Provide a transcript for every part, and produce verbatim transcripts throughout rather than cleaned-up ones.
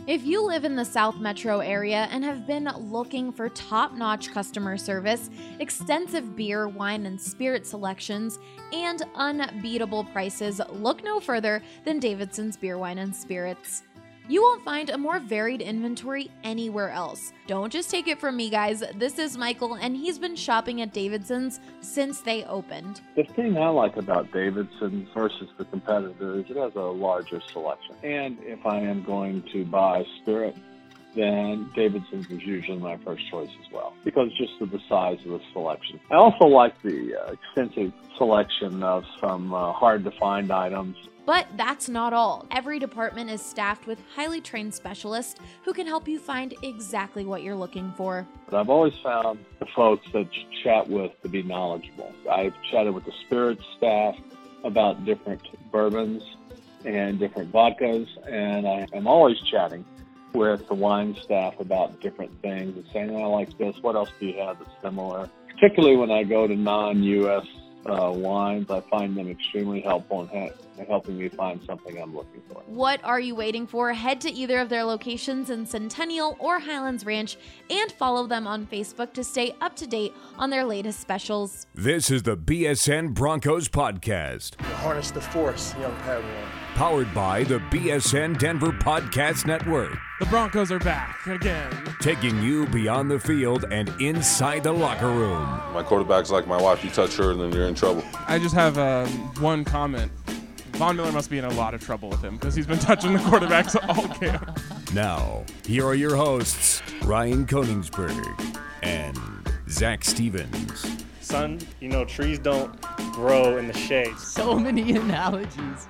If you live in the South Metro area and have been looking for top-notch customer service, extensive beer, wine, and spirit selections, and unbeatable prices, look no further than Davidson's Beer, Wine, and Spirits. You won't find a more varied inventory anywhere else. Don't just take it from me, guys. This is Michael, and he's been shopping at Davidson's since they opened. The thing I like about Davidson's versus the competitor is it has a larger selection. And if I am going to buy spirit, then Davidson's is usually my first choice as well, because just of the size of the selection. I also like the uh, extensive selection of some uh, hard-to-find items. But that's not all. Every department is staffed with highly trained specialists who can help you find exactly what you're looking for. But I've always found the folks that you chat with to be knowledgeable. I've chatted with the spirits staff about different bourbons and different vodkas, and I am always chatting with the wine staff about different things and saying, oh, I like this, what else do you have that's similar? Particularly when I go to non-U S Uh, wines, I find them extremely helpful in, ha- in helping me find something I'm looking for. What are you waiting for? Head to either of their locations in Centennial or Highlands Ranch and follow them on Facebook to stay up to date on their latest specials. This is the B S N Broncos podcast. Harness the force, young Padawan. Powered by the B S N Denver Podcast Network. The Broncos are back again. Taking you beyond the field and inside the locker room. My quarterback's like my wife. You touch her and then you're in trouble. I just have um, one comment. Von Miller must be in a lot of trouble with him because he's been touching the quarterbacks all camp. Now, here are your hosts, Ryan Koningsberg and Zach Stevens. Son, you know, trees don't grow in the shade. So many analogies.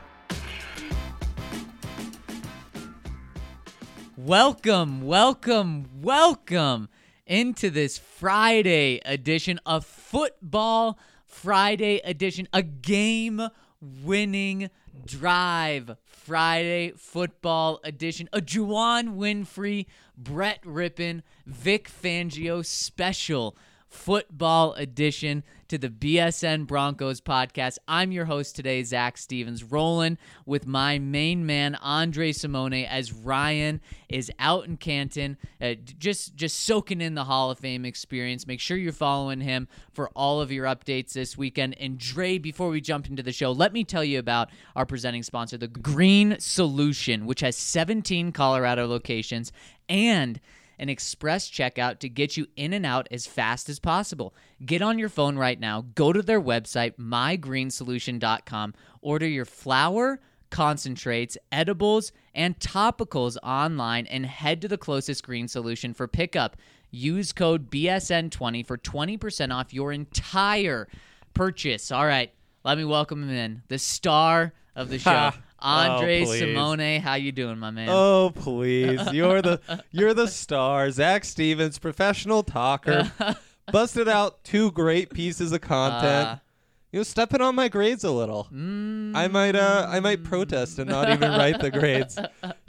Welcome, welcome, welcome into this Friday edition, a football Friday edition, a game-winning drive Friday football edition, a Juwan Winfrey, Brett Rippon, Vic Fangio special football edition to the B S N Broncos podcast. I'm your host today, Zach Stevens, rolling with my main man, Andre Simone, as Ryan is out in Canton, uh, just, just soaking in the Hall of Fame experience. Make sure you're following him for all of your updates this weekend. And Dre, before we jump into the show, let me tell you about our presenting sponsor, the Green Solution, which has seventeen Colorado locations and an express checkout to get you in and out as fast as possible. Get on your phone right now, go to their website, my green solution dot com, order your flour, concentrates, edibles, and topicals online, and head to the closest Green Solution for pickup. Use code B S N twenty for twenty percent off your entire purchase. All right, let me welcome him in, the star of the show. Andre oh, Simone, how you doing, my man? Oh, please. You're the you're the star. Zach Stevens, professional talker. Busted out two great pieces of content. Uh, you know, stepping on my grades a little. Mm, I might uh I might protest and not even write the grades.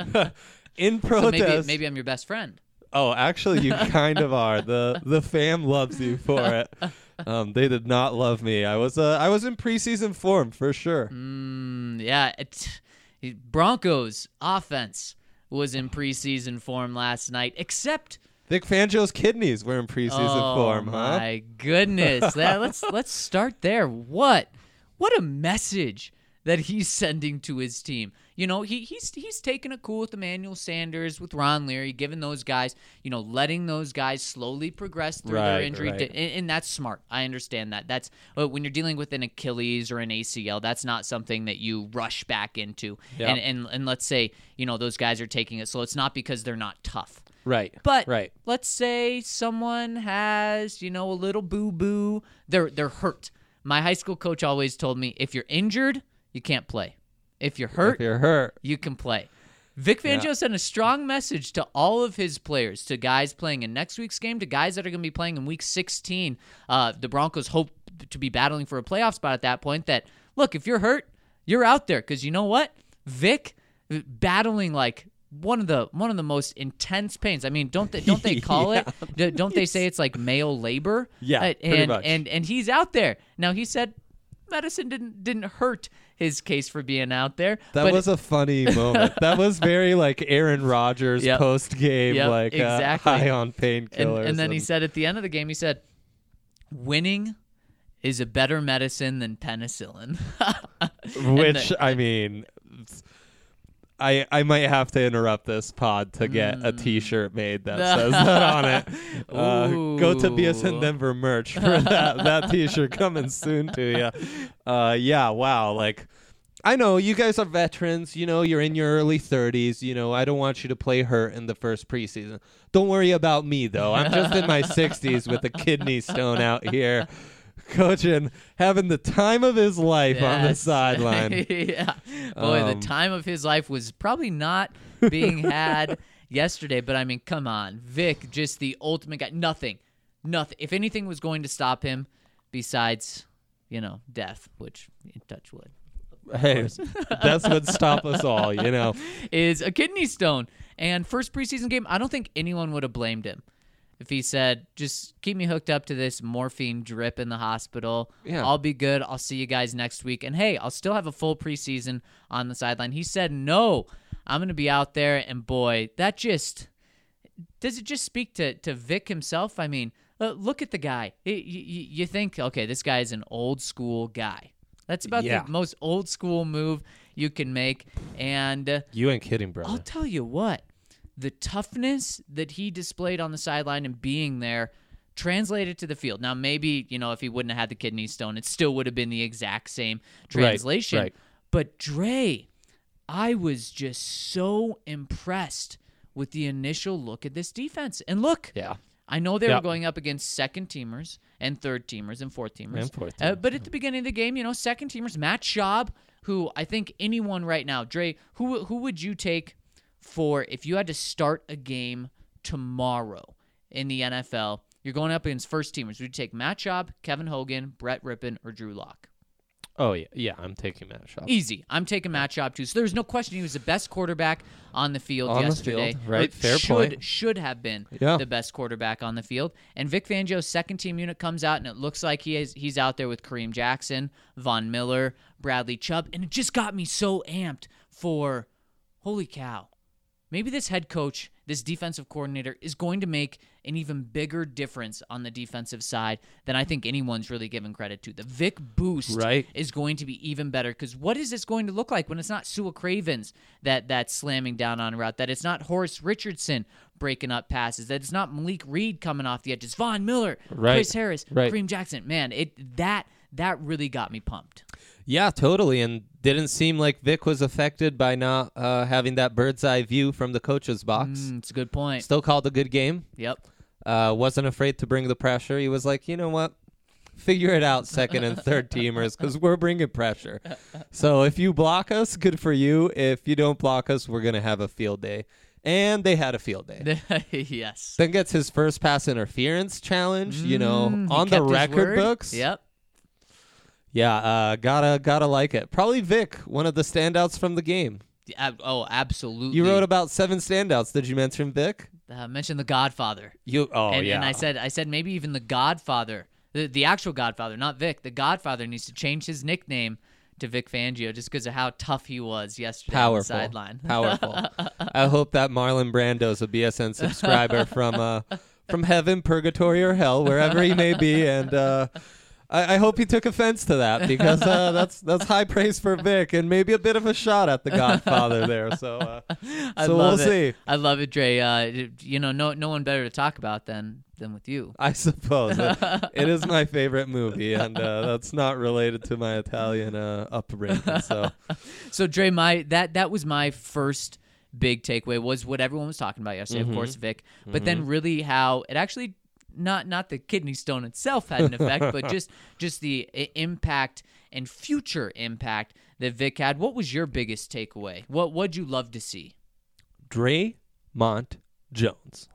In protest. So maybe, maybe I'm your best friend. Oh, actually you kind of are. The the fam loves you for it. Um, they did not love me. I was uh, I was in preseason form for sure. Mm, yeah, it, it, Broncos offense was in preseason form last night, except Vic Fangio's kidneys were in preseason oh, form. Huh? Oh my goodness! that, let's let's start there. What what a message that he's sending to his team. You know, he he's he's taking it cool with Emmanuel Sanders, with Ron Leary, giving those guys, you know, letting those guys slowly progress through right, their injury. Right. To, and, and that's smart. I understand that. That's uh, when you're dealing with an Achilles or an A C L, that's not something that you rush back into. Yep. And, and and let's say, you know, those guys are taking it slow. It's not because they're not tough. Right. But right. let's say someone has, you know, a little boo-boo. They're they're hurt. My high school coach always told me, if you're injured, you can't play. If you're hurt, if you're hurt, you can play. Vic Fangio yeah. sent a strong message to all of his players, to guys playing in next week's game, to guys that are going to be playing in week sixteen. Uh, the Broncos hope to be battling for a playoff spot at that point. That, look, if you're hurt, you're out there. Because you know what? Vic, battling like one of the one of the most intense pains. I mean, don't they don't they call yeah. it? Don't they say it's like male labor? Yeah, uh, pretty and, much. And and he's out there now. He said medicine didn't didn't hurt his case for being out there. That but was a funny moment. That was very like Aaron Rodgers Yep. post game, Yep, like exactly. uh, high on and, painkillers. and then he said at the end of the game, he said, winning is a better medicine than penicillin. which the- I mean, I I might have to interrupt this pod to get a Mm. T-shirt made that says that on it. Uh, go to B S N Ooh. Denver merch for that that T-shirt coming soon to you. Uh, yeah, wow, like. I know you guys are veterans. You know, you're in your early thirties. You know, I don't want you to play hurt in the first preseason. Don't worry about me, though. I'm just in my sixties with a kidney stone out here, coaching, having the time of his life on the Yes. sideline. yeah. Boy, Um, the time of his life was probably not being had yesterday. But I mean, come on. Vic, just the ultimate guy. Nothing. Nothing. If anything was going to stop him besides, you know, death, which, touch wood. Hey, that's what stop us all, you know. Is a kidney stone. And first preseason game, I don't think anyone would have blamed him if he said, just keep me hooked up to this morphine drip in the hospital. Yeah. I'll be good. I'll see you guys next week. And hey, I'll still have a full preseason on the sideline. He said, no, I'm going to be out there. And boy, that just, does it just speak to, to Vic himself? I mean, uh, look at the guy. It, you, you think, okay, this guy is an old school guy. That's about Yeah. the most old school move you can make. And uh, You ain't kidding, brother. I'll tell you what, the toughness that he displayed on the sideline and being there translated to the field. Now, maybe, you know, if he wouldn't have had the kidney stone, it still would have been the exact same translation. right. But Dre, I was just so impressed with the initial look at this defense. And look, Yeah. I know they Yep. were going up against second teamers and third teamers and fourth teamers. And fourth Uh, teamers, but at the beginning of the game, you know, second teamers, Matt Schaub, who I think anyone right now, Dre, who who would you take for if you had to start a game tomorrow in the N F L? You're going up against first teamers. Would you take Matt Schaub, Kevin Hogan, Brett Rippon, or Drew Lock? Oh, yeah. Yeah, I'm taking Matt Schaub. Easy. I'm taking Matt Schaub too. So there's no question he was the best quarterback on the field On the yesterday. field, right. Or Fair should, point. Should have been Yeah. the best quarterback on the field. And Vic Fangio's second team unit comes out, and it looks like he is he's out there with Kareem Jackson, Von Miller, Bradley Chubb, and it just got me so amped for, holy cow, maybe this head coach, this defensive coordinator, is going to make an even bigger difference on the defensive side than I think anyone's really given credit to. The Vic boost Right. is going to be even better, because what is this going to look like when it's not Sua Cravens that that's slamming down on a route, that it's not Horace Richardson breaking up passes, that it's not Malik Reed coming off the edges, Von Miller, Right. Chris Harris, Right. Kareem Jackson. Man, it that that really got me pumped. Yeah, totally. And didn't seem like Vic was affected by not uh, having that bird's eye view from the coach's box. Mm, it's a good point. Still called a good game. Yep. Uh, wasn't afraid to bring the pressure. He was like, you know what? Figure it out, second and third teamers, because we're bringing pressure. So if you block us, good for you. If you don't block us, we're going to have a field day. And they had a field day. Yes. Then gets his first pass interference challenge, you know, Mm, he on the kept his record word. books. Yep. Yeah, uh, gotta gotta like it. Probably Vic, one of the standouts from the game. Ab- oh, absolutely. You wrote about seven standouts. Did you mention Vic? uh, mentioned the Godfather. You oh and, yeah. and I said, I said maybe even the Godfather, the, the actual Godfather, not Vic. The Godfather needs to change his nickname to Vic Fangio just because of how tough he was yesterday on the Powerful. sideline. Powerful. I hope that Marlon Brando's a B S N subscriber from uh, from heaven, purgatory, or hell, wherever he may be, and uh, I, I hope he took offense to that because uh, that's that's high praise for Vic and maybe a bit of a shot at the Godfather there. So, uh, I so love we'll it. see. I love it, Dre. Uh, you know, no no one better to talk about than than with you. I suppose it, it is my favorite movie, and uh, that's not related to my Italian uh, upbringing. So, So Dre, my that that was my first big takeaway was what everyone was talking about yesterday. Mhm. Of course, Vic, but then really how it actually not not the kidney stone itself had an effect, but just just the I- impact and future impact that Vic had. What was your biggest takeaway? What what'd you love to see? Draymond Jones.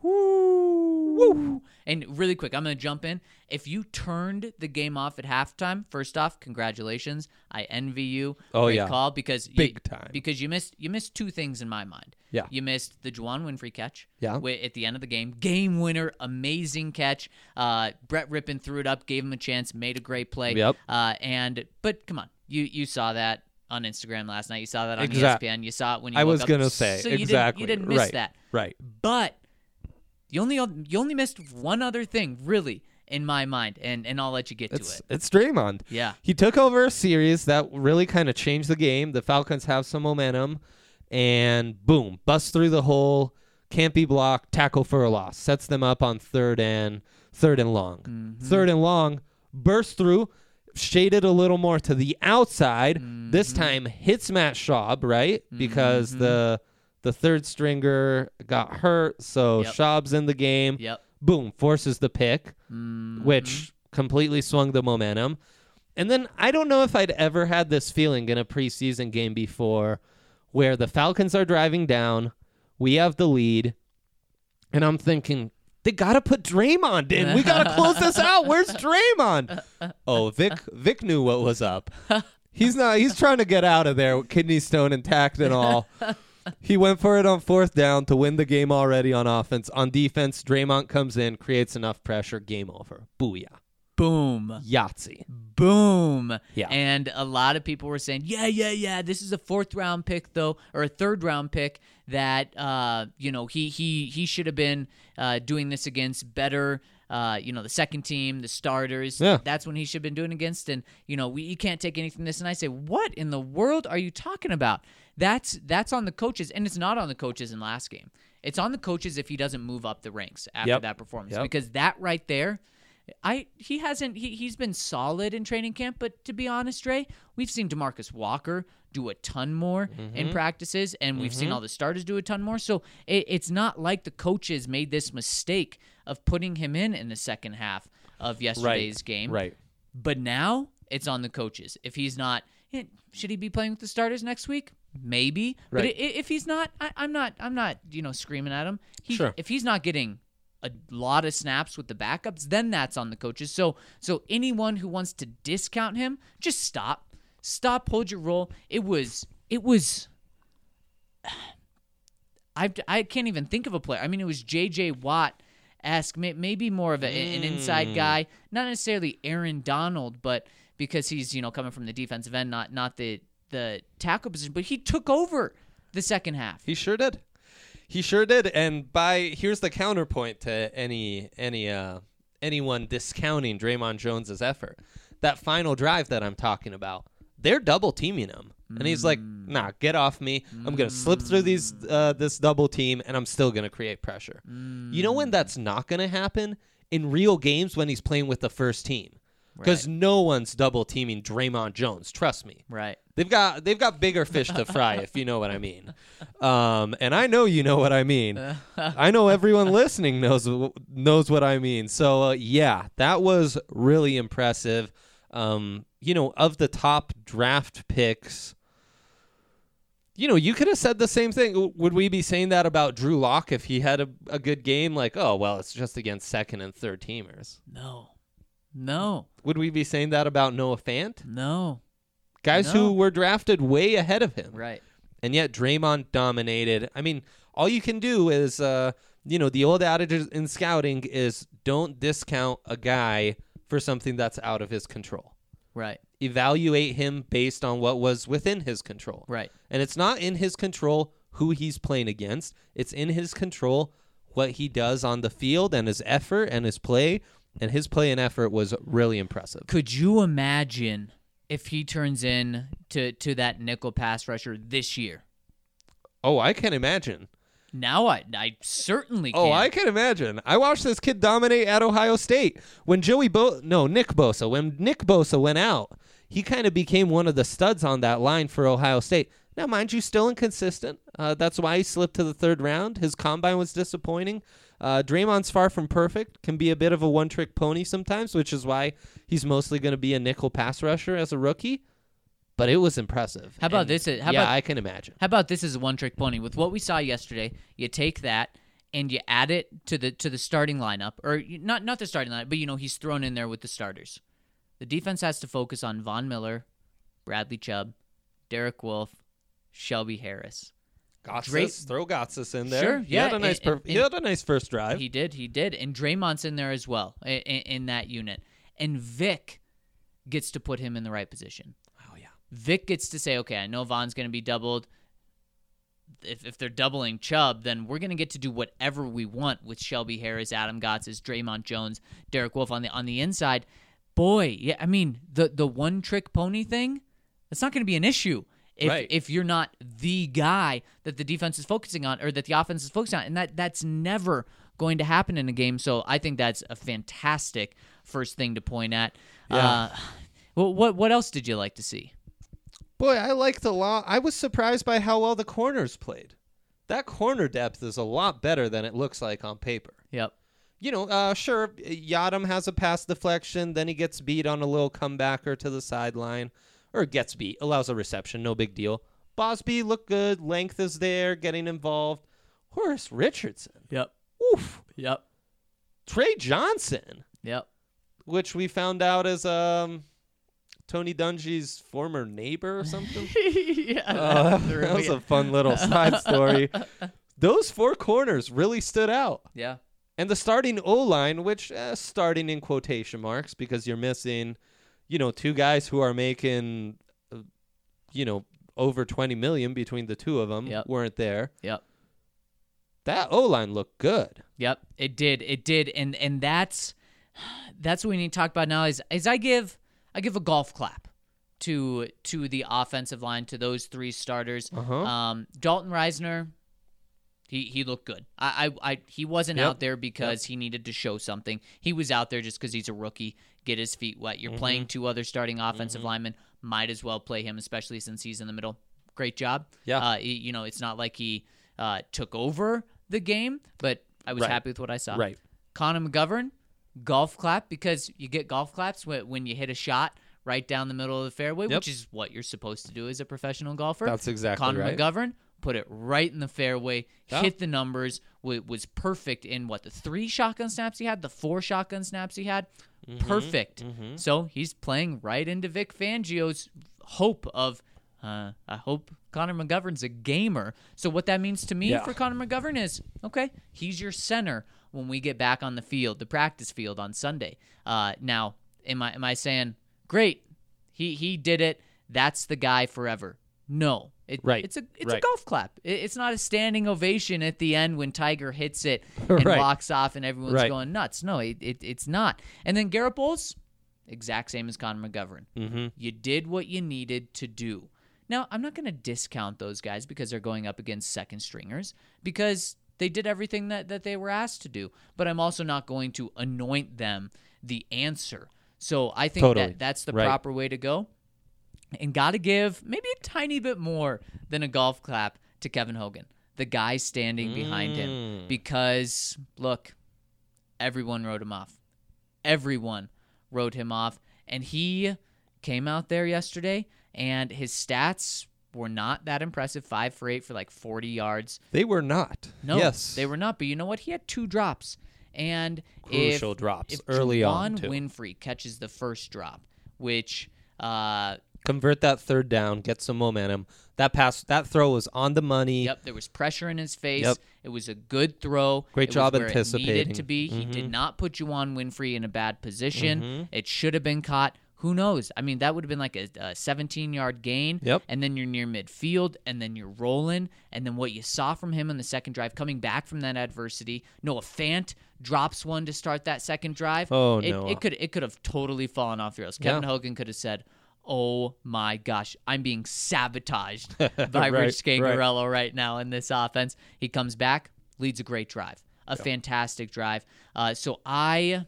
Woo! And really quick, I'm going to jump in. If you turned the game off at halftime, first off, congratulations. I envy you. Oh, Great yeah. call because Big you, time. Because you missed you missed two things in my mind. Yeah. You missed the Juwan Winfrey catch. Yeah. wi- At the end of the game, game winner, amazing catch. Uh, Brett Rippon threw it up, gave him a chance, made a great play. Yep. Uh, and but come on, you you saw that. on Instagram last night. You saw that on Exact- E S P N. You saw it when you I woke was up. gonna say, so you exactly. Didn't, you didn't miss Right. that. Right. But you only you only missed one other thing, really, in my mind, and, and I'll let you get It's to it. it's Draymond. Yeah. He took over a series that really kind of changed the game. The Falcons have some momentum, and boom, bust through the hole, can't be blocked, tackle for a loss, sets them up on third and third and long. Mm-hmm. Third and long, burst through, shaded a little more to the outside. Mm-hmm. This time hits Matt Schaub, right? Because Mm-hmm. the the third stringer got hurt, so Yep. Schaub's in the game. Yep. Boom, forces the pick, Mm-hmm. which completely swung the momentum. And then I don't know if I'd ever had this feeling in a preseason game before where the Falcons are driving down, we have the lead, and I'm thinking, they got to put Draymond in. We got to close this out. Where's Draymond? Oh, Vic Vic knew what was up. He's not he's trying to get out of there with kidney stone intact and all. He went for it on fourth down to win the game already on offense. On defense, Draymond comes in, creates enough pressure, game over. Booyah. Boom. Yahtzee. Boom. Yeah. And a lot of people were saying, yeah, yeah, yeah, this is a fourth round pick, though, or a third round pick that, uh, you know, he he he should have been uh, doing this against better, uh, you know, the second team, the starters. Yeah. That's when he should have been doing against. And, you know, we you can't take anything from this. And I say, what in the world are you talking about? That's that's on the coaches, and it's not on the coaches in last game. It's on the coaches if he doesn't move up the ranks after Yep. that performance, Yep. because that right there, I he hasn't he he's been solid in training camp, but to be honest, Ray, we've seen DeMarcus Walker do a ton more Mm-hmm. in practices, and we've seen all the starters do a ton more. So it, it's not like the coaches made this mistake of putting him in in the second half of yesterday's game. Right. But now it's on the coaches. If he's not, eh, should he be playing with the starters next week? Maybe. But Right. i- if he's not, I, I'm not. I'm not. You know, screaming at him. He, Sure. If he's not getting a lot of snaps with the backups, then that's on the coaches. So, so anyone who wants to discount him, just stop. Stop. Hold your roll. It was. It was. I I can't even think of a player. I mean, it was J J Watt. Ask maybe more of a, an inside guy, not necessarily Aaron Donald, but because he's, you know, coming from the defensive end, not not the the tackle position, but he took over the second half. He sure did. He sure did. And by here's the counterpoint to any any uh anyone discounting Draymond Jones's effort. That final drive that I'm talking about, they're double teaming him. And he's like, nah, get off me. I'm going to slip through these uh, this double team, and I'm still going to create pressure. You know when that's not going to happen? In real games when he's playing with the first team. Because Right. no one's double teaming Draymond Jones. Trust me. Right. They've got they've got bigger fish to fry, if you know what I mean. Um, and I know you know what I mean. I know everyone listening knows knows what I mean. So uh, yeah, that was really impressive. Um, you know, of the top draft picks, you know, you could have said the same thing. W- Would we be saying that about Drew Lock if he had a, a good game? Like, oh well, it's just against second and third teamers. No. No. Would we be saying that about Noah Fant? No. Guys No. who were drafted way ahead of him. Right. And yet Draymond dominated. I mean, all you can do is, uh, you know, the old adage in scouting is don't discount a guy for something that's out of his control. Right. Evaluate him based on what was within his control. Right. And it's not in his control who he's playing against. It's in his control what he does on the field and his effort and his play. And his play and effort was really impressive. Could you imagine if he turns in to, to that nickel pass rusher this year? Oh, I can imagine. Now I I certainly can. Oh, I can imagine. I watched this kid dominate at Ohio State. When Joey Bo no, Nick Bosa, when Nick Bosa went out, he kind of became one of the studs on that line for Ohio State. Now, mind you, still inconsistent. Uh, that's why he slipped to the third round. His combine was disappointing. Uh, Draymond's far from perfect, can be a bit of a one-trick pony sometimes, which is why he's mostly going to be a nickel pass rusher as a rookie. But it was impressive. How about And this? How yeah, about, I can imagine. How about this as a one-trick pony? With what we saw yesterday, you take that and you add it to the to the starting lineup, or you- not not the starting lineup, but you know he's thrown in there with the starters. The defense has to focus on Von Miller, Bradley Chubb, Derek Wolfe, Shelby Harris. Gotsis, Dray- throw Gotsis in there. Sure, He yeah, had a nice, and- per- and- he had a nice first drive. He did, he did, and Draymond's in there as well in, in that unit, and Vic gets to put him in the right position. Oh yeah. Vic gets to say, okay, I know Von's going to be doubled. If if they're doubling Chubb, then we're going to get to do whatever we want with Shelby Harris, Adam Gotsis, Draymond Jones, Derek Wolfe on the on the inside. Boy, yeah, I mean, the the one-trick pony thing, that's not going to be an issue if Right. if you're not the guy that the defense is focusing on or that the offense is focusing on, and that that's never going to happen in a game. So I think that's a fantastic first thing to point at. Yeah. Uh, well, what what else did you like to see? Boy, I liked a lot. I was surprised by how well the corners played. That corner depth is a lot better than it looks like on paper. Yep. You know, uh, sure, Yadam has a pass deflection, then he gets beat on a little comebacker to the sideline, or gets beat, allows a reception, no big deal. Bosby looked good, length is there, getting involved. Horace Richardson. Yep. Oof. Yep. Trey Johnson, Yep. which we found out is um, Tony Dungy's former neighbor or something. yeah. Uh, that was a fun little side story. Those four corners really stood out. yeah. And the starting O-line, which uh, starting in quotation marks because you're missing, you know, two guys who are making, uh, you know, over twenty million dollars between the two of them Yep. weren't there. Yep. That O-line looked good. Yep, it did. It did. And and that's that's what we need to talk about now is is I give I give a golf clap to to the offensive line, to those three starters. Uh-huh. Um, Dalton Reisner, he he looked good. I I, I he wasn't Yep. out there because he needed to show something. He was out there just because he's a rookie, get his feet wet. You're Mhm. playing two other starting offensive Mhm. linemen. Might as well play him, especially since he's in the middle. Great job. Yeah. Uh, he- you know, it's not like he uh, took over the game, but I was Right. happy with what I saw. Right. Connor McGovern, golf clap, because you get golf claps when, when you hit a shot right down the middle of the fairway, Yep. which is what you're supposed to do as a professional golfer. That's exactly Connor right. McGovern put it right in the fairway, Yeah. hit the numbers, w- was perfect in what, the three shotgun snaps he had, the four shotgun snaps he had. Mm-hmm. Perfect. So he's playing right into Vic Fangio's hope of, uh, I hope Connor McGovern's a gamer. So what that means to me Yeah. for Connor McGovern is, okay, he's your center when we get back on the field, the practice field on Sunday. Uh, now, am I am I saying, great, he he did it, that's the guy forever? No. It, Right. It's a it's Right. a golf clap. It, it's not a standing ovation at the end when Tiger hits it and Right. walks off and everyone's Right. going nuts. No, it, it it's not. And then Garrett Bowles, exact same as Connor McGovern. Mm-hmm. You did what you needed to do. Now, I'm not going to discount those guys because they're going up against second stringers, because they did everything that, that they were asked to do. But I'm also not going to anoint them the answer. So I think Totally. that that's the Right. proper way to go. And got to give maybe a tiny bit more than a golf clap to Kevin Hogan, the guy standing behind him. Mm. Because, look, everyone wrote him off. Everyone wrote him off. And he came out there yesterday, and his stats were not that impressive. Five for eight for like forty yards. They were not. No, Yes. they were not. But you know what? He had two drops. And Crucial if, drops if early on, Juwan too. Winfrey catches the first drop, which uh, Convert that third down, get some momentum. That pass, that throw was on the money. Yep, there was pressure in his face. Yep. It was a good throw. Great It job was where It anticipating. needed to be. He did Mhm. not put Juwan Winfrey in a bad position. Mhm. It should have been caught. Who knows? I mean, that would have been like a seventeen-yard gain. Yep. And then you're near midfield, and then you're rolling. And then what you saw from him on the second drive, coming back from that adversity, Noah Fant drops one to start that second drive. Oh, it, Noah. It could it could have totally fallen off the rails. Kevin Yeah. Hogan could have said, oh my gosh, I'm being sabotaged by Right, Rich right. Scangarello right now in this offense. He comes back, leads a great drive, a fantastic drive. Uh, so I,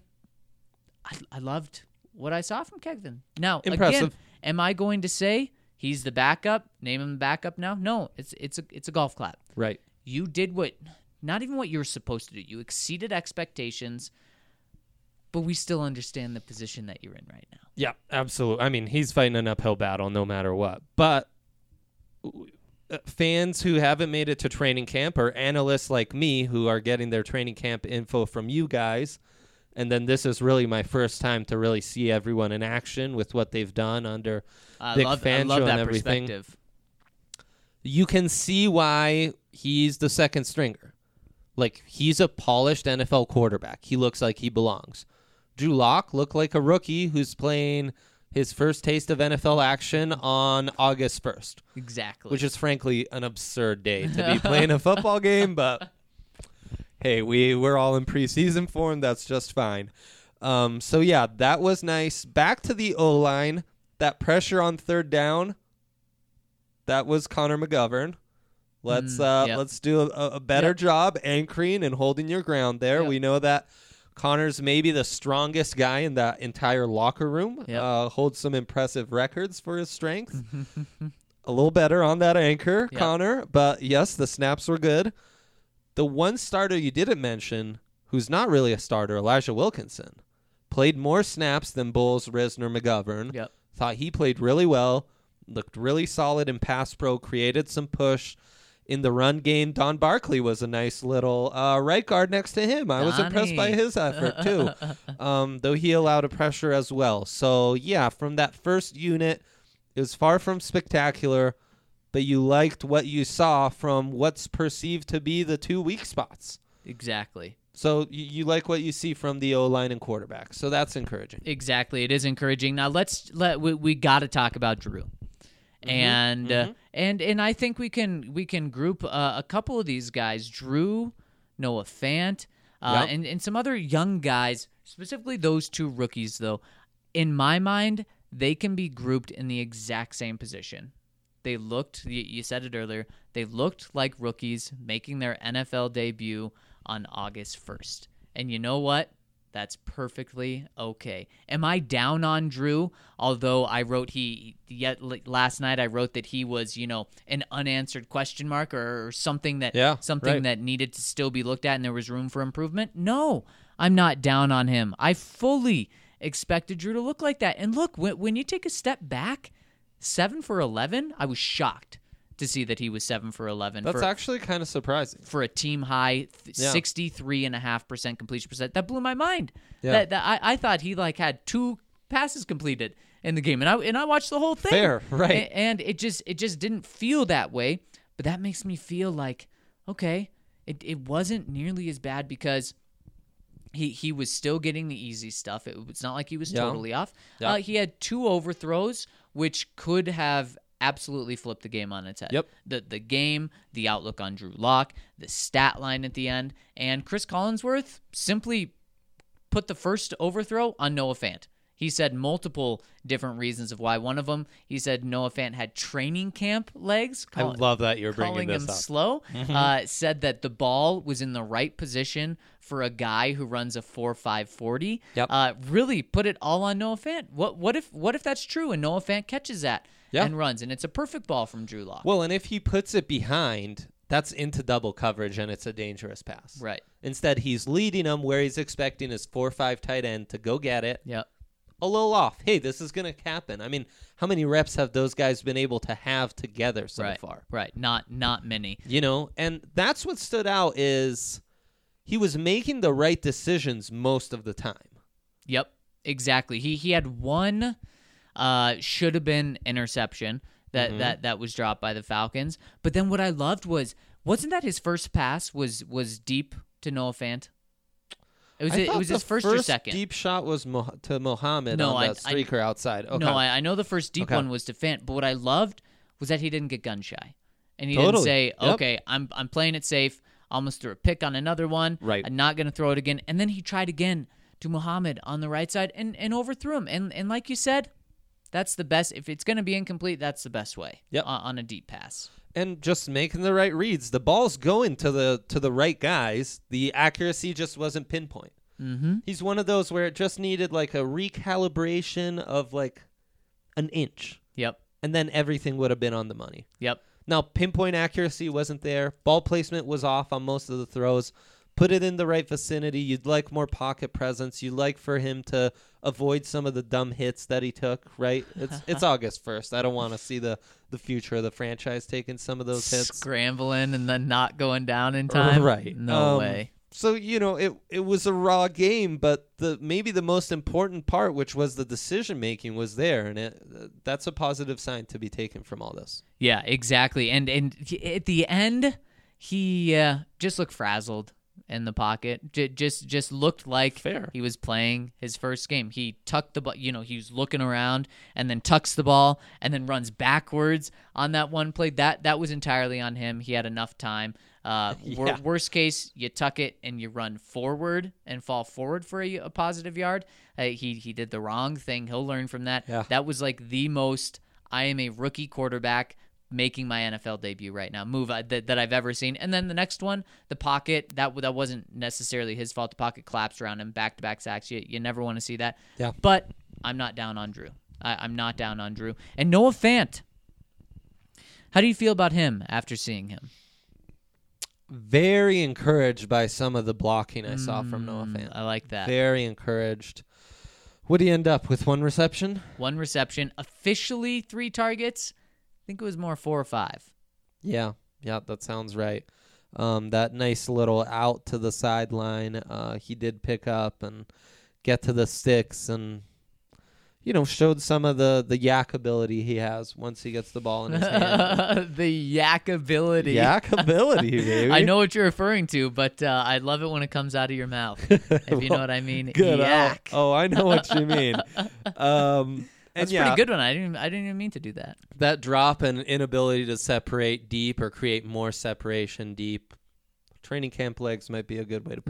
I, I loved what I saw from Kevin. Now, again, Impressive. am I going to say he's the backup? Name him the backup now? No, it's it's a it's a golf clap. Right. You did what, not even what you were supposed to do. You exceeded expectations, but we still understand the position that you're in right now. Yeah, absolutely. I mean, he's fighting an uphill battle no matter what. But uh, fans who haven't made it to training camp, or analysts like me who are getting their training camp info from you guys, and then this is really my first time to really see everyone in action with what they've done under I Vic love, I Fangio love and that everything. perspective. You can see why he's the second stringer. Like, he's a polished N F L quarterback. He looks like he belongs. Drew Lock looked like a rookie who's playing his first taste of N F L action on August first. Exactly. Which is frankly an absurd day to be playing a football game, but hey, we, we're all in preseason form. That's just fine. Um, so, yeah, that was nice. Back to the O-line. That pressure on third down, that was Connor McGovern. Let's Mm, uh, yep. let's do a, a better Yep. job anchoring and holding your ground there. Yep. We know that Connor's maybe the strongest guy in that entire locker room. Yep. Uh, holds some impressive records for his strength. A little better on that anchor, Yep. Connor. But, yes, the snaps were good. The one starter you didn't mention, who's not really a starter, Elijah Wilkinson, played more snaps than Bowles, Risner, McGovern. Yep. Thought he played really well, looked really solid in pass pro, created some push in the run game. Don Barkley was a nice little uh, right guard next to him. I was impressed by Donnie. his effort, too, um, though he allowed a pressure as well. So, yeah, from that first unit, it was far from spectacular, but you liked what you saw from what's perceived to be the two weak spots. Exactly. So you, you like what you see from the O-line and quarterback. So that's encouraging. Exactly. It is encouraging. Now let's let we, we got to talk about Drew. Mm-hmm. And mm-hmm. Uh, and and I think we can we can group uh, a couple of these guys, Drew, Noah Fant, uh, Yep. and and some other young guys, specifically those two rookies though. In my mind, they can be grouped in the exact same position. They looked, you, you said it earlier, they looked like rookies making their N F L debut on August first. And you know what? That's perfectly okay. Am I down on Drew? Although I wrote he yet last night I wrote that he was, you know, an unanswered question mark or, or something that Yeah, something right. that needed to still be looked at and there was room for improvement. No, I'm not down on him. I fully expected Drew to look like that. And look, when when you take a step back, seven for eleven, I was shocked to see that he was seven for eleven. That's for, actually kind of surprising. for a team high th- Yeah. sixty-three and a half percent completion percent. That blew my mind. Yeah. That, that I, I thought he like had two passes completed in the game, and I and I watched the whole thing. Fair, right. A- And it just it just didn't feel that way. But that makes me feel like okay, it it wasn't nearly as bad because he he was still getting the easy stuff. It, it's not like he was Yeah. totally off. Yeah. Uh, he had two overthrows, which could have absolutely flipped the game on its head. Yep. The the game, the outlook on Drew Lock, the stat line at the end, and Chris Collinsworth simply put the first overthrow on Noah Fant. He said multiple different reasons of why. One of them, he said Noah Fant had training camp legs. I call- love that you're bringing calling this him up. slow. Uh, said that the ball was in the right position for a guy who runs a four five forty. Yep. Uh, really put it all on Noah Fant. What what if what if that's true and Noah Fant catches that Yeah. and runs and it's a perfect ball from Drew Lock? Well, and if he puts it behind, that's into double coverage, and it's a dangerous pass. Right. Instead, he's leading him where he's expecting his four five tight end to go get it. Yep. A little off. Hey, this is going to happen. I mean, how many reps have those guys been able to have together so right. far? Right. Not not many. You know, and that's what stood out is he was making the right decisions most of the time. Yep. Exactly. He he had one uh should have been interception that, Mhm. that that was dropped by the Falcons. But then what I loved was wasn't that his first pass was was deep to Noah Fant? It was I it thought was the his first, first or second. deep shot was Mo- to Mohammed No, on I- that I- streaker outside. Okay. No, I, I know the first deep Okay. one was to Fant, but what I loved was that he didn't get gun shy, and he Totally. didn't say, Yep. "Okay, I'm I'm playing it safe. Almost threw a pick on another one. Right. I'm not going to throw it again." And then he tried again to Muhammad on the right side and, and overthrew him. And and like you said, that's the best. If it's going to be incomplete, that's the best way. Yep. On, on a deep pass. And just making the right reads. The ball's going to the to the right guys. The accuracy just wasn't pinpoint. Mm-hmm. He's one of those where it just needed like a recalibration of like an inch, Yep. and then everything would have been on the money. Yep. Now, pinpoint accuracy wasn't there. Ball placement was off on most of the throws. Put it in the right vicinity. You'd like more pocket presence. You'd like for him to avoid some of the dumb hits that he took, right? It's it's August first. I don't want to see the, the future of the franchise taking some of those hits. Scrambling and then not going down in time. Right. No Um, way. So, you know, it it was a raw game, but the maybe the most important part, which was the decision making, was there, and it uh, that's a positive sign to be taken from all this. Yeah, exactly. And and he- at the end, he uh, just looked frazzled. in the pocket. J- just just looked like Fair. he was playing his first game. He tucked the ball, you know, he was looking around and then tucks the ball and then runs backwards on that one play. That that was entirely on him. He had enough time. Uh, wor- Yeah. Worst case, you tuck it and you run forward and fall forward for a, a positive yard. Uh, he he did the wrong thing. He'll learn from that. Yeah. That was like the most, I am a rookie quarterback making my N F L debut right now move I, that, that I've ever seen. And then the next one, the pocket, that that wasn't necessarily his fault. The pocket collapsed around him, back-to-back sacks. You, you never want to see that. Yeah. But I'm not down on Drew. I, I'm not down on Drew. And Noah Fant, how do you feel about him after seeing him? Very encouraged by some of the blocking I saw from Noah Fant. I like that. Very encouraged. What do you end up with? One reception? One reception, officially three targets. I think it was more four or five. Yeah, yeah, that sounds right. Um, that nice little out to the sideline, uh, he did pick up and get to the sticks and, you know, showed some of the, the yak ability he has once he gets the ball in his hand. The yak ability. Yak ability, baby. I know what you're referring to, but uh, I love it when it comes out of your mouth. If you know what I mean. Good. Yak. Oh, oh, I know what you mean. Um, and That's a yeah, pretty good one. I didn't. I didn't even mean to do that. that drop and inability to separate deep or create more separation deep. Training camp legs might be a good way to put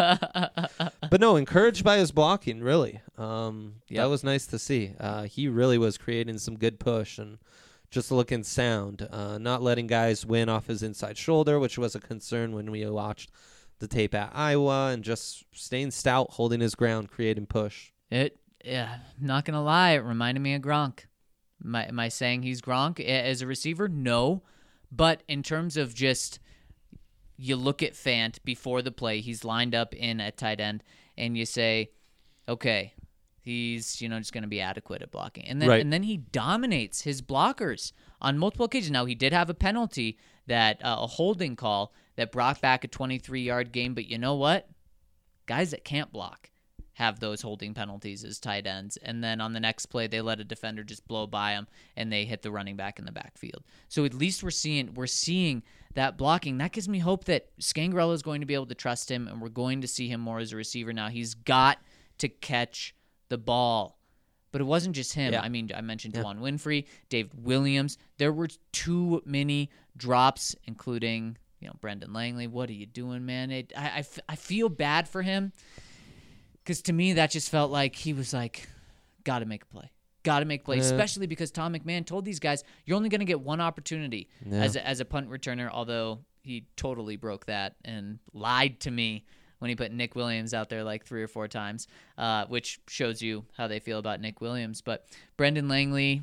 it. But no, encouraged by his blocking, really. Um, Yep. That was nice to see. Uh, he really was creating some good push and just looking sound, uh, not letting guys win off his inside shoulder, which was a concern when we watched the tape at Iowa, and just staying stout, holding his ground, creating push. It. Yeah. Not gonna lie. It reminded me of Gronk. Am I, am I saying he's Gronk a- as a receiver? No. But in terms of just, you look at Fant before the play, he's lined up in at tight end, and you say, okay, he's, you know, just going to be adequate at blocking. And then Right. and then he dominates his blockers on multiple occasions. Now, he did have a penalty, that uh, a holding call that brought back a twenty-three-yard game, but you know what? Guys that can't block have those holding penalties as tight ends. And then on the next play, they let a defender just blow by them, and they hit the running back in the backfield. So at least we're seeing we're seeing that blocking. That gives me hope that Scangarello is going to be able to trust him, and we're going to see him more as a receiver now. He's got to catch the ball. But it wasn't just him. Yeah. I mean, I mentioned Yeah. Juwan Winfrey, David Williams. There were too many drops, including, you know, Brendan Langley. What are you doing, man? It, I, I, f- I feel bad for him, because to me that just felt like he was like, got to make a play. Got to make a play, Yeah. especially because Tom McMahon told these guys, you're only going to get one opportunity Yeah. as, a, as a punt returner, although he totally broke that and lied to me when he put Nick Williams out there like three or four times, uh, which shows you how they feel about Nick Williams. But Brendan Langley,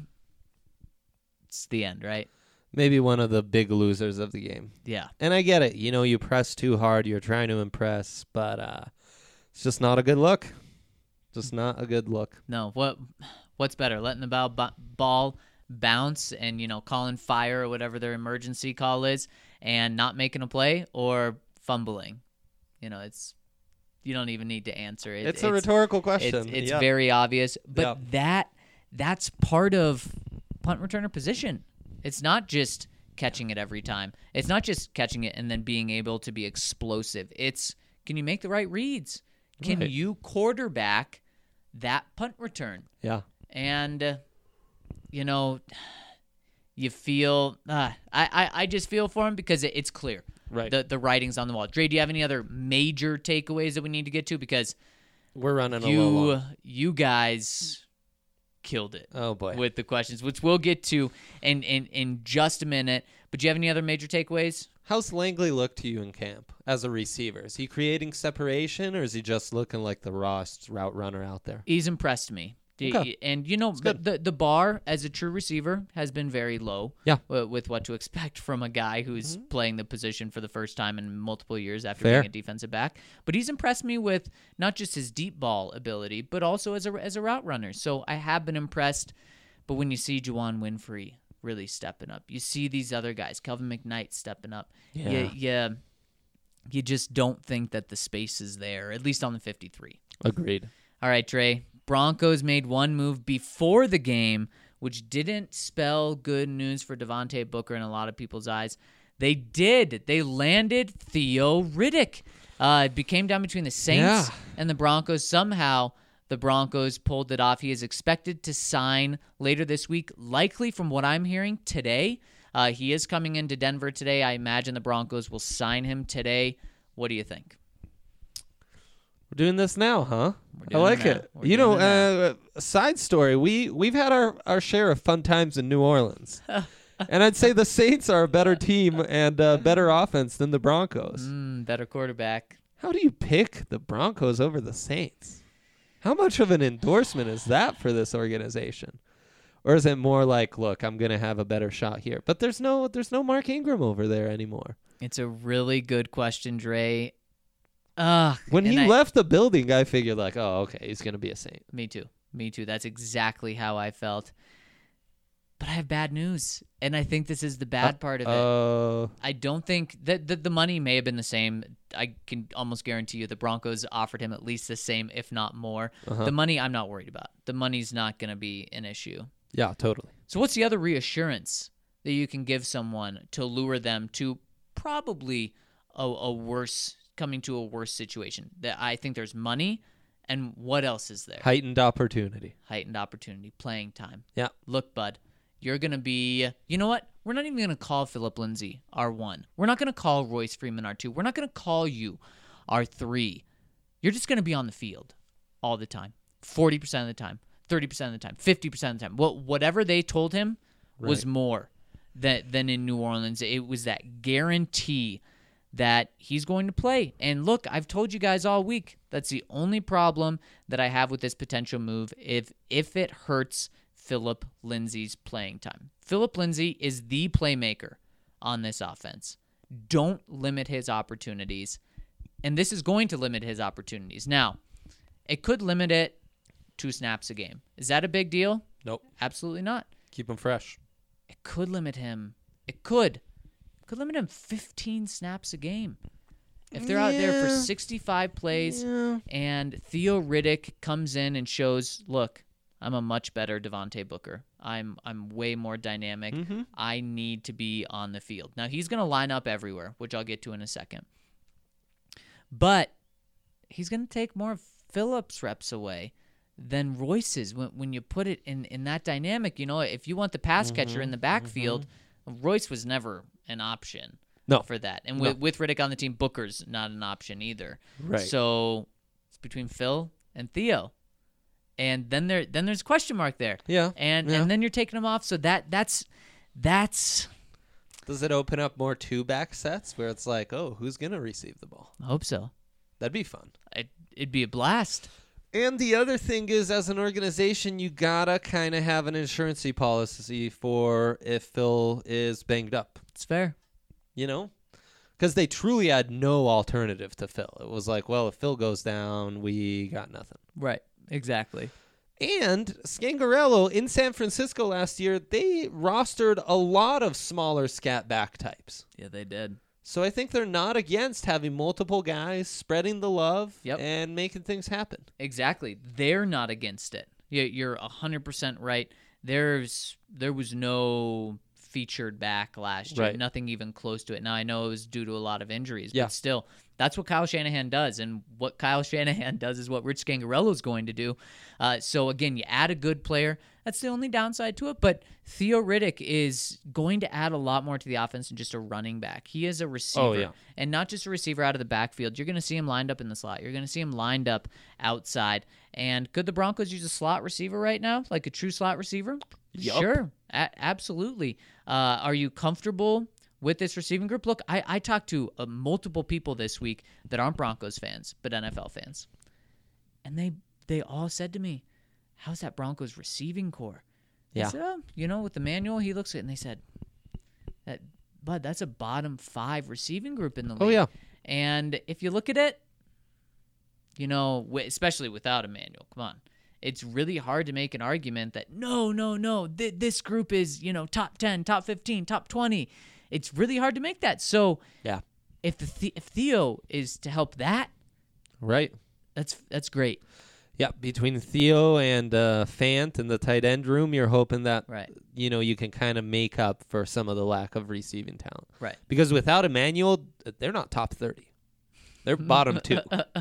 it's the end, right? Maybe one of the big losers of the game. Yeah. And I get it. You know, you press too hard. You're trying to impress, but uh, it's just not a good look. Just not a good look. No, what what's better, letting the ball, bu- ball bounce and, you know, calling fire or whatever their emergency call is and not making a play, or fumbling? You know, it's you don't even need to answer it. It's a rhetorical question. It's, it's Yeah. very obvious, but Yeah. that that's part of punt returner position. It's not just catching it every time. It's not just catching it and then being able to be explosive. It's, can you make the right reads? Can Right. you quarterback that punt return? Yeah. And, uh, you know, you feel, uh, I, I, I just feel for him because it, it's clear. Right. The, the writing's on the wall. Dre, do you have any other major takeaways that we need to get to? Because We're running a little you, long. you guys killed it Oh, boy. with the questions, which we'll get to in, in, in just a minute. But do you have any other major takeaways? How's Langley look to you in camp as a receiver? Is he creating separation, or is he just looking like the rawest route runner out there? He's impressed me. The- Okay. And, you know, the, good. the the bar as a true receiver has been very low. Yeah. w- With what to expect from a guy who's playing the position for the first time in multiple years after Fair. being a defensive back. But he's impressed me with not just his deep ball ability, but also as a, as a route runner. So I have been impressed. But when you see Juwan Winfrey really stepping up, you see these other guys, Kelvin McKnight stepping up. Yeah. You, you, you just don't think that the space is there, at least on the fifty-three. Agreed. All right, Trey. Broncos made one move before the game, which didn't spell good news for Devontae Booker in a lot of people's eyes. They did. They landed Theo Riddick. Uh, it became down between the Saints Yeah. and the Broncos. Somehow, the Broncos pulled it off. He is expected to sign later this week, likely from what I'm hearing today. Uh, he is coming into Denver today. I imagine the Broncos will sign him today. What do you think? We're doing this now, huh? We're I doing like it now. it. We're You know, doing it uh, a side story. We we've had our, our share of fun times in New Orleans, and I'd say the Saints are a better team and uh, better offense than the Broncos. Mm, better quarterback. How do you pick the Broncos over the Saints? How much of an endorsement is that for this organization? Or is it more like, look, I'm going to have a better shot here? But there's no there's no Mark Ingram over there anymore. It's a really good question, Dre. Ugh, When and he I- left the building, I figured like, oh, okay, he's going to be a Saint. Me too. Me too. That's exactly how I felt. But I have bad news, and I think this is the bad part of it. Uh, I don't think that the, the money may have been the same. I can almost guarantee you the Broncos offered him at least the same, if not more. Uh-huh. The money I'm not worried about. The money's not going to be an issue. yeah, totally. So what's the other reassurance that you can give someone to lure them to probably a, a worse, coming to a worse situation? That I think there's money, and what else is there? Heightened opportunity. Heightened opportunity, playing time. Yeah. Look, bud, you're going to be, you know what? We're not even going to call Philip Lindsay our one. We're not going to call Royce Freeman our two. We're not going to call you our three. You're just going to be on the field all the time, forty percent of the time, thirty percent of the time, fifty percent of the time. Well, whatever they told him was Right. more than, than in New Orleans. It was that guarantee that he's going to play. And look, I've told you guys all week, that's the only problem that I have with this potential move if if it hurts Philip Lindsay's playing time. Philip Lindsay is the playmaker on this offense. Don't limit his opportunities. And this is going to limit his opportunities. Now, it could limit it two snaps a game. Is that a big deal? Nope. Absolutely not. Keep him fresh. It could limit him. It could. It could limit him fifteen snaps a game. If they're out there for Yeah. sixty-five plays Yeah. and Theo Riddick comes in and shows, look, I'm a much better Devontae Booker. I'm I'm way more dynamic. Mm-hmm. I need to be on the field. Now, he's going to line up everywhere, which I'll get to in a second. But he's going to take more of Phillips' reps away than Royce's when, when you put it in, in that dynamic. You know, if you want the pass catcher in the backfield, Royce was never an option No. for that. And No. with, with Riddick on the team, Booker's not an option either. Right. So it's between Phil and Theo. And then there then there's a question mark there. Yeah. And yeah. and then you're taking them off. So that that's that's Does it open up more two back sets where it's like, oh, who's going to receive the ball? I hope so. That'd be fun. It, it'd be a blast. And the other thing is, as an organization, you gotta kind of have an insurance policy for if Phil is banged up. It's fair. You know? Because they truly had no alternative to Phil. It was like, well, if Phil goes down, we got nothing. Right. Exactly. And Scangarello in San Francisco last year, they rostered a lot of smaller scat back types. Yeah, they did. So I think they're not against having multiple guys spreading the love Yep. and making things happen. Exactly. They're not against it. You- You're one hundred percent right. There's there was no featured back last year. Right. Nothing even close to it. Now, I know it was due to a lot of injuries, Yeah. but still, that's what Kyle Shanahan does. And what Kyle Shanahan does is what Rich Scangarello is going to do. Uh, so, again, you add a good player. That's the only downside to it. But Theo Riddick is going to add a lot more to the offense than just a running back. He is a receiver. Oh, yeah. And not just a receiver out of the backfield. You're going to see him lined up in the slot. You're going to see him lined up outside. And could the Broncos use a slot receiver right now, like a true slot receiver? Yup. Sure. A- absolutely. Uh, are you comfortable with this receiving group? Look, I, I talked to uh, multiple people this week that aren't Broncos fans, but N F L fans. And they they all said to me, how's that Broncos receiving core? Yeah. I said, oh, you know, with the manual, he looks at it, and they said, that, Bud, that's a bottom five receiving group in the league. Oh, yeah. And if you look at it, you know, w- especially without a manual, come on. It's really hard to make an argument that, no, no, no, th- this group is, you know, top ten, top fifteen, top twenty. It's really hard to make that. So Yeah. if the, the if Theo is to help that, Right. that's that's great. Yeah, between Theo and uh, Fant in the tight end room, you're hoping that Right. you know you can kind of make up for some of the lack of receiving talent. Right. Because without Emmanuel, they're not top thirty. They're bottom two.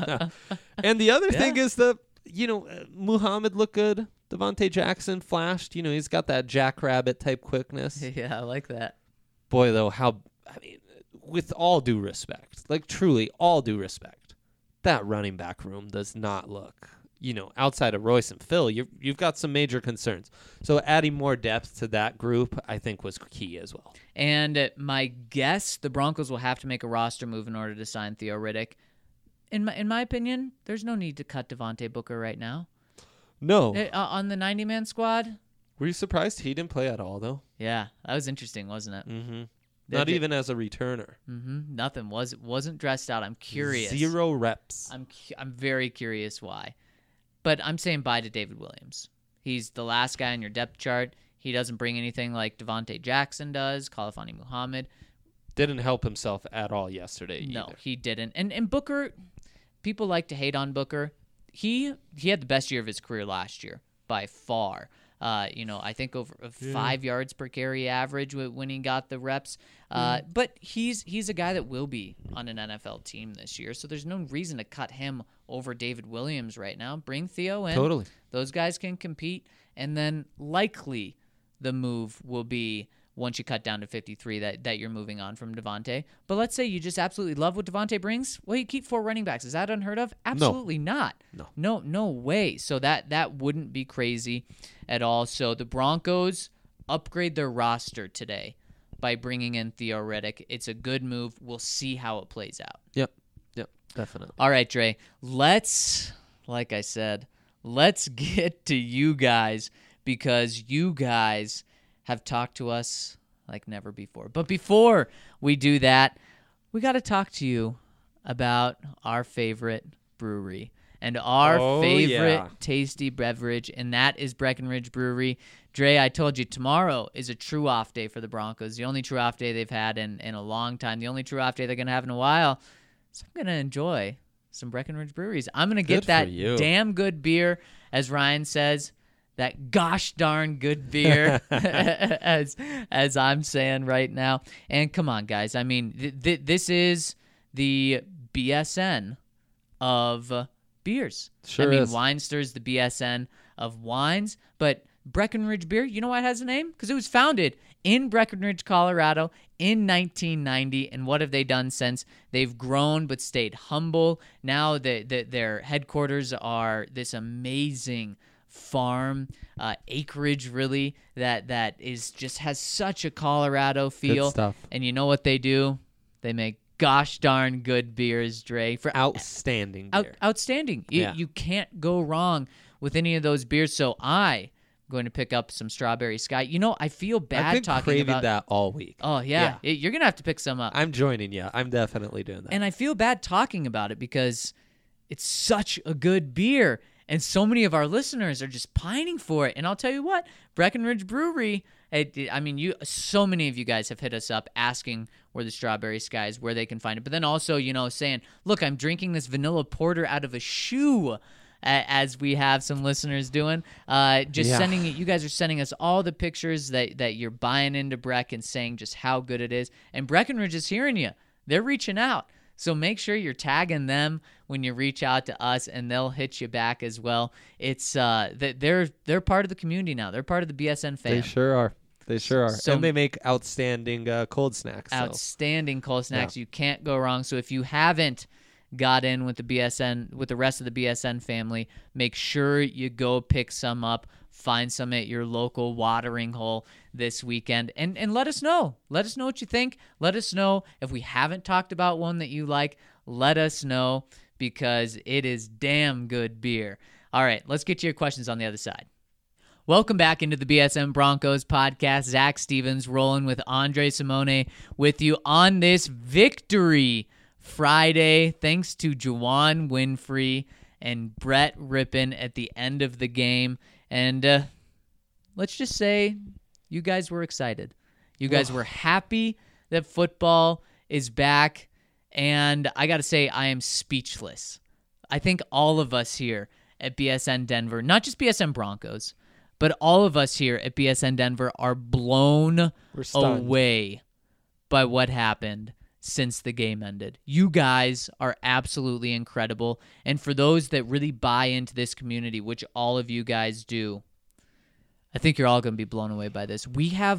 And the other Yeah. thing is the, you know, uh, Muhammad looked good. Devontae Jackson flashed. You know, he's got that jackrabbit type quickness. Yeah, I like that. Boy, though, how, I mean, with all due respect, like truly all due respect, that running back room does not look, you know, outside of Royce and Phil, you've, you've got some major concerns. So adding more depth to that group, I think, was key as well. And uh, my guess, the Broncos will have to make a roster move in order to sign Theo Riddick. In my in my opinion, there's no need to cut Devontae Booker right now. No. Uh, on the ninety-man squad? Were you surprised he didn't play at all, though? Yeah, that was interesting, wasn't it? Mm-hmm. They Not did- even as a returner. Mm-hmm. Nothing. Was, wasn't dressed out. I'm curious. Zero reps. I'm cu- I'm very curious why. But I'm saying bye to David Williams. He's the last guy on your depth chart. He doesn't bring anything like Devontae Jackson does, Khalifani Muhammad. Didn't help himself at all yesterday No, either. he didn't. And and Booker, people like to hate on Booker. He he had the best year of his career last year by far. Uh, you know, I think over uh, five yards per carry average w- when he got the reps. Uh, but he's he's a guy that will be on an N F L team this year, so there's no reason to cut him over David Williams right now. Bring Theo in. Totally. Those guys can compete, and then likely the move will be once you cut down to fifty-three that, that you're moving on from Devontae. But let's say you just absolutely love what Devontae brings. Well, you keep four running backs. Is that unheard of? Absolutely not. No. No, no way. So that that wouldn't be crazy at all. So the Broncos upgrade their roster today by bringing in Theo Riddick. It's a good move. We'll see how it plays out. Yep. Yep. Definitely. All right, Dre. Let's, like I said, let's get to you guys because you guys have talked to us like never before. But before we do that, we got to talk to you about our favorite brewery and our Oh, favorite yeah. tasty beverage, and that is Breckenridge Brewery. Dre, I told you tomorrow is a true off day for the Broncos, the only true off day they've had in, in a long time, the only true off day they're going to have in a while. So I'm going to enjoy some Breckenridge Breweries. I'm going to get Good that for you. damn good beer, as Ryan says, that gosh darn good beer, as as I'm saying right now. And come on, guys. I mean, th- th- this is the B S N of beers. Sure I mean, is. Weinster's the B S N of wines, but Breckenridge Beer, you know why it has a name? Because it was founded in Breckenridge, Colorado in nineteen ninety. And what have they done since? They've grown but stayed humble. Now the, the, their headquarters are this amazing farm uh, acreage, really, that that is just has such a Colorado feel. stuff. And you know what they do? They make gosh darn good beers, Dre. For Outstanding out, beer. outstanding. You, Yeah. you can't go wrong with any of those beers. So I going to pick up some Strawberry Sky. You know, I feel bad I've been talking craving about that all week. Oh yeah, It- you're gonna have to pick some up. I'm joining you. I'm definitely doing that. And I feel bad talking about it because it's such a good beer, and so many of our listeners are just pining for it. And I'll tell you what, Breckenridge Brewery. It, I mean, you. So many of you guys have hit us up asking where the Strawberry Sky is, where they can find it. But then also, you know, saying, "Look, I'm drinking this vanilla porter out of a shoe." As we have some listeners doing, uh, just Yeah. sending you guys are sending us all the pictures that, that you're buying into Breck and saying just how good it is. And Breckenridge is hearing you. They're reaching out. So make sure you're tagging them when you reach out to us, and they'll hit you back as well. It's uh, that they're they're part of the community now. They're part of the B S N fam. They sure are. They sure are. So- and they make outstanding uh, cold snacks. so. Outstanding cold snacks. You can't go wrong. So if you haven't got in with the B S N, with the rest of the B S N family, make sure you go pick some up. Find some at your local watering hole this weekend, and and let us know. Let us know what you think. Let us know if we haven't talked about one that you like. Let us know, because it is damn good beer. All right, let's get to your questions on the other side. Welcome back into the B S M Broncos podcast. Zach Stevens rolling with Andre Simone with you on this Victory Friday. Thanks to Juwan Winfrey and Brett Rippon at the end of the game. And uh, let's just say you guys were excited. You guys were happy that football is back. And I got to say, I am speechless. I think all of us here at B S N Denver, not just B S N Broncos, but all of us here at B S N Denver are blown We're stunned. away by what happened since the game ended. You guys are absolutely incredible. And for those that really buy into this community, which all of you guys do, I think you're all going to be blown away by this. We have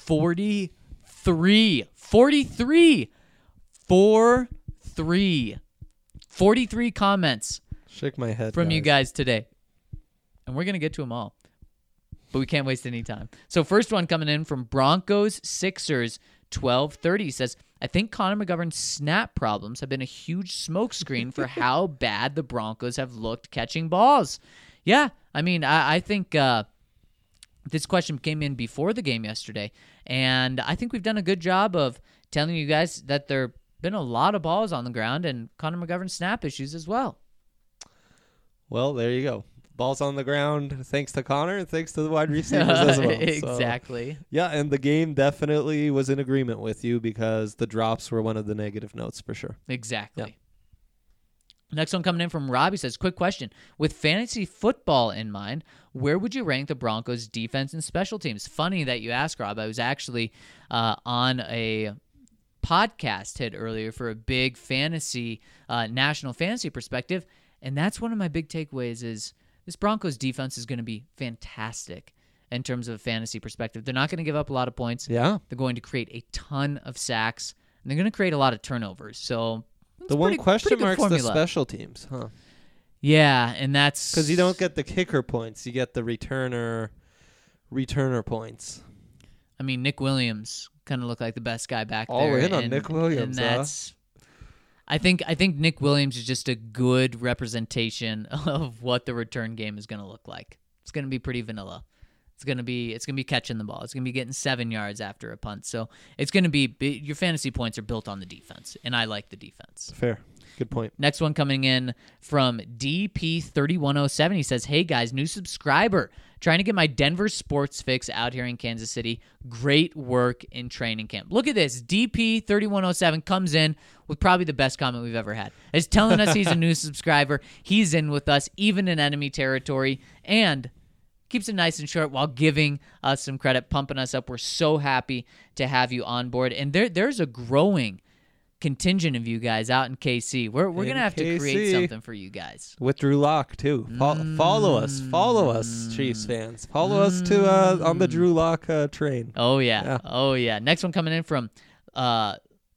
forty-three, forty-three, four, three, forty-three comments Shake my head from guys. you guys today. And we're going to get to them all. But we can't waste any time. So first one coming in from Broncos Sixers twelve thirty says, I think Connor McGovern's snap problems have been a huge smokescreen for how bad the Broncos have looked catching balls. Yeah, I mean, I, I think uh, this question came in before the game yesterday, and I think we've done a good job of telling you guys that there have been a lot of balls on the ground and Connor McGovern's snap issues as well. Well, there you go. Balls on the ground, thanks to Connor, and thanks to the wide receivers as well. Exactly. So, yeah, and the game definitely was in agreement with you because the drops were one of the negative notes for sure. Exactly. Yeah. Next one coming in from Robbie says, quick question. With fantasy football in mind, where would you rank the Broncos' defense and special teams? Funny that you asked, Rob. I was actually uh, on a podcast hit earlier for a big fantasy, uh, national fantasy perspective, and that's one of my big takeaways is this Broncos defense is going to be fantastic in terms of a fantasy perspective. They're not going to give up a lot of points. Yeah. They're going to create a ton of sacks, and they're going to create a lot of turnovers. So the one pretty, question pretty mark's formula. the special teams, huh? Yeah, and that's because you don't get the kicker points; you get the returner, returner points. I mean, Nick Williams kind of looked like the best guy back All there. in on and, Nick Williams, and that's. Huh? I think I think Nick Williams is just a good representation of what the return game is going to look like. It's going to be pretty vanilla. It's going to be it's going to be catching the ball. It's going to be getting seven yards after a punt. So it's going to be your fantasy points are built on the defense, and I like the defense. Fair. Good point. Next one coming in from D P thirty-one oh seven. He says, hey, guys, new subscriber. Trying to get my Denver sports fix out here in Kansas City. Great work in training camp. Look at this. D P thirty-one oh seven comes in with probably the best comment we've ever had. He's telling us he's a new subscriber. He's in with us, even in enemy territory, and keeps it nice and short while giving us some credit, pumping us up. We're so happy to have you on board. And there, there's a growing contingent of you guys out in K C. We're we're In gonna have K C. to create something for you guys. With Drew Lock too. Fo- Mm. Follow us, follow us, Chiefs fans. Follow mm. us to uh, on the Drew Lock uh, train. Oh yeah. yeah, oh yeah. Next one coming in from uh,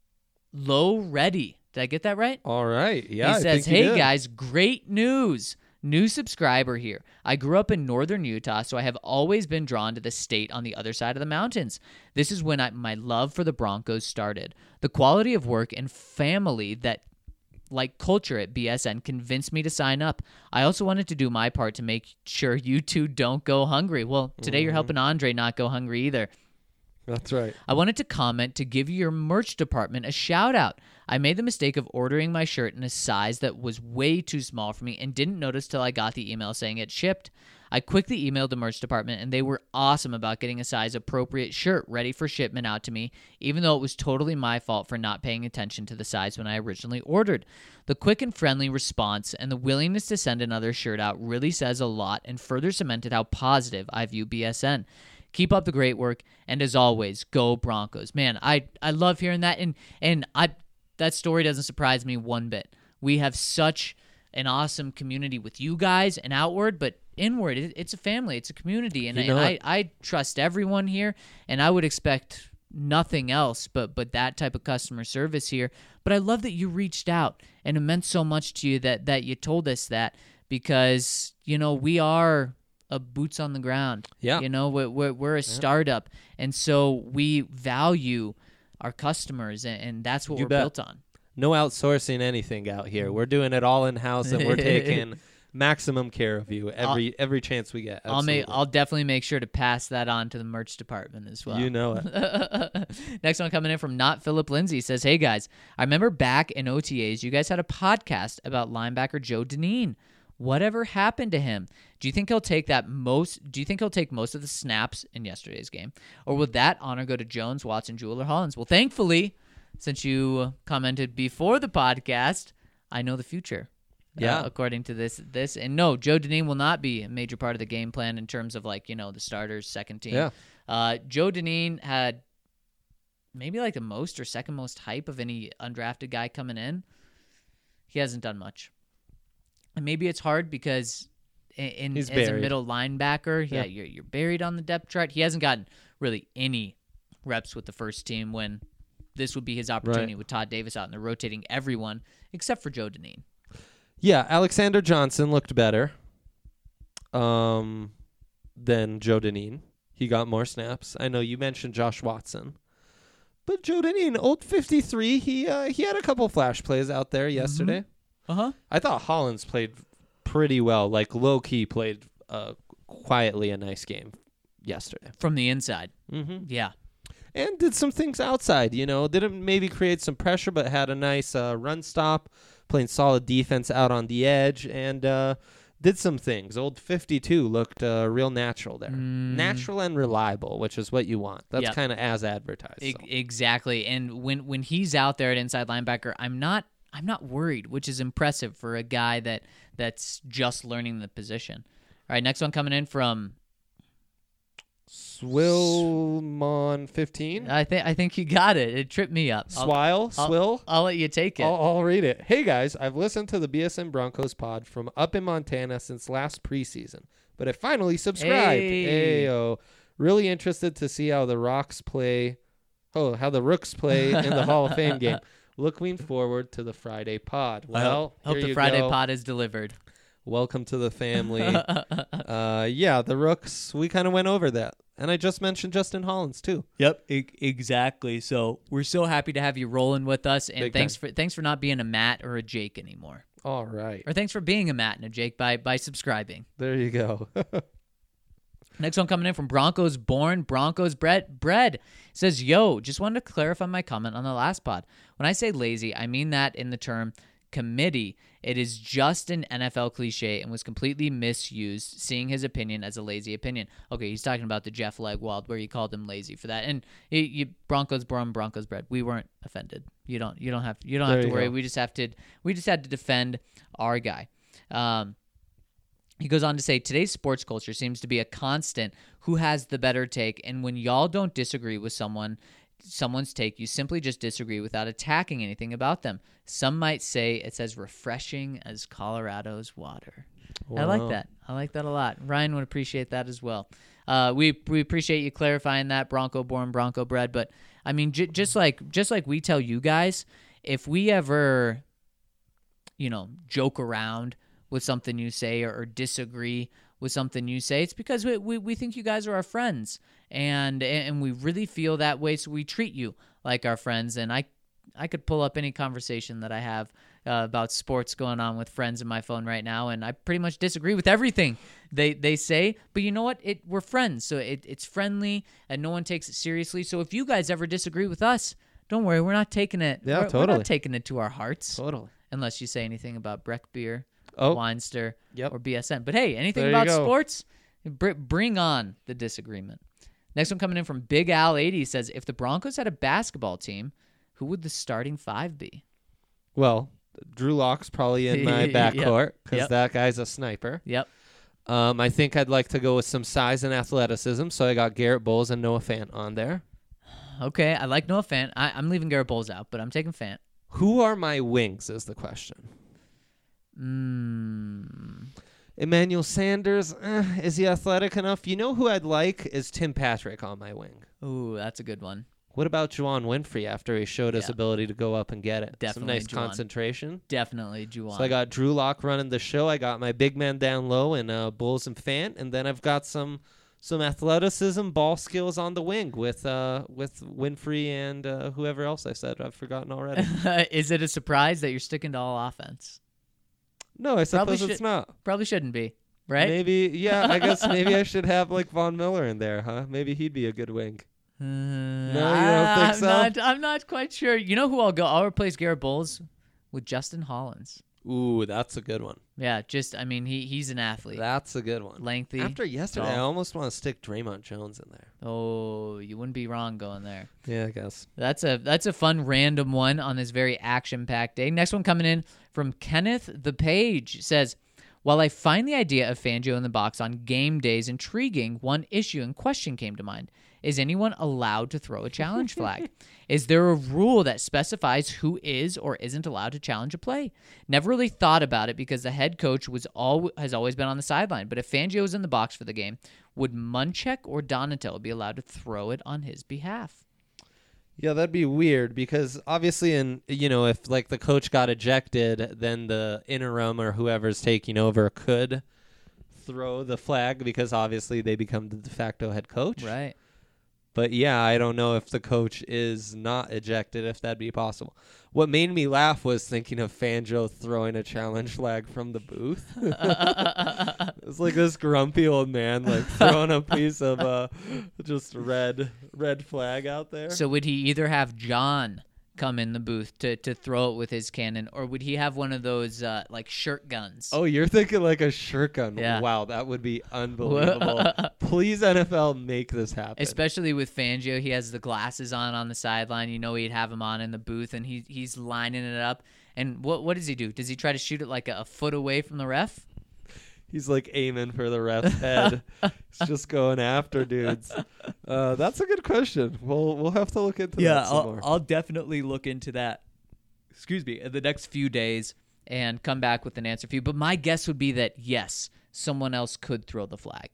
Low Ready. Did I get that right? All right. Yeah. He I says, think you "Hey did. guys, great news." New subscriber here. I grew up in northern Utah, so I have always been drawn to the state on the other side of the mountains. This is when I, my love for the Broncos started. The quality of work and family that, like culture at B S N, convinced me to sign up. I also wanted to do my part to make sure you two don't go hungry. Well, today mm-hmm. you're helping Andre not go hungry either. That's right. I wanted to comment to give your merch department a shout out. I made the mistake of ordering my shirt in a size that was way too small for me and didn't notice till I got the email saying it shipped. I quickly emailed the merch department and they were awesome about getting a size appropriate shirt ready for shipment out to me, even though it was totally my fault for not paying attention to the size when I originally ordered. The quick and friendly response and the willingness to send another shirt out really says a lot and further cemented how positive I view B S N. Keep up the great work, and as always, go Broncos. Man, I, I love hearing that, and and I that story doesn't surprise me one bit. We have such an awesome community with you guys and outward, but inward, it, it's a family, it's a community, and, I, and I, I trust everyone here, and I would expect nothing else but but that type of customer service here. But I love that you reached out, and it meant so much to you that that you told us that, because, you know, we are a boots on the ground. Yeah. You know, we're, we're, we're a startup. And so we value our customers, and, and that's what You we're bet. built on. No outsourcing anything out here. We're doing it all in-house, and we're taking maximum care of you every I'll, every chance we get. I'll make, I'll definitely make sure to pass that on to the merch department as well. You know it. Next one coming in from Not Philip Lindsay says, hey guys, I remember back in O T As, you guys had a podcast about linebacker Joe Dineen. Whatever happened to him? Do you think he'll take that most? Do you think he'll take most of the snaps in yesterday's game, or will that honor go to Jones, Watson, Jewell, or Hollins? Well, thankfully, since you commented before the podcast, I know the future. Yeah, uh, according to this, this and no, Joe Dineen will not be a major part of the game plan in terms of, like, you know, the starters, second team. Yeah. Uh, Joe Dineen had maybe like the most or second most hype of any undrafted guy coming in. He hasn't done much. And maybe it's hard because in, in He's as buried. a middle linebacker, yeah, Yeah. you're you're buried on the depth chart. He hasn't gotten really any reps with the first team when this would be his opportunity Right. with Todd Davis out and they're rotating everyone except for Joe Deneen. Yeah, Alexander Johnson looked better um, than Joe Deneen. He got more snaps. I know you mentioned Josh Watson. But Joe Deneen, old fifty-three, he uh, he had a couple flash plays out there yesterday. Uh-huh. I thought Hollins played pretty well, like low-key played uh, quietly a nice game yesterday. From the inside. Mm-hmm. Yeah. And did some things outside, you know. Didn't maybe create some pressure, but had a nice uh, run stop, playing solid defense out on the edge, and uh, did some things. Old fifty-two looked uh, real natural there. Mm. Natural and reliable, which is what you want. That's Yep. kind of as advertised. E- so. Exactly. And when when he's out there at inside linebacker, I'm not I'm not worried, which is impressive for a guy that that's just learning the position. All right, next one coming in from Swilmon fifteen? I think I think you got it. It tripped me up. I'll- Swile? I'll, Swill? I'll let you take it. I'll, I'll read it. Hey guys, I've listened to the B S N Broncos pod from up in Montana since last preseason, but I finally subscribed. Hey. Ayo. Really interested to see how the Rocks play. Oh, how the Rooks play in the Hall of Fame game. Looking forward to the Friday pod. I Well, hope, hope here the you Friday go. pod is delivered. Welcome to the family. uh, yeah, the Rooks. We kind of went over that, and I just mentioned Justin Hollins too. Yep, e- exactly. So we're so happy to have you rolling with us, and Big thanks time. for thanks for not being a Matt or a Jake anymore, All right, or thanks for being a Matt and a Jake by by subscribing. there you go. Next one coming in from Broncos Born, Broncos Bread. Bread says, yo, just wanted to clarify my comment on the last pod. When I say lazy, I mean that in the term committee. It is just an N F L cliche and was completely misused, seeing his opinion as a lazy opinion. Okay, he's talking about the Jeff Legwald where you called him lazy for that. And you, you, Broncos Born, Broncos Bread. We weren't offended. You don't you don't have you don't There have to you worry. go. We just have to we just had to defend our guy. Um He goes on to say, today's sports culture seems to be a constant who has the better take, and when y'all don't disagree with someone, someone's take, you simply just disagree without attacking anything about them. Some might say it's as refreshing as Colorado's water. I like Wow. that. I like that a lot. Ryan would appreciate that as well. Uh, we we appreciate you clarifying that, Bronco born, Bronco bred. But I mean, j- just like just like we tell you guys, if we ever, you know, joke around with something you say or, or disagree with something you say, it's because we, we we think you guys are our friends, and and we really feel that way, so we treat you like our friends. And I I could pull up any conversation that I have uh, about sports going on with friends in my phone right now, and I pretty much disagree with everything they they say. But you know what? It we're friends, so it, it's friendly, and no one takes it seriously. So if you guys ever disagree with us, don't worry, we're not taking it. Yeah, we're, We're totally. not taking it to our hearts, Totally. unless you say anything about Breck beer, Oh, Weinster, Yep. or B S N. But hey, anything There you about go. sports, br- bring on the disagreement. Next one coming in from Big Al eighty says, if the Broncos had a basketball team, who would the starting five be? well, Drew Lock's probably in my Yep. backcourt because Yep. that guy's a sniper. Yep. Um, I think I'd like to go with some size and athleticism, so I got Garrett Bowles and Noah Fant on there. Okay, I like Noah Fant. I, I'm leaving Garrett Bowles out, but I'm taking Fant. Who are my wings is the question. Mm. Emmanuel Sanders, eh, is he athletic enough? You know who I'd like is Tim Patrick on my wing. Ooh, that's a good one. What about Juwan Winfrey after he showed his Yeah. ability to go up and get it? Definitely Some nice Juwan. concentration. Definitely Juwan. So I got Drew Lock running the show. I got my big man down low and uh, Bulls and Fant, and then I've got some some athleticism, ball skills on the wing with uh, with Winfrey and uh, whoever else I said I've forgotten already. Is it a surprise that you're sticking to all offense? No, I Probably suppose it's should- not. Probably shouldn't be, right? Maybe, yeah. I guess maybe I should have like Von Miller in there, huh? Maybe he'd be a good wing. Uh, you don't think I'm so? Not, I'm not quite sure. You know who I'll go? I'll replace Garrett Bowles with Justin Hollins. Ooh, that's a good one. Yeah, just I mean he he's an athlete, That's a good one. lengthy. After yesterday, I tall. almost want to stick Draymond Jones in there. Oh, you wouldn't be wrong going there. Yeah, I guess. That's a that's a fun random one on this very action-packed day. Next one coming in from Kenneth the Page says, while I find the idea of Fangio in the box on game days intriguing, one issue and question came to mind. Is anyone allowed to throw a challenge flag? Is there a rule that specifies who is or isn't allowed to challenge a play? Never really thought about it because the head coach was all has always been on the sideline. But if Fangio was in the box for the game, would Munchak or Donatello be allowed to throw it on his behalf? Yeah, that'd be weird because obviously, in you know, if like the coach got ejected, then the interim or whoever's taking over could throw the flag because obviously they become the de facto head coach. Right. But yeah, I don't know if the coach is not ejected, if that'd be possible. What made me laugh was thinking of Fangio throwing a challenge flag from the booth. It's like this grumpy old man like throwing a piece of uh, just red red flag out there. So would he either have John come in the booth to, to throw it with his cannon, or would he have one of those uh, like shirt guns? Oh, you're thinking like a shirt gun. Yeah. Wow, that would be unbelievable. Please, N F L, make this happen. Especially with Fangio, he has the glasses on on the sideline. You know he'd have him on in the booth, and he he's lining it up. And what what does he do? Does he try to shoot it like a, a foot away from the ref? He's like aiming for the ref's head. He's just going after dudes. Uh, that's a good question. We'll we'll have to look into Yeah, that some I'll, more. I'll definitely look into that. Excuse me, in the next few days and come back with an answer for you. But my guess would be that yes, someone else could throw the flag.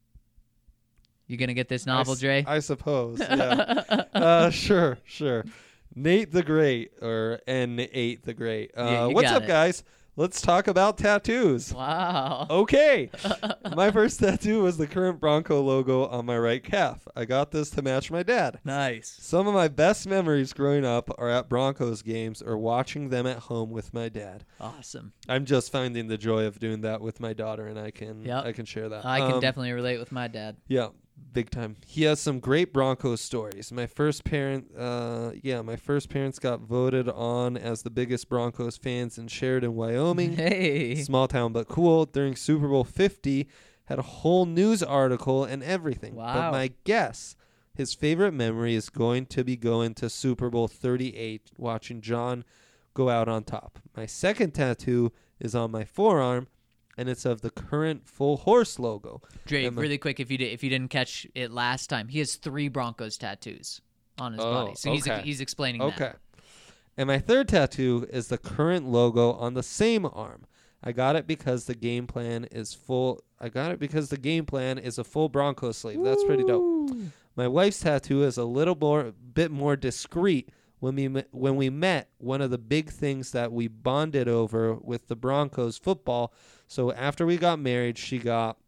You gonna get this novel, I s- Dre? I suppose. Yeah. uh, sure, sure. Nate the Great or N eight the Great. Uh, Yeah, you what's got up, it. guys? Let's talk about tattoos. Wow. Okay. My first tattoo was the current Bronco logo on my right calf. I got this to match my dad. Nice. Some of my best memories growing up are at Broncos games or watching them at home with my dad. Awesome. I'm just finding the joy of doing that with my daughter, and I can Yep. I can share that. I can Um, definitely relate with my dad. Yeah, big time. He has some great Broncos stories. My first parent, uh, yeah, my first parents got voted on as the biggest Broncos fans in Sheridan, Wyoming. Hey. Small town but cool. During Super Bowl fifty, had a whole news article and everything. Wow. But my guess, his favorite memory is going to be going to Super Bowl thirty-eight, watching John go out on top. My second tattoo is on my forearm, and it's of the current Full Horse logo. Drake, And my- really quick, if you did, if you didn't catch it last time, he has three Broncos tattoos on his Oh, body. So he's okay. he's explaining Okay. that. And my third tattoo is the current logo on the same arm. I got it because the game plan is full. I got it because the game plan is a full Bronco sleeve. That's pretty dope. My wife's tattoo is a little more, bit more discreet. When we me- when we met, one of the big things that we bonded over with the Broncos football. So after we got married, she got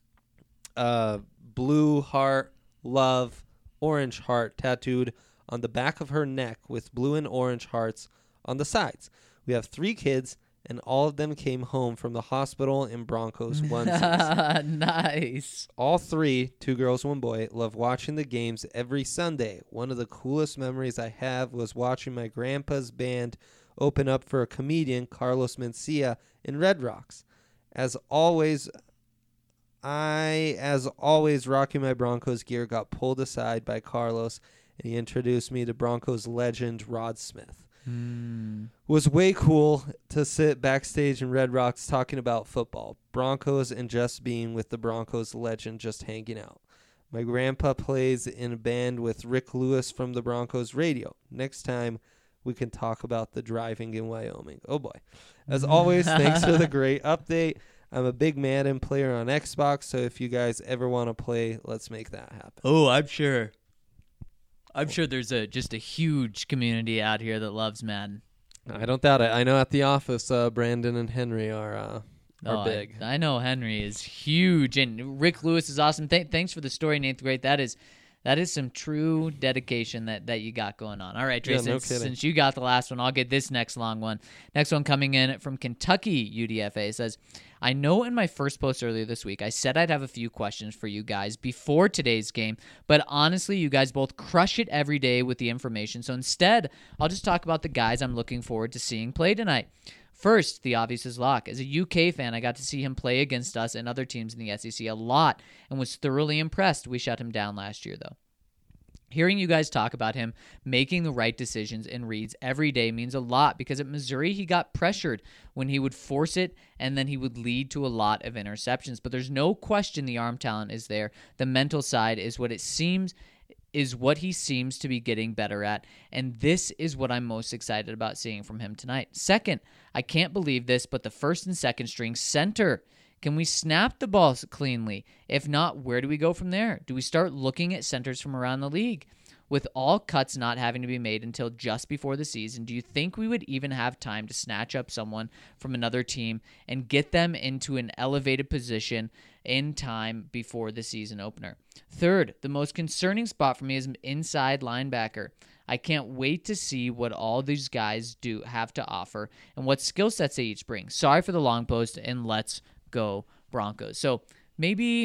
uh, blue heart, love, orange heart tattooed on the back of her neck with blue and orange hearts on the sides. We have three kids, and all of them came home from the hospital in Broncos onesies. Nice. All three, two girls, one boy, love watching the games every Sunday. One of the coolest memories I have was watching my grandpa's band open up for a comedian, Carlos Mencia, in Red Rocks. As always, I, as always, rocking my Broncos gear, got pulled aside by Carlos, and he introduced me to Broncos legend Rod Smith. Mm. Was way cool to sit backstage in Red Rocks talking about football, Broncos, and just being with the Broncos legend, just hanging out. My grandpa plays in a band with Rick Lewis from the Broncos radio. Next time, we can talk about the driving in Wyoming. Oh, boy. As always, thanks for the great update. I'm a big Madden player on Xbox, so if you guys ever want to play, let's make that happen. Oh, I'm sure. I'm sure there's a just a huge community out here that loves Madden. I don't doubt it. I know at the office, uh, Brandon and Henry are uh, are Oh, big. I, I know Henry is huge, and Rick Lewis is awesome. Th- thanks for the story, Nate. Great. That is that is some true dedication that, that you got going on. All right, Trey, Yeah, no since, kidding. since you got the last one, I'll get this next long one. Next one coming in from Kentucky U D F A says, I know in my first post earlier this week, I said I'd have a few questions for you guys before today's game, but honestly, you guys both crush it every day with the information. So instead, I'll just talk about the guys I'm looking forward to seeing play tonight. First, the obvious is Locke. As a U K fan, I got to see him play against us and other teams in the S E C a lot and was thoroughly impressed. We shut him down last year, though. Hearing you guys talk about him making the right decisions and reads every day means a lot because at Missouri he got pressured when he would force it and then he would lead to a lot of interceptions. But there's no question the arm talent is there. The mental side is what it seems is what he seems to be getting better at, and this is what I'm most excited about seeing from him tonight. Second, I can't believe this, but the first and second string center. Can we snap the ball cleanly? If not, where do we go from there? Do we start looking at centers from around the league? With all cuts not having to be made until just before the season, do you think we would even have time to snatch up someone from another team and get them into an elevated position in time before the season opener? Third, the most concerning spot for me is inside linebacker. I can't wait to see what all these guys do have to offer and what skill sets they each bring. Sorry for the long post, and let's go Broncos. So maybe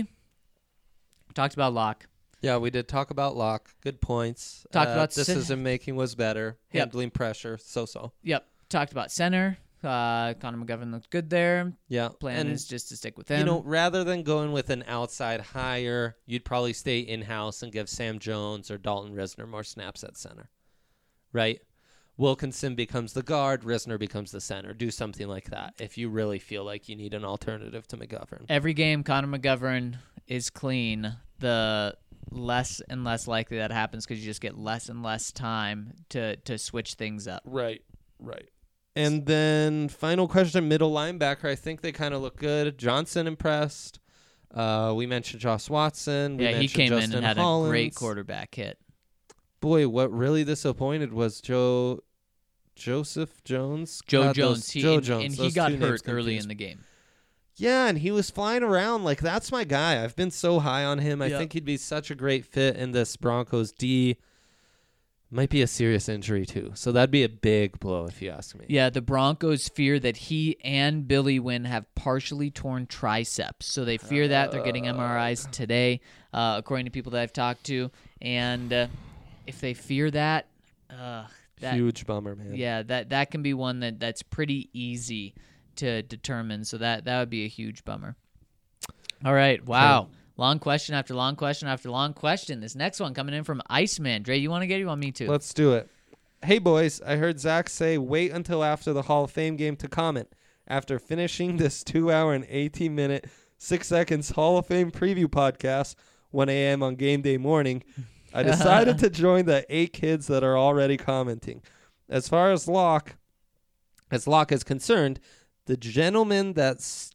talked about Locke. Yeah, we did talk about Locke. Good points. Talked uh, about decision making was better. Yep. Handling pressure, so-so. Yep. Talked about center. Uh, Connor McGovern looked good there. Yeah. Plan and, is just to stick with him. You know, rather than going with an outside hire, you'd probably stay in-house and give Sam Jones or Dalton Risner more snaps at center. Right? Wilkinson becomes the guard, Risner becomes the center. Do something like that if you really feel like you need an alternative to McGovern. Every game Connor McGovern is clean, the less and less likely that happens because you just get less and less time to, to switch things up. Right, right. And then final question, middle linebacker. I think they kind of look good. Johnson impressed. Uh, we mentioned Josh Watson. We yeah, he mentioned came Justin in and had Hollins. a great quarterback hit. Boy, what really disappointed was Joe Joseph Jones. Joe God, Jones. Those, He, Joe and, Jones. and he Those got two names hurt early confused in the me. game. Yeah, and he was flying around. Like, that's my guy. I've been so high on him. I Yep. think he'd be such a great fit in this Broncos D. Might be a serious injury, too. So that'd be a big blow, if you ask me. Yeah, the Broncos fear that he and Billy Wynn have partially torn triceps. So they fear that. They're getting M R Is today, uh, according to people that I've talked to. And uh, if they fear that, uh, that Huge bummer, man. yeah, that, that can be one that, that's pretty easy to determine. So that, that would be a huge bummer. All right. Wow. Okay. Long question after long question after long question. This next one coming in from Iceman. Dre, you want to get it? You want me to? Let's do it. Hey, boys. I heard Zach say wait until after the Hall of Fame game to comment. After finishing this two hour and eighteen minute, six seconds Hall of Fame preview podcast, one a.m. on game day morning, I decided to join the eight kids that are already commenting. As far as Locke, as Locke is concerned, the gentleman that s-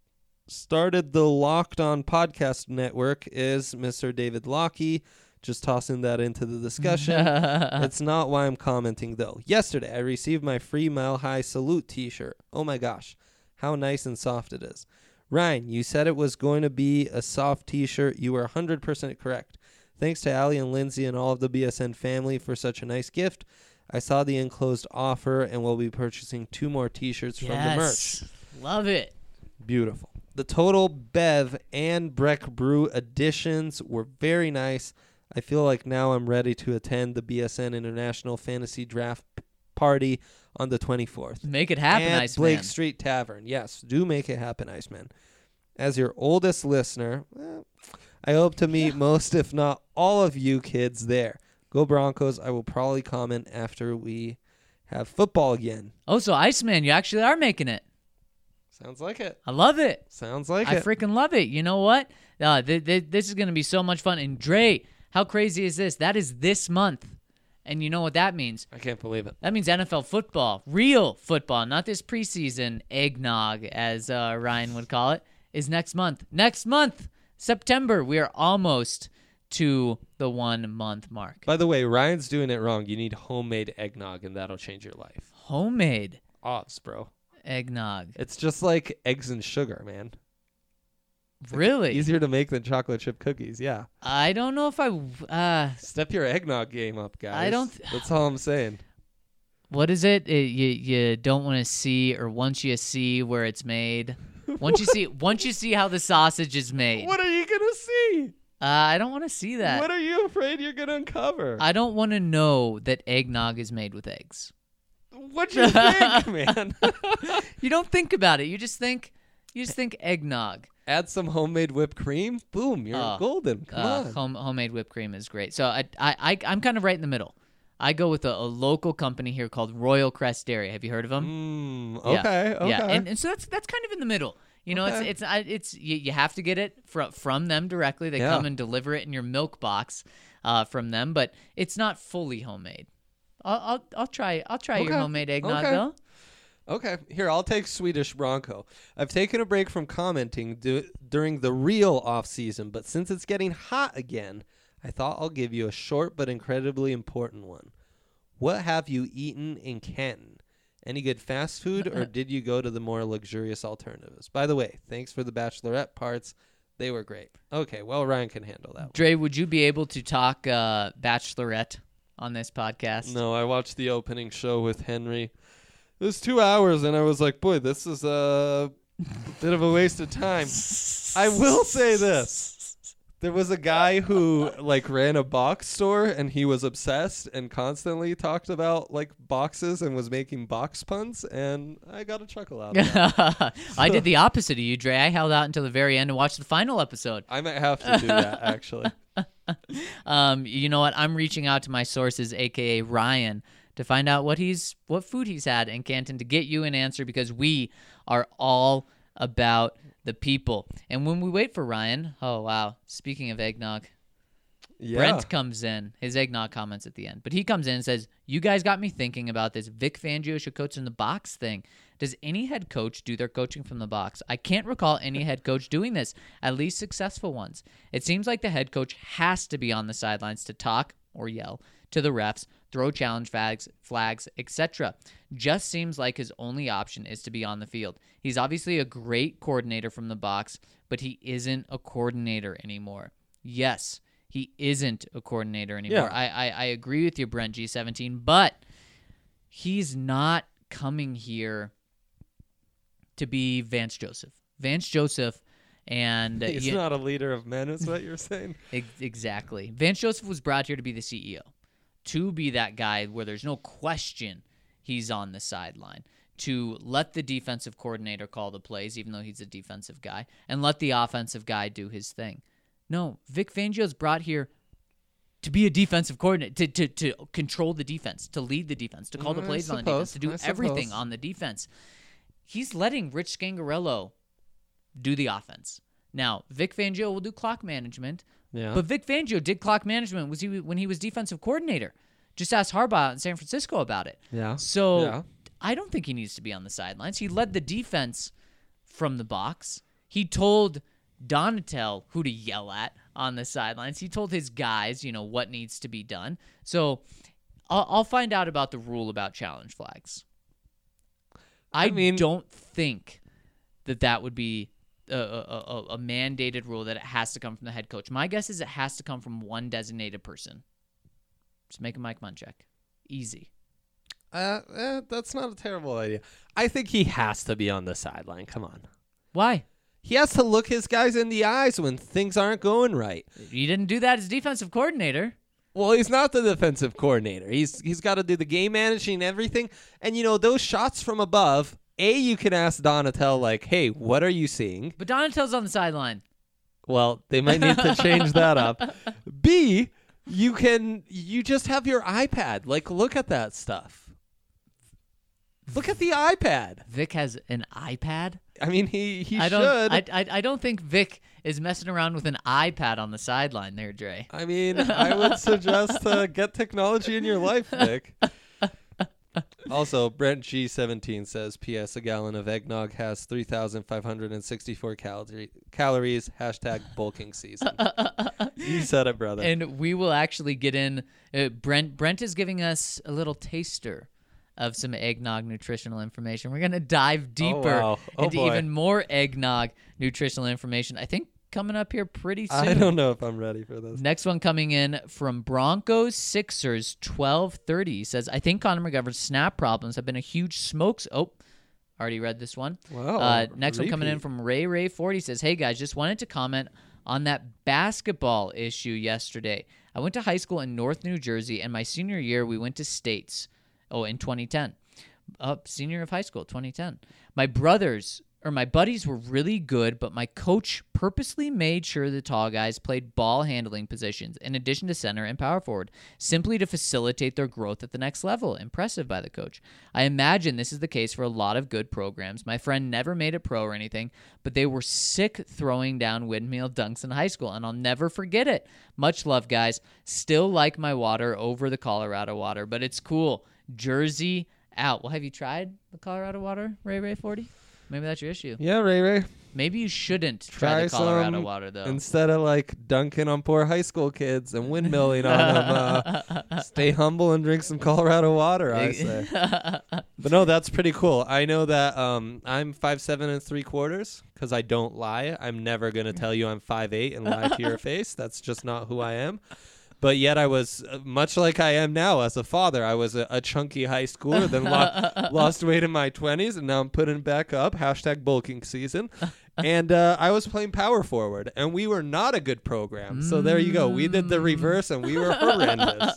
started the Locked On Podcast Network is Mister David Lockie. Just tossing that into the discussion. It's not why I'm commenting, though. Yesterday, I received my free Mile High Salute t-shirt. Oh, my gosh. How nice and soft it is. Ryan, you said it was going to be a soft t-shirt. You were one hundred percent correct. Thanks to Allie and Lindsay and all of the B S N family for such a nice gift. I saw the enclosed offer and will be purchasing two more t-shirts from the merch. Love it. Beautiful. The Total Bev and Breck Brew editions were very nice. I feel like now I'm ready to attend the B S N International Fantasy Draft p- Party on the twenty-fourth. Make it happen, At Iceman. Blake Street Tavern. Yes, do make it happen, Iceman. As your oldest listener, well, I hope to meet most, if not all of you kids there. Go Broncos. I will probably comment after we have football again. Oh, so Iceman, you actually are making it. Sounds like it. I love it. Sounds like I it. freaking love it. You know what? Uh, th- th- this is going to be so much fun. And Dre, how crazy is this? That is this month. And you know what that means? I can't believe it. That means N F L football, real football, not this preseason eggnog, as uh, Ryan would call it, is next month. Next month, September, we are almost to the one-month mark. By the way, Ryan's doing it wrong. You need homemade eggnog, and that'll change your life. Homemade Odds, bro. eggnog. It's just like eggs and sugar, man. It's like Really? easier to make than chocolate chip cookies, yeah. I don't know if I... Uh, Step your eggnog game up, guys. I don't th- That's all I'm saying. what is it? It you, you don't want to see, or once you see where it's made. Once you see once you see how the sausage is made. What are you going to see? Uh, I don't want to see that. What are you afraid you're going to uncover? I don't want to know that eggnog is made with eggs. What do you think, man? You don't think about it. You just think you just think eggnog. Add some homemade whipped cream. Boom, you're Oh, golden. Come Uh, on. home, homemade whipped cream is great. So I, I, I, I'm kind of right in the middle. I go with a, a local company here called Royal Crest Dairy. Have you heard of them? Mm, okay, yeah. okay. Yeah, and, and so that's that's kind of in the middle. You know, Okay. it's it's I- it's you, you have to get it from from them directly. They Yeah. come and deliver it in your milk box. uh, from them, but it's not fully homemade. I'll I'll, I'll try I'll try your Okay. homemade eggnog Okay. though. Okay, here, I'll take Swedish Bronco. I've taken a break from commenting du- during the real off-season, but since it's getting hot again, I thought I'll give you a short but incredibly important one. What have you eaten in Canton? Any good fast food, or did you go to the more luxurious alternatives? By the way, thanks for the Bachelorette parts. They were great. Okay, well, Ryan can handle that one. Dre, would you be able to talk uh, Bachelorette on this podcast? No, I watched the opening show with Henry. It was two hours, and I was like, boy, this is a bit of a waste of time. I will say this. There was a guy who, like, ran a box store, and he was obsessed and constantly talked about, like, boxes and was making box puns, and I got a chuckle out of that. I did the opposite of you, Dre. I held out until the very end and watched the final episode. I might have to do that, actually. um, you know what? I'm reaching out to my sources, a k a. Ryan, to find out what he's what food he's had in Canton to get you an answer, because we are all about the people. And when we wait for Ryan, oh wow, speaking of eggnog, Yeah. Brent comes in, his eggnog comments at the end, but he comes in and says, you guys got me thinking about this Vic Fangio should coach in the box thing. Does any head coach do their coaching from the box? I can't recall any head coach doing this, at least successful ones. It seems like the head coach has to be on the sidelines to talk or yell to the refs, throw challenge flags, flags, et cetera. Just seems like his only option is to be on the field. He's obviously a great coordinator from the box, but he isn't a coordinator anymore. Yes, he isn't a coordinator anymore. Yeah. I, I, I agree with you, Brent G seventeen, but he's not coming here to be Vance Joseph. Vance Joseph and... uh, He's you- not a leader of men, is what you're saying? Ex- Exactly. Vance Joseph was brought here to be the C E O, to be that guy where there's no question he's on the sideline, to let the defensive coordinator call the plays, even though he's a defensive guy, and let the offensive guy do his thing. No, Vic Fangio's brought here to be a defensive coordinator, to, to, to control the defense, to lead the defense, to call the Mm, I plays on the defense, suppose, to do I everything suppose. on the defense. He's letting Rich Scangarello do the offense. Now, Vic Fangio will do clock management, Yeah. but Vic Fangio did clock management was he when he was defensive coordinator. Just ask Harbaugh in San Francisco about it. Yeah. So Yeah. I don't think he needs to be on the sidelines. He led the defense from the box. He told Donatel who to yell at on the sidelines. He told his guys, you know, what needs to be done. So I'll, I'll find out about the rule about challenge flags. I, I mean- don't think that that would be a, a, a, a mandated rule that it has to come from the head coach. My guess is it has to come from one designated person. Just make a Mike Munchak. Easy. Uh, eh, that's not a terrible idea. I think he has to be on the sideline. Come on. Why? He has to look his guys in the eyes when things aren't going right. He didn't do that as defensive coordinator. Well, he's not the defensive coordinator. He's he's got to do the game managing and everything. And, you know, those shots from above, A, you can ask Donatel, like, hey, what are you seeing? But Donatel's on the sideline. Well, they might need to change that up. B, you can, you just have your iPad. Like, look at that stuff. Look at the iPad. Vic has an iPad. I mean, he, he I don't. should. I, I I don't think Vic is messing around with an iPad on the sideline there, Dre. I mean, I would suggest uh, get technology in your life, Vic. Also, Brent G seventeen says, P S. A gallon of eggnog has three thousand five hundred sixty-four calorie, calories. Hashtag bulking season. You said it, brother. And we will actually get in. Uh, Brent Brent is giving us a little taster of some eggnog nutritional information. We're gonna dive deeper wow. Oh, into boy. even more eggnog nutritional information. I think coming up here pretty soon. I don't know if I'm ready for this. Next one coming in from Broncos Sixers twelve thirty says, I think Connor McGovern's snap problems have been a huge smokes. Oh, already read this one. Wow. Uh, next one coming in repeat. from Ray Ray forty says, hey guys, just wanted to comment on that basketball issue yesterday. I went to high school in North New Jersey, and my senior year we went to States. Oh, in twenty ten. Uh, senior of high school, twenty ten. My brothers or my buddies were really good, but my coach purposely made sure the tall guys played ball handling positions in addition to center and power forward, simply to facilitate their growth at the next level. Impressive by the coach. I imagine this is the case for a lot of good programs. My friend never made it pro or anything, but they were sick throwing down windmill dunks in high school, and I'll never forget it. Much love, guys. Still like my water over the Colorado water, but it's cool. Jersey out. Well, have you tried the Colorado water, Ray Ray forty? Maybe that's your issue. Yeah, Ray Ray. Maybe you shouldn't try, Try the Colorado some water, though. Instead of like dunking on poor high school kids and windmilling on them, uh, stay humble and drink some Colorado water, I say. But no, that's pretty cool. I know that um, I'm five seven and three quarters because I don't lie. I'm never going to tell you I'm five eight and lie to your face. That's just not who I am. But yet I was, uh, much like I am now as a father, I was a, a chunky high schooler, then lo- lost weight in my twenties, and now I'm putting it back up. Hashtag bulking season. And uh, I was playing power forward, and we were not a good program. So there you go. We did the reverse, and we were horrendous.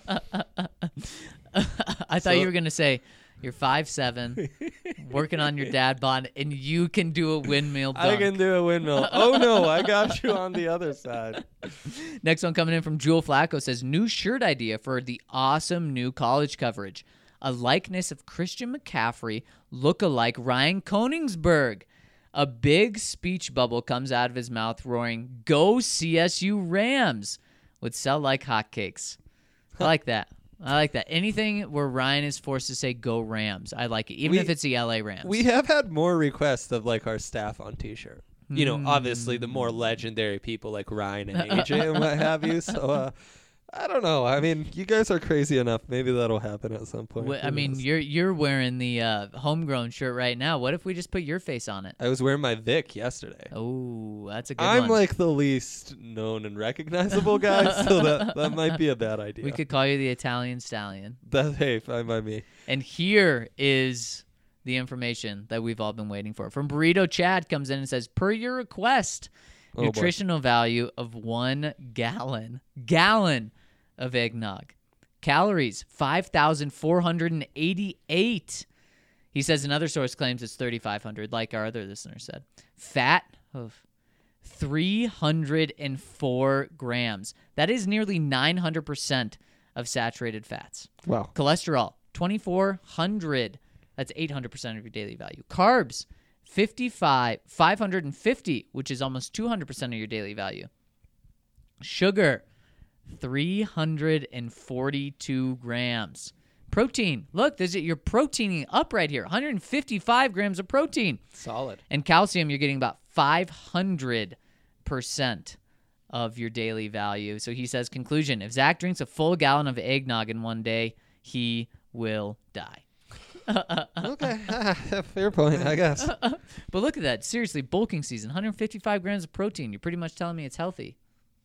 I thought So- you were going to say, you're five seven, working on your dad bod, and you can do a windmill dunk. I can do a windmill. Oh, no, I got you on the other side. Next one coming in from Jewel Flacco says, new shirt idea for the awesome new college coverage. A likeness of Christian McCaffrey, look-alike Ryan Koenigsberg. A big speech bubble comes out of his mouth roaring, "Go C S U Rams," would sell like hotcakes. I like that. I like that. Anything where Ryan is forced to say "Go Rams," I like it, even We- if it's the L A Rams. We have had more requests of like our staff on T-shirt. You know, Hmm. obviously the more legendary people like Ryan and A J and what have you. So uh, I don't know. I mean, you guys are crazy enough. Maybe that'll happen at some point. Wh- I Who mean, knows? you're you're wearing the uh, homegrown shirt right now. What if we just put your face on it? I was wearing my Vic yesterday. Oh, that's a good I'm one. like the least known and recognizable guy, so that that might be a bad idea. We could call you the Italian Stallion. That hey, fine by me. And here is the information that we've all been waiting for. From Burrito Chad comes in and says, per your request, Oh, boy. nutritional value of one gallon, gallon of eggnog. Calories, five thousand four hundred eighty-eight. He says another source claims it's thirty-five hundred, like our other listener said. Fat, oh, three hundred four grams. That is nearly nine hundred percent of saturated fats. Wow. Cholesterol, twenty-four hundred. That's eight hundred percent of your daily value. Carbs, fifty-five, five hundred fifty, which is almost two hundred percent of your daily value. Sugar, three hundred forty-two grams. Protein, look, there's you're proteining up right here. one hundred fifty-five grams of protein. Solid. And calcium, you're getting about five hundred percent of your daily value. So he says, conclusion, if Zach drinks a full gallon of eggnog in one day, he will die. Okay, fair point, I guess. But look at that. Seriously, bulking season, one hundred fifty-five grams of protein. You're pretty much telling me it's healthy.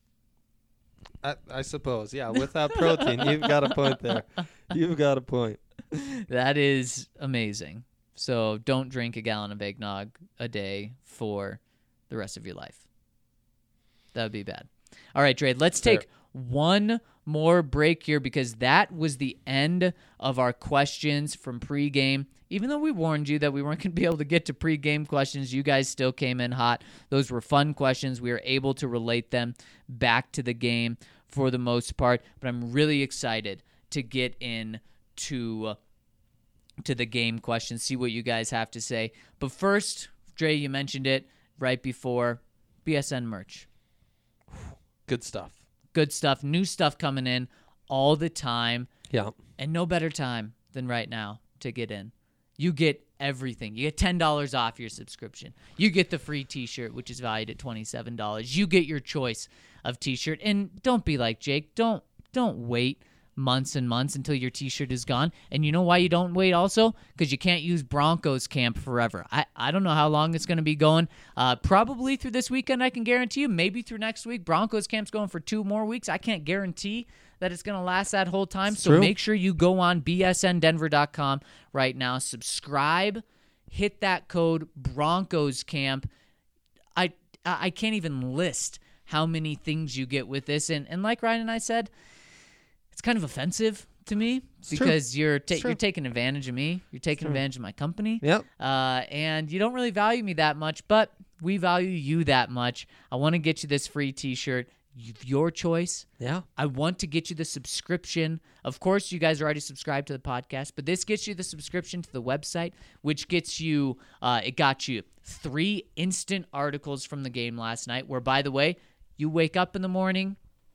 I, I suppose, yeah. Without protein, you've got a point there. You've got a point. That is amazing. So don't drink a gallon of eggnog a day for the rest of your life. That would be bad. All right, Dre, let's take one more break here because that was the end of our questions from pregame. Even though we warned you that we weren't going to be able to get to pregame questions, you guys still came in hot. Those were fun questions. We were able to relate them back to the game for the most part. But I'm really excited to get in to, to the game questions, see what you guys have to say. But first, Dre, you mentioned it right before, B S N merch. Good stuff. Good stuff. New stuff coming in all the time. Yeah. And no better time than right now to get in. You get everything. You get ten dollars off your subscription. You get the free t-shirt, which is valued at twenty-seven dollars. You get your choice of t-shirt. And don't be like Jake. Don't don't wait months and months until your t-shirt is gone. And you know why you don't wait also? Because you can't use Broncos camp forever. I, I don't know how long it's going to be going. Uh, probably through this weekend, I can guarantee you. Maybe through next week. Broncos camp's going for two more weeks. I can't guarantee that it's going to last that whole time. It's so true. make sure you go on B S N Denver dot com right now. Subscribe. Hit that code Broncos camp. I I can't even list how many things you get with this. And, and like Ryan and I said, it's kind of offensive to me It's true. because you're ta- It's true. you're taking advantage of me. You're taking true. advantage of my company. Yep. Uh, and you don't really value me that much, but we value you that much. I want to get you this free T-shirt. Y- Your choice. Yeah. I want to get you the subscription. Of course, you guys are already subscribed to the podcast, but this gets you the subscription to the website, which gets you, uh, it got you three instant articles from the game last night, where, by the way, you wake up in the morning,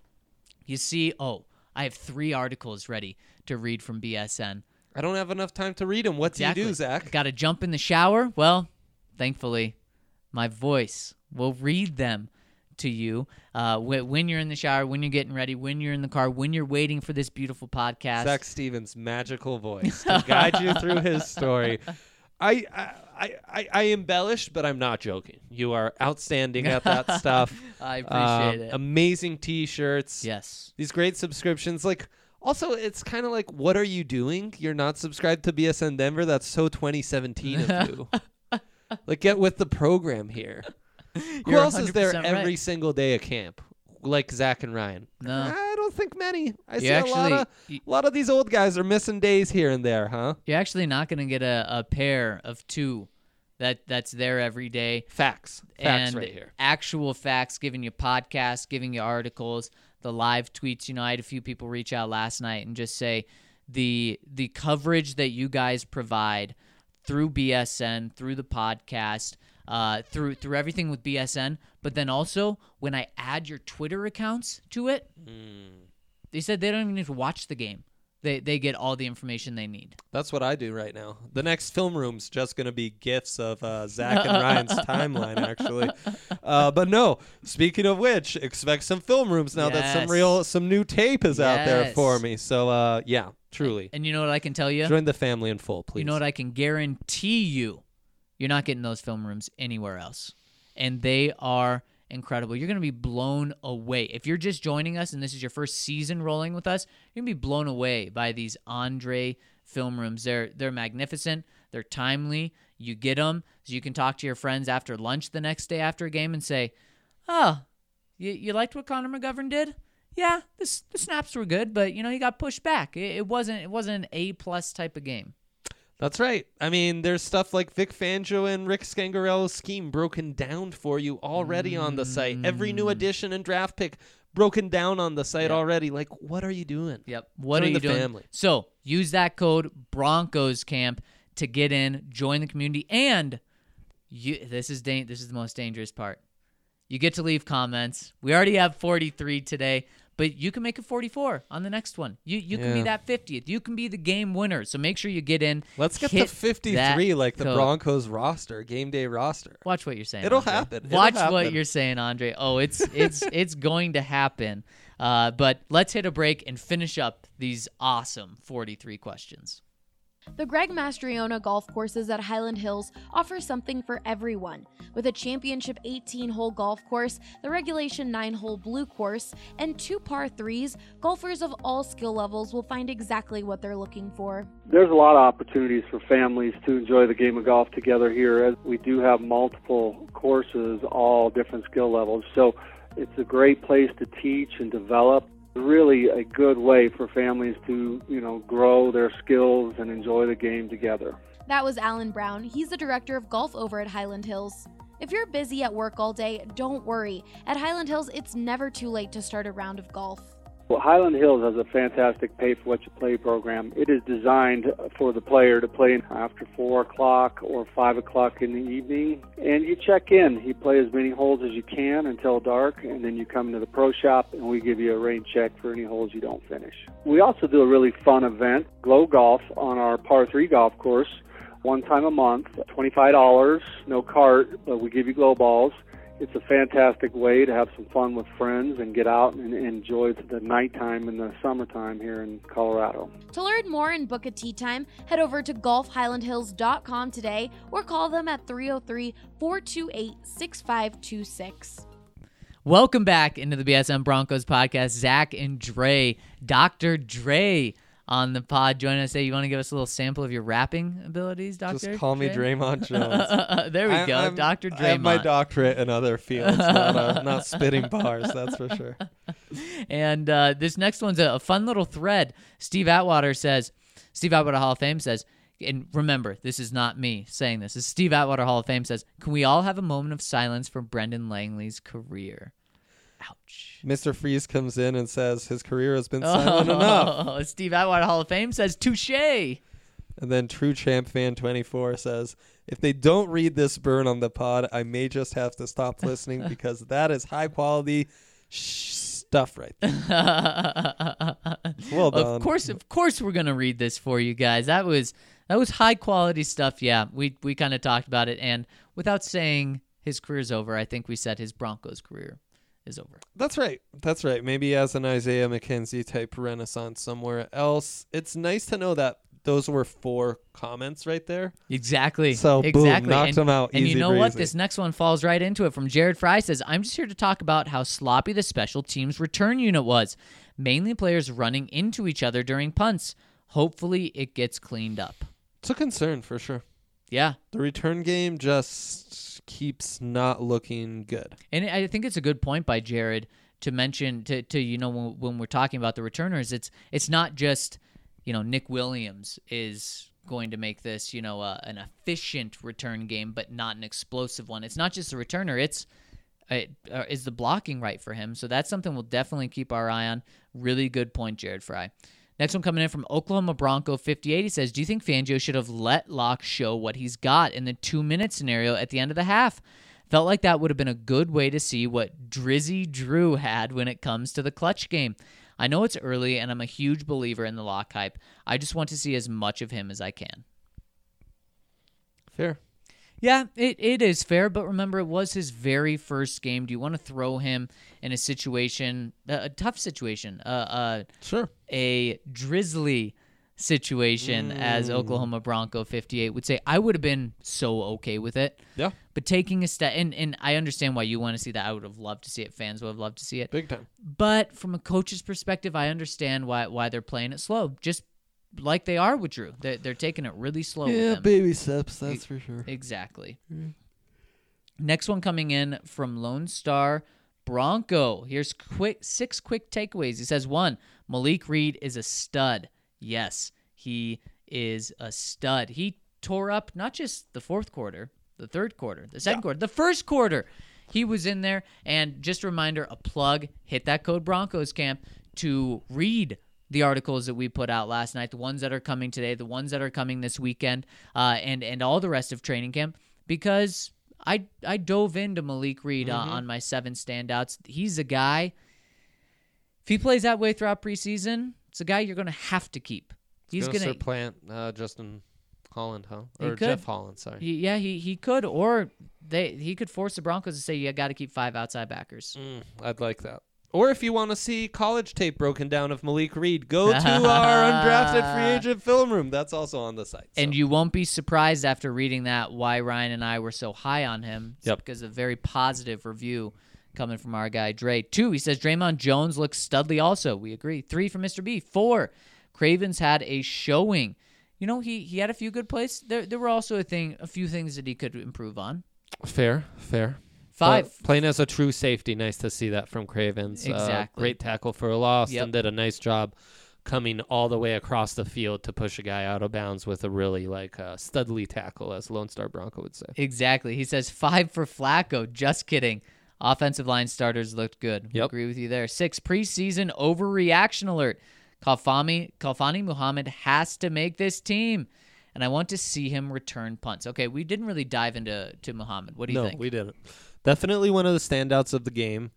you see, oh, I have three articles ready to read from B S N. I don't have enough time to read them. What Exactly. do you do, Zach? Got to jump in the shower? Well, thankfully, my voice will read them to you uh, wh- when you're in the shower, when you're getting ready, when you're in the car, when you're waiting for this beautiful podcast. Zach Stevens' magical voice to guide you through his story. I, I, I, I embellished, but I'm not joking. You are outstanding at that stuff. I appreciate Um, it. Amazing T-shirts. Yes. These great subscriptions. Like, also, it's kind of like, what are you doing? You're not subscribed to B S N Denver? That's so twenty seventeen of you. Like, get with the program here. Who You're else is there one hundred percent every right. single day at camp? Like Zach and Ryan? No. I don't think many. I You see a lot actually- of you- a lot of these old guys are missing days here and there, huh? You're actually not going to get a, a pair of two that that's there every day. Facts. Facts and right here. actual facts, giving you podcasts, giving you articles, the live tweets. You know, I had a few people reach out last night and just say the the coverage that you guys provide through B S N, through the podcast, uh, through through everything with B S N, but then also when I add your Twitter accounts to it, they said they don't even need to watch the game. They they get all the information they need. That's what I do right now. The next film room's just going to be gifs of uh, Zach and Ryan's timeline, actually. Uh, but no, speaking of which, expect some film rooms now that some Yes. real, some new tape is out there Yes. for me. So, uh, yeah, truly. And you know what I can tell you? Join the family in full, please. You know what I can guarantee you? You're not getting those film rooms anywhere else. And they are incredible. You're going to be blown away. If you're just joining us and this is your first season rolling with us, you're going to be blown away by these Andre film rooms. They're they're magnificent. They're timely. You get them so you can talk to your friends after lunch the next day after a game and say, oh, you, you liked what Connor McGovern did? Yeah, this, the snaps were good, but, you know, he got pushed back. It, it wasn't it wasn't an A-plus type of game. That's right. I mean, there's stuff like Vic Fangio and Rick Scangarello's scheme broken down for you already on the site. Every new addition and draft pick broken down on the site Yep. already. Like, what are you doing? Yep. What Join are you the doing? family. So use that code Broncos Camp to get in, join the community, and you. This is da- This is the most dangerous part. You get to leave comments. We already have forty-three today, but you can make it forty-four on the next one. You you can be Yeah. that fiftieth. You can be the game winner. So make sure you get in. Let's get hit to fifty-three that like the code. Broncos roster, game day roster. Watch what you're saying. It'll Andre. happen. It'll Watch what happen. you're saying, Andre. Oh, it's it's it's going to happen. Uh, but let's hit a break and finish up these awesome forty-three questions. The Greg Mastriona golf courses at Highland Hills offer something for everyone. With a championship eighteen-hole golf course, the regulation nine-hole blue course, and two par threes, golfers of all skill levels will find exactly what they're looking for. There's a lot of opportunities for families to enjoy the game of golf together here, as we do have multiple courses, all different skill levels. So it's a great place to teach and develop. Really a good way for families to, you know, grow their skills and enjoy the game together. That was Alan Brown. He's the director of golf over at Highland Hills. If you're busy at work all day, don't worry. At Highland Hills, it's never too late to start a round of golf. Well, Highland Hills has a fantastic pay-for-what-you-play program. It is designed for the player to play after four o'clock or five o'clock in the evening, and you check in. You play as many holes as you can until dark, and then you come to the pro shop, and we give you a rain check for any holes you don't finish. We also do a really fun event, Glow Golf, on our par three golf course, one time a month, twenty-five dollars, no cart, but we give you glow balls. It's a fantastic way to have some fun with friends and get out and enjoy the nighttime in the summertime here in Colorado. To learn more and book a tee time, head over to golf highland hills dot com today or call them at three oh three, four two eight, six five two six. Welcome back into the B S M Broncos podcast. Zach and Dre, Doctor Dre, on the pod. Join us. Say you want to give us a little sample of your rapping abilities, Doctor Just call me Dre? Draymond Jones. There we I- go, I'm- Doctor Draymond. I have my doctorate in other fields, not, uh, not spitting bars, that's for sure. And uh, this next one's a, a fun little thread. Steve Atwater says, Steve Atwater Hall of Fame says, and remember, this is not me saying this. This is Steve Atwater Hall of Fame says, can we all have a moment of silence for Brendan Langley's career? Ouch. Mister Freeze comes in and says his career has been silent enough. Oh, Steve Atwater Hall of Fame says, touche. And then True Champ Fan twenty-four says, if they don't read this burn on the pod, I may just have to stop listening because that is high quality sh- stuff right there. Well done. Of course, of course, we're gonna read this for you guys. That was that was high quality stuff. Yeah, we we kind of talked about it, and without saying his career's over, I think we said his Broncos career is over. That's right. That's right. Maybe as an Isaiah McKenzie type renaissance somewhere else. It's nice to know that those were four comments right there. Exactly. So, boom, exactly. knocked and, them out And easy you know what? breezy. This next one falls right into it. From Jared Fry says, I'm just here to talk about how sloppy the special teams return unit was. Mainly players running into each other during punts. Hopefully it gets cleaned up. It's a concern for sure. Yeah. The return game just keeps not looking good. And I think it's a good point by Jared to mention to, to you know when, when we're talking about the returners, it's it's not just, you know, Nick Williams is going to make this, you know, uh, an efficient return game, but not an explosive one. It's not just the returner; it's it, uh, is the blocking right for him. So that's something we'll definitely keep our eye on. Really good point, Jared Fry. Next one coming in from Oklahoma Bronco fifty-eight. He says, do you think Fangio should have let Locke show what he's got in the two-minute scenario at the end of the half? Felt like that would have been a good way to see what Drizzy Drew had when it comes to the clutch game. I know it's early, and I'm a huge believer in the Locke hype. I just want to see as much of him as I can. Fair. Yeah, it, it is fair, but remember, it was his very first game. Do you want to throw him in a situation, a, a tough situation, uh, uh, Sure. a drizzly situation, Mm. as Oklahoma Bronco fifty-eight would say? I would have been so okay with it. Yeah. But taking a step, and, and I understand why you want to see that. I would have loved to see it. Fans would have loved to see it. Big time. But from a coach's perspective, I understand why why they're playing it slow. Just like they are with Drew. They're, they're taking it really slow with him. baby steps, that's E- for sure. Exactly. Next one coming in from Lone Star Bronco. Here's quick six quick takeaways. He says, one, Malik Reed is a stud. Yes, he is a stud. He tore up not just the fourth quarter, the third quarter, the second quarter, the first quarter. He was in there. And just a reminder, a plug, hit that code Broncos camp to read the articles that we put out last night, the ones that are coming today, the ones that are coming this weekend, uh, and, and all the rest of training camp, because I I dove into Malik Reed uh, on my seven standouts. He's a guy, if he plays that way throughout preseason, it's a guy you're going to have to keep. He's going going to to supplant uh, Justin Holland, huh? He Or could. Jeff Holland, sorry. He, yeah, he he could, or they he could force the Broncos to say you got to keep five outside backers. Mm, I'd like that. Or if you want to see college tape broken down of Malik Reed, go to our undrafted free agent film room. That's also on the site. So. And you won't be surprised after reading that why Ryan and I were so high on him. It's Yep. because of a very positive review coming from our guy Dre. Two, he says Draymond Jones looks studly also. We agree. Three from Mister B. Four, Cravens had a showing. You know, he, he had a few good plays. There there were also a thing, a few things that he could improve on. Fair, fair. Five. But playing as a true safety, nice to see that from Cravens. Exactly. Uh, great tackle for a loss Yep. and did a nice job coming all the way across the field to push a guy out of bounds with a really like uh, studly tackle, as Lone Star Bronco would say. Exactly. He says five for Flacco. Just kidding. Offensive line starters looked good. Yep. Agree with you there. Six, preseason overreaction alert. Khalfani, Khalfani Muhammad has to make this team, and I want to see him return punts. Okay, we didn't really dive into to Muhammad. What do you no, think? we didn't. Definitely one of the standouts of the game.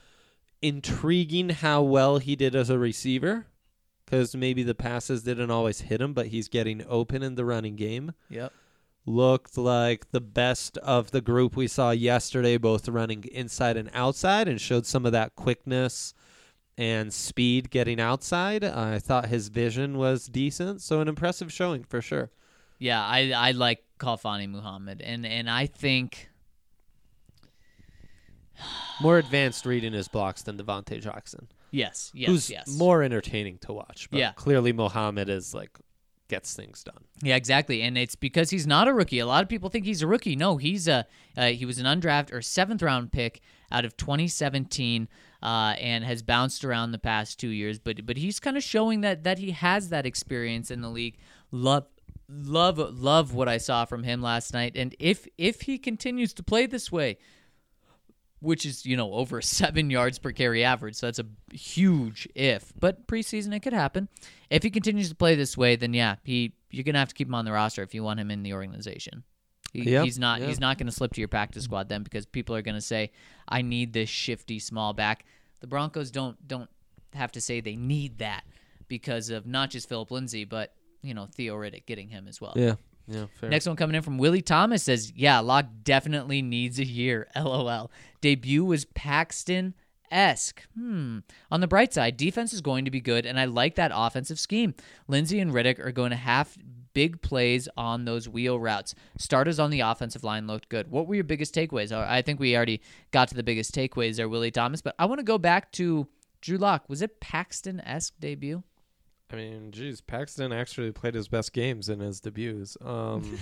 Intriguing how well he did as a receiver, because maybe the passes didn't always hit him, but he's getting open in the running game. Yep. Looked like the best of the group we saw yesterday, both running inside and outside, and showed some of that quickness and speed getting outside. I thought his vision was decent, so an impressive showing for sure. Yeah, I I like Khalfani Muhammad, and and I think More advanced reading his blocks than Devontae Jackson. Yes, yes, who's yes. more entertaining to watch. But Yeah. clearly Mohamed is like gets things done. Yeah, exactly, and it's because he's not a rookie. A lot of people think he's a rookie. No, he's a uh, he was an undrafted or seventh round pick out of twenty seventeen, uh, and has bounced around the past two years. But but he's kind of showing that that he has that experience in the league. Love love love what I saw from him last night, and if if he continues to play this way, which is, you know, over seven yards per carry average. So that's a huge if. But preseason, it could happen. If he continues to play this way, then yeah, he you're gonna have to keep him on the roster if you want him in the organization. He, Yep, he's not yep. he's not gonna slip to your practice squad then, because people are gonna say, I need this shifty small back. The Broncos don't don't have to say they need that because of not just Philip Lindsay, but you know, Theo Riddick getting him as well. Yeah. Yeah, fair. Next one coming in from Willie Thomas says, yeah, Locke definitely needs a year. LOL. Debut was Paxton-esque. Hmm. On the bright side, defense is going to be good, and I like that offensive scheme. Lindsay and Riddick are going to have big plays on those wheel routes. Starters on the offensive line looked good. What were your biggest takeaways? I think we already got to the biggest takeaways there, Willie Thomas, but I want to go back to Drew Lock. Was it Paxton-esque debut? I mean, geez, Paxton actually played his best games in his debuts. Um,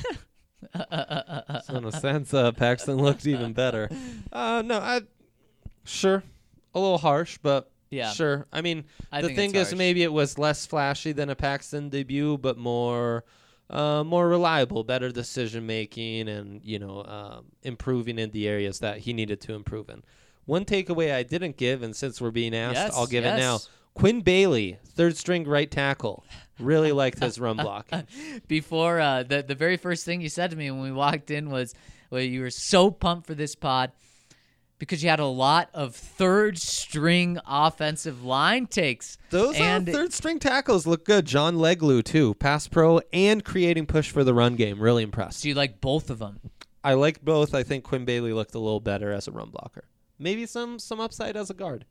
so in a sense, uh, Paxton looked even better. Uh, no, I sure a little harsh, but Yeah. sure. I mean, I the think thing it's is, harsh. maybe it was less flashy than a Paxton debut, but more, uh, more reliable, better decision making, and you know, um, improving in the areas that he needed to improve in. One takeaway I didn't give, and since we're being asked, Yes, I'll give yes. it now. Quinn Bailey, third string right tackle. Really liked his run block. Before uh, the the very first thing you said to me when we walked in was, well, you were so pumped for this pod because you had a lot of third string offensive line takes. Those and uh, third string tackles look good. John Leglu, too. Pass pro and creating push for the run game. Really impressed. Do you like both of them? I liked both. I think Quinn Bailey looked a little better as a run blocker. Maybe some some upside as a guard.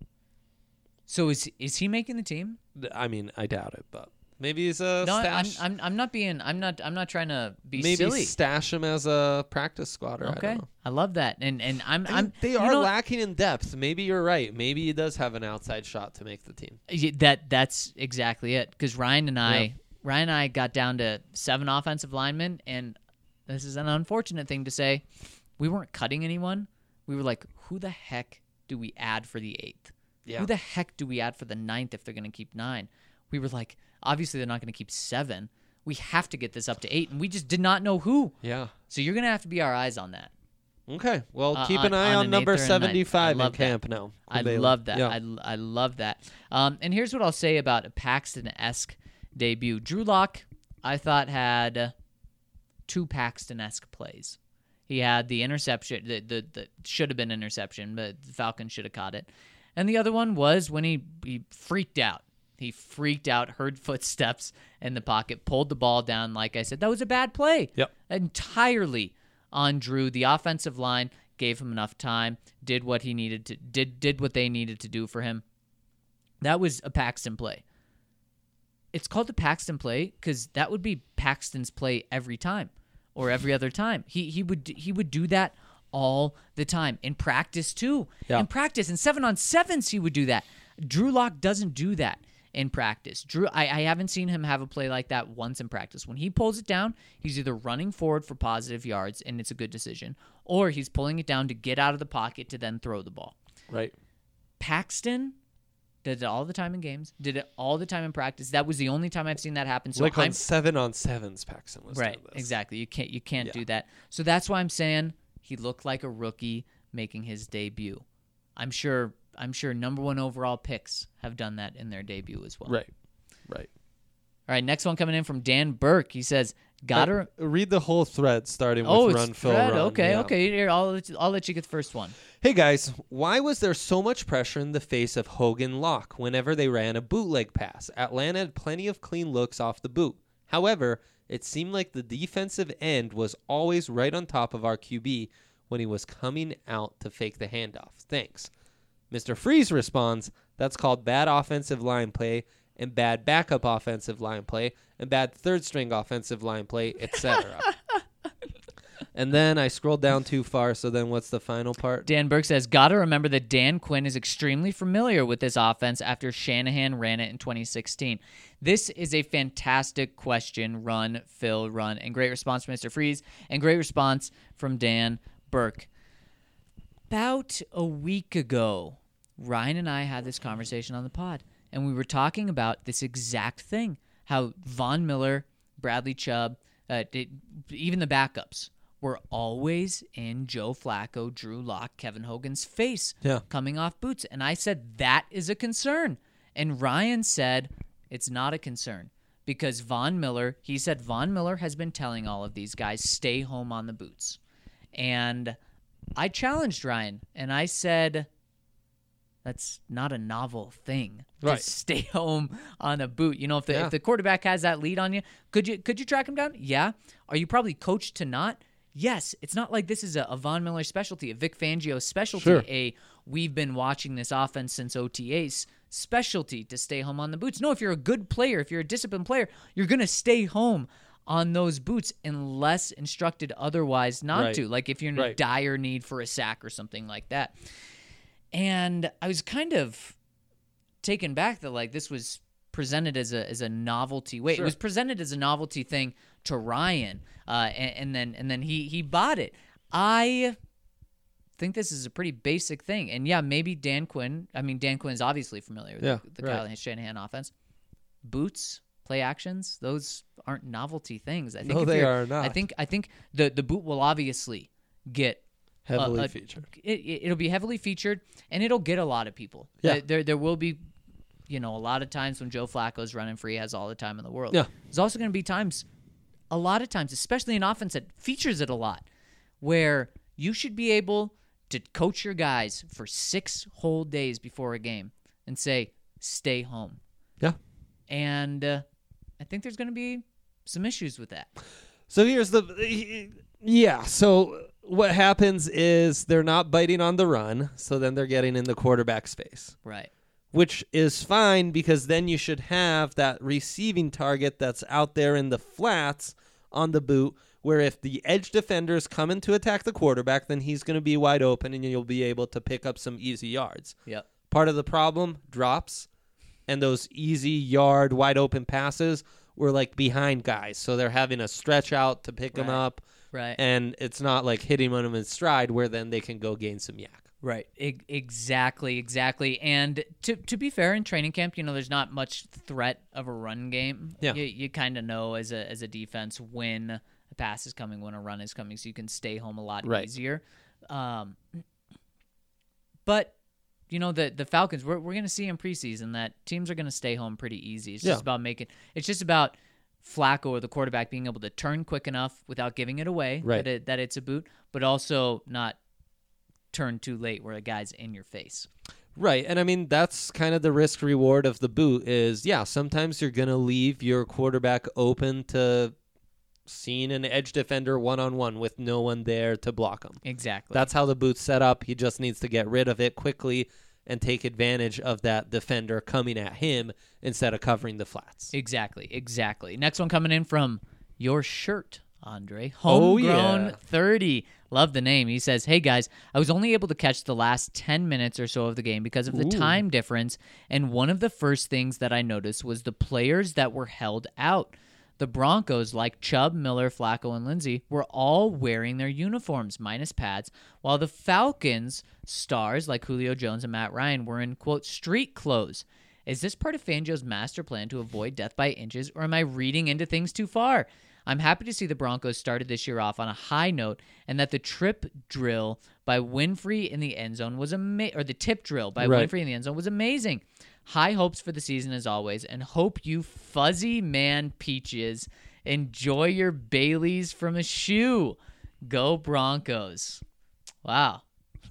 So is is he making the team? I mean, I doubt it, but maybe he's a No, I'm, stash. I'm I'm not being I'm not I'm not trying to be maybe silly. stash him as a practice squatter. I Okay, don't know. I love that, and and I'm I mean, I'm they you are know, lacking in depth. Maybe you're right. Maybe he does have an outside shot to make the team. Y- That that's exactly it. Because Ryan and I, Yeah. Ryan and I got down to seven offensive linemen, and this is an unfortunate thing to say. We weren't cutting anyone. We were like, who the heck do we add for the eighth? Yeah. Who the heck do we add for the ninth if they're going to keep nine? We were like, obviously they're not going to keep seven. We have to get this up to eight, and we just did not know who. Yeah. So you're going to have to be our eyes on that. Okay. Well, Uh, keep on- an eye on on, an number eighth or a ninth. seventy-five I in love that. camp now. I Quinn Bailey. love that. Yeah. I, I love that. Um, and here's what I'll say about a Paxton-esque debut. Drew Lock, I thought, had uh, two Paxton-esque plays. He had the interception, the, the, the should have been interception, but the Falcons should have caught it. And the other one was when he, he freaked out. He freaked out, heard footsteps in the pocket, pulled the ball down. Like I said, that was a bad play. Yep. Entirely on Drew. The offensive line gave him enough time, did what he needed to, did did what they needed to do for him. That was a Paxton play. It's called the Paxton play because that would be Paxton's play every time or every other time. He he would he would do that all the time in practice too. Yeah. In practice, in seven on sevens, he would do that. Drew Lock doesn't do that in practice. Drew, I, I haven't seen him have a play like that once in practice. When he pulls it down, he's either running forward for positive yards, and it's a good decision, or he's pulling it down to get out of the pocket to then throw the ball. Right. Paxton did it all the time in games, did it all the time in practice. That was the only time I've seen that happen. So like I'm, on seven on sevens, Paxton was right, doing this. exactly. You can't you can't Yeah. do that. So that's why I'm saying he looked like a rookie making his debut. I'm sure I'm sure number one overall picks have done that in their debut as well. Right. Right. All right, next one coming in from Dan Burke. He says, "Gotta Uh, read the whole thread starting oh, with it's run, fill, Fred. run. Okay, Yeah. okay. Here, I'll let you, I'll let you get the first one. Hey guys, why was there so much pressure in the face of Hogan Locke whenever they ran a bootleg pass? Atlanta had plenty of clean looks off the boot. However, it seemed like the defensive end was always right on top of our Q B when he was coming out to fake the handoff. Thanks." Mister Freeze responds, "That's called bad offensive line play and bad backup offensive line play and bad third string offensive line play, et cetera" And then I scrolled down too far, so then what's the final part? Dan Burke says, gotta remember that Dan Quinn is extremely familiar with this offense after Shanahan ran it in twenty sixteen. This is a fantastic question. Run, Phil, run. And great response from Mister Freeze, and great response from Dan Burke. About a week ago, Ryan and I had this conversation on the pod, and we were talking about this exact thing, how Von Miller, Bradley Chubb, uh, it, even the backups were always in Joe Flacco, Drew Lock, Kevin Hogan's face Yeah. coming off boots. And I said, that is a concern. And Ryan said, it's not a concern because Von Miller, he said Von Miller has been telling all of these guys, stay home on the boots. And I challenged Ryan, and I said, that's not a novel thing. Right. Just stay home on a boot. You know, if the Yeah. if the quarterback has that lead on you, could you could you track him down? Yeah. Are you probably coached to not? Yes. It's not like this is a, a Von Miller specialty, a Vic Fangio specialty, Sure. a we've been watching this offense since O T As specialty to stay home on the boots. No, if you're a good player, if you're a disciplined player, you're going to stay home on those boots unless instructed otherwise not Right. to. Like if you're in Right. a dire need for a sack or something like that. And I was kind of taken back that like this was presented as a as a novelty. Wait, Sure. it was presented as a novelty thing to Ryan, uh, and, and then and then he he bought it. I think this is a pretty basic thing, and yeah, maybe Dan Quinn. I mean, Dan Quinn's obviously familiar with Yeah, the, the right. Kyle Shanahan offense. Boots, play actions, those aren't novelty things. I think No, if they you're- are not. I think I think the the boot will obviously get Heavily uh, uh, featured. It, it, it'll be heavily featured, and it'll get a lot of people. Yeah. There, there, there will be, you know, a lot of times when Joe Flacco's running free, he has all the time in the world. Yeah. There's also going to be times, a lot of times, especially in offense that features it a lot, where you should be able to coach your guys for six whole days before a game and say, stay home. Yeah. And uh, I think there's going to be some issues with that. So here's the yeah. So what happens is they're not biting on the run, so then they're getting in the quarterback's face, Right. which is fine because then you should have that receiving target that's out there in the flats on the boot, where if the edge defender's coming to attack the quarterback, then he's going to be wide open and you'll be able to pick up some easy yards. Yep. Part of the problem, drops, and those easy yard wide open passes were like behind guys, so they're having to stretch out to pick them Right. up. Right. And it's not like hitting them in stride where then they can go gain some yak. Right. E- exactly. Exactly. And to to be fair, in training camp, you know, there's not much threat of a run game. Yeah. You, you kind of know as a as a defense when a pass is coming, when a run is coming, so you can stay home a lot Right. easier. Um, but you know, the the Falcons, we're we're gonna see in preseason that teams are gonna stay home pretty easy. It's Yeah. just about making. It's just about Flacco or the quarterback being able to turn quick enough without giving it away Right. that it, that it's a boot, but also not turn too late where a guy's in your face. Right. And I mean, that's kind of the risk reward of the boot is, yeah, sometimes you're going to leave your quarterback open to seeing an edge defender one-on-one with no one there to block him. Exactly. That's how the boot's set up. He just needs to get rid of it quickly and take advantage of that defender coming at him instead of covering the flats. Exactly. Exactly. Next one coming in from your shirt, Andre. Oh, Homegrown yeah. thirty. Love the name. He says, hey, guys, I was only able to catch the last ten minutes or so of the game because of the Ooh. time difference, and one of the first things that I noticed was the players that were held out. The Broncos, like Chubb, Miller, Flacco, and Lindsey, were all wearing their uniforms, minus pads, while the Falcons' stars, like Julio Jones and Matt Ryan, were in, quote, street clothes. Is this part of Fangio's master plan to avoid death by inches, or am I reading into things too far? I'm happy to see the Broncos started this year off on a high note, and that the trip drill by Winfrey in the end zone was amazing, or the tip drill by Right. Winfrey in the end zone was amazing. High hopes for the season as always, and hope you fuzzy man peaches enjoy your Baileys from a shoe. Go Broncos! Wow.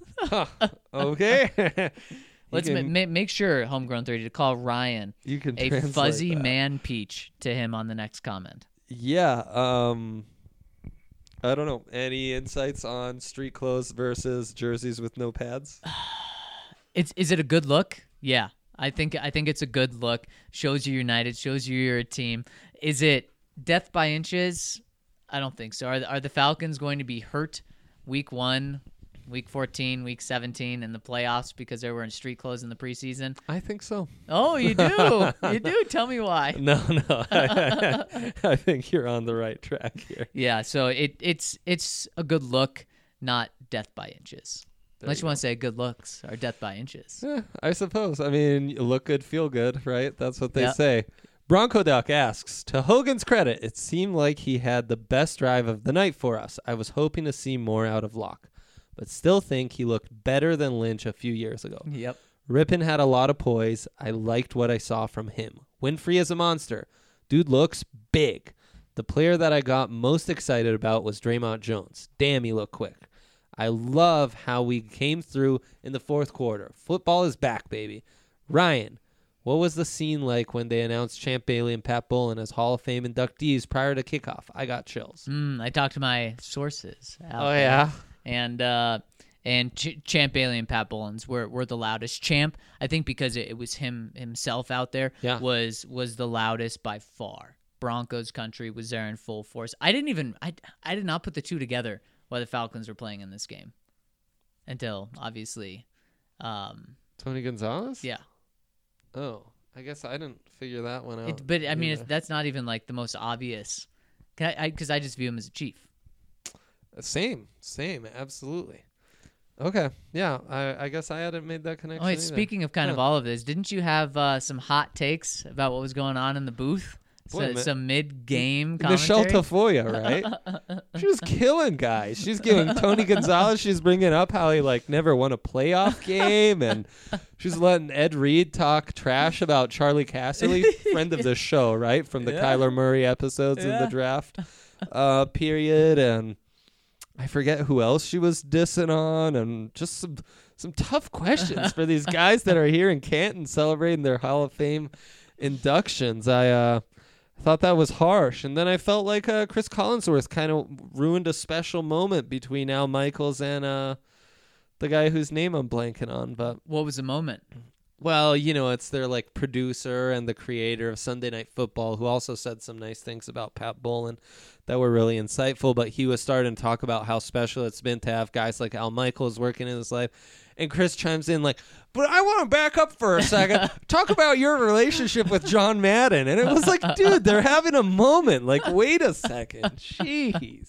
Okay. Let's you ma- can, ma- make sure, Homegrown thirty, to call Ryan you can a translate fuzzy that. man peach to him on the next comment. Yeah. Um, I don't know. Any insights on street clothes versus jerseys with no pads? It's is it a good look? Yeah, I think I think it's a good look. Shows you united. Shows you you're a team. Is it death by inches? I don't think so. Are the, are the Falcons going to be hurt week one, week fourteen, week seventeen in the playoffs because they were in street clothes in the preseason? I think so. Oh, you do? You do? Tell me why. No, no. I, I think you're on the right track here. Yeah, so it it's it's a good look, not death by inches. There Unless you you want to say good looks or death by inches. Yeah, I suppose. I mean, you look good, feel good, right? That's what they Yep. say. Bronco Duck asks, to Hogan's credit, it seemed like he had the best drive of the night for us. I was hoping to see more out of Locke, but still think he looked better than Lynch a few years ago. Yep. Rippon had a lot of poise. I liked what I saw from him. Winfrey is a monster. Dude looks big. The player that I got most excited about was Draymond Jones. Damn, he looked quick. I love how we came through in the fourth quarter. Football is back, baby. Ryan, what was the scene like when they announced Champ Bailey and Pat Bowlen as Hall of Fame inductees prior to kickoff? I got chills. Mm, I talked to my sources. out Oh, there. yeah? And uh, and Ch- Champ Bailey and Pat Bowlen's were, were the loudest. Champ, I think because it, it was him himself out there, Yeah. was was the loudest by far. Broncos country was there in full force. I didn't even I, I did not put the two together while the Falcons were playing in this game until obviously um, Tony Gonzalez? yeah. Oh, I guess I didn't figure that one out. It, but I mean either. it's, that's not even like the most obvious. Because I, I, 'cause I just view him as a chief. Same, same, absolutely. Okay, yeah, I, I guess I hadn't made that connection. Oh, wait, either. speaking of kind of Huh. all of this, didn't you have uh, some hot takes about what was going on in the booth? Boy, So, ma- some mid-game Michelle commentary? Tafoya, right? She was killing guys. She's giving Tony Gonzalez. She's bringing up how he like never won a playoff game, and she's letting Ed Reed talk trash about Charlie Casserly, friend of the show, right, from the Yeah. Kyler Murray episodes in Yeah. the draft uh, period, and I forget who else she was dissing on, and just some some tough questions for these guys that are here in Canton celebrating their Hall of Fame inductions. I uh, thought that was harsh, and then I felt like uh, Chris Collinsworth kind of ruined a special moment between Al Michaels and uh, the guy whose name I'm blanking on. But What was the moment? well, you know, it's their like producer and the creator of Sunday Night Football, who also said some nice things about Pat Bowlen that were really insightful. But he was starting to talk about how special it's been to have guys like Al Michaels working in his life. And Chris chimes in like, but I want to back up for a second. Talk about your relationship with John Madden. And it was like, dude, they're having a moment. Like, wait a second. Jeez.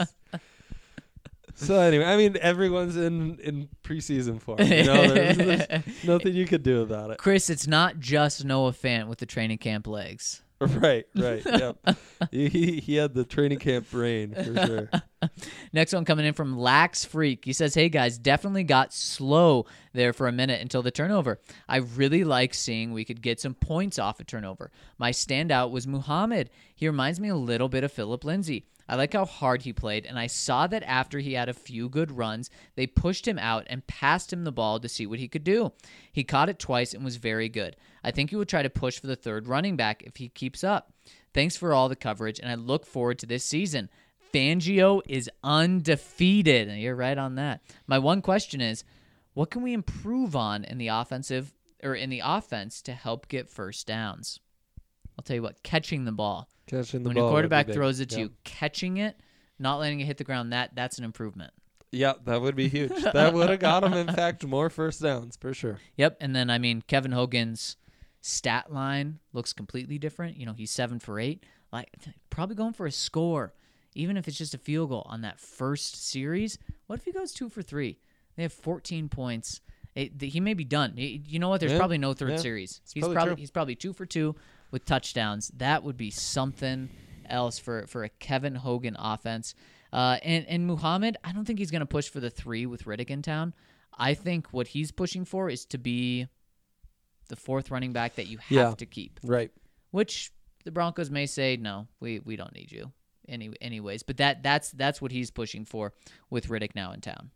So anyway, I mean, everyone's in, in preseason form. You know, there's, there's nothing you could do about it. Chris, it's not just Noah Fant with the training camp legs. Right, right. Yep. he, he he had the training camp brain for sure. Next one coming in from Lax Freak. He says, hey guys, definitely got slow there for a minute until the turnover. I really like seeing we could get some points off a turnover. My standout was Muhammad. He reminds me a little bit of Philip Lindsay. I like how hard he played, and I saw that after he had a few good runs, they pushed him out and passed him the ball to see what he could do. He caught it twice and was very good. I think he will try to push for the third running back if he keeps up. Thanks for all the coverage, and I look forward to this season. Fangio is undefeated, and you're right on that. My one question is, what can we improve on in the offensive or in the offense to help get first downs? I'll tell you what, catching the ball. Catching the when ball your would be quarterback big. throws it to Yep. you, catching it, not letting it hit the ground, that that's an improvement. Yeah, that would be huge. That would have got him, in fact, more first downs for sure. Yep, and then, I mean, Kevin Hogan's stat line looks completely different. You know, he's seven for eight. Like, probably going for a score, even if it's just a field goal on that first series. What if he goes two for three? They have fourteen points. It, he may be done. He- you know what? There's Yeah, probably no third yeah. series. It's He's probably probably true. he's probably two for two with touchdowns. That would be something else for, for a Kevin Hogan offense. Uh, and, and Muhammad, I don't think he's going to push for the three with Riddick in town. I think what he's pushing for is to be the fourth running back that you have Yeah. to keep, Right. which the Broncos may say, no, we, we don't need you any anyways. But that that's that's what he's pushing for with Riddick now in town.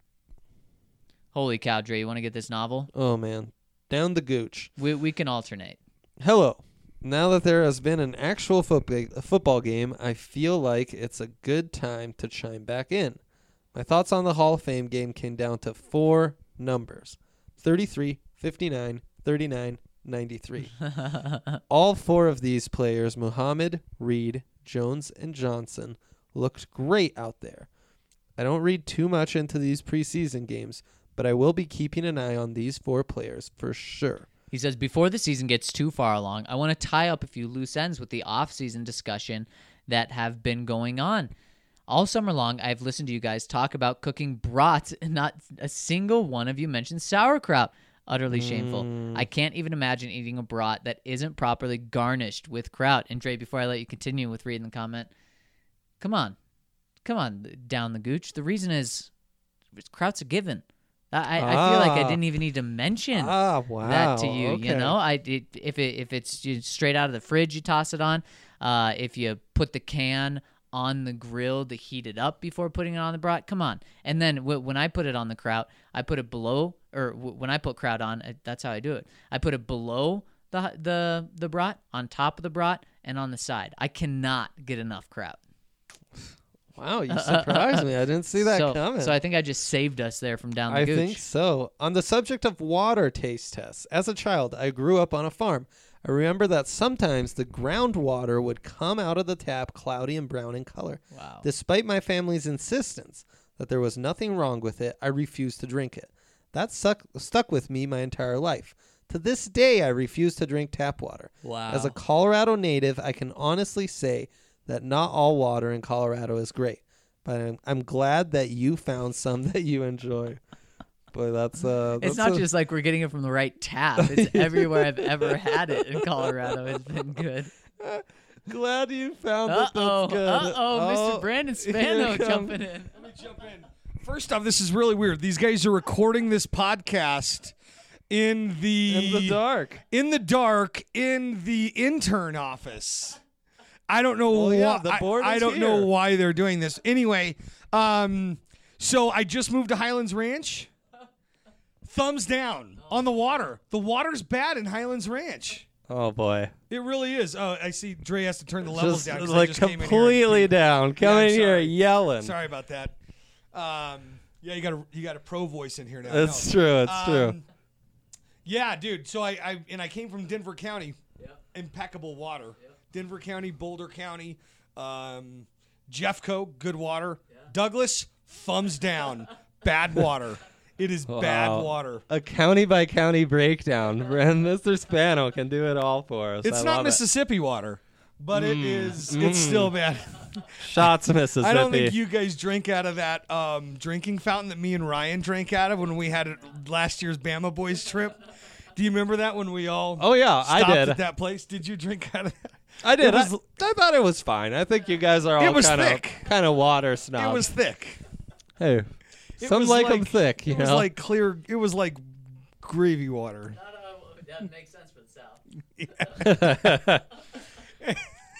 Holy cow, Dre, you want to get this novel? Oh, man. Down the gooch. We we can alternate. Hello. Now that there has been an actual football football game, I feel like it's a good time to chime back in. My thoughts on the Hall of Fame game came down to four numbers: thirty-three, fifty-nine, thirty-nine, ninety-three. All four of these players, Muhammad, Reed, Jones, and Johnson, looked great out there. I don't read too much into these preseason games, but I will be keeping an eye on these four players for sure. He says, before the season gets too far along, I want to tie up a few loose ends with the off-season discussion that have been going on. All summer long, I've listened to you guys talk about cooking brats, and not a single one of you mentioned sauerkraut. Utterly shameful. Mm. I can't even imagine eating a brat that isn't properly garnished with kraut. And Dre, before I let you continue with reading the comment, come on. Come on, down the gooch. The reason is kraut's a given. I, ah. I feel like I didn't even need to mention ah, wow. that to you. Okay. You know, I it, if it if it's straight out of the fridge, you toss it on. Uh, if you put the can on the grill to heat it up before putting it on the brat, come on. And then w- when I put it on the kraut, I put it below, or w- when I put kraut on, uh, that's how I do it. I put it below the the the brat, on top of the brat, and on the side. I cannot get enough kraut. Wow, you surprised me. I didn't see that so, coming. So I think I just saved us there from down the I gooch. think so. On the subject of water taste tests, as a child, I grew up on a farm. I remember that sometimes the groundwater would come out of the tap cloudy and brown in color. Wow. Despite my family's insistence that there was nothing wrong with it, I refused to drink it. That stuck, stuck with me my entire life. To this day, I refuse to drink tap water. Wow. As a Colorado native, I can honestly say that not all water in Colorado is great, but I'm, I'm glad that you found some that you enjoy. Boy, that's uh. It's that's not a, just like we're getting it from the right tap. It's everywhere I've ever had it in Colorado. It's been good. Glad you found Uh that. oh. That's good. Uh oh. Mister Oh, Brandon here Spano it comes. jumping in. Let me jump in. First off, this is really weird. These guys are recording this podcast in the In the dark. in the dark in the intern office. I don't know Well, why. yeah, the board I, I is don't here. know why they're doing this. Anyway, um, so I just moved to Highlands Ranch. Thumbs down on the water. The water's bad in Highlands Ranch. Oh boy. It really is. Oh, I see. Dre has to turn the levels Just down. 'cause I like just came in here completely and- down. Come Yeah, I'm in here sorry. yelling. Sorry about that. Um, yeah, you got a you got a pro voice in here now. It's No. true. It's true. Um, Yeah, dude. So I, I and I came from Denver County. Impeccable water. Denver County, Boulder County, um, Jeffco, good water. Douglas, thumbs down, bad water. It is bad Wow. water. A county by county breakdown. And Mister Spano can do it all for us. It's I not love Mississippi water, but it Mm. is. Mm. It's still bad. it. Shots Mississippi. I don't think you guys drink out of that um, drinking fountain that me and Ryan drank out of when we had it last year's Bama Boys trip. Do you remember that when we all Oh, yeah, I stopped did. at that place? Did you drink out of that? I did. It was, I, I thought it was fine. I think you guys are all It was kind of thick. kind of water snobs. it was thick. Hey, It some was like them like- thick. You It was know. like clear. It was like gravy water. That makes sense for the South.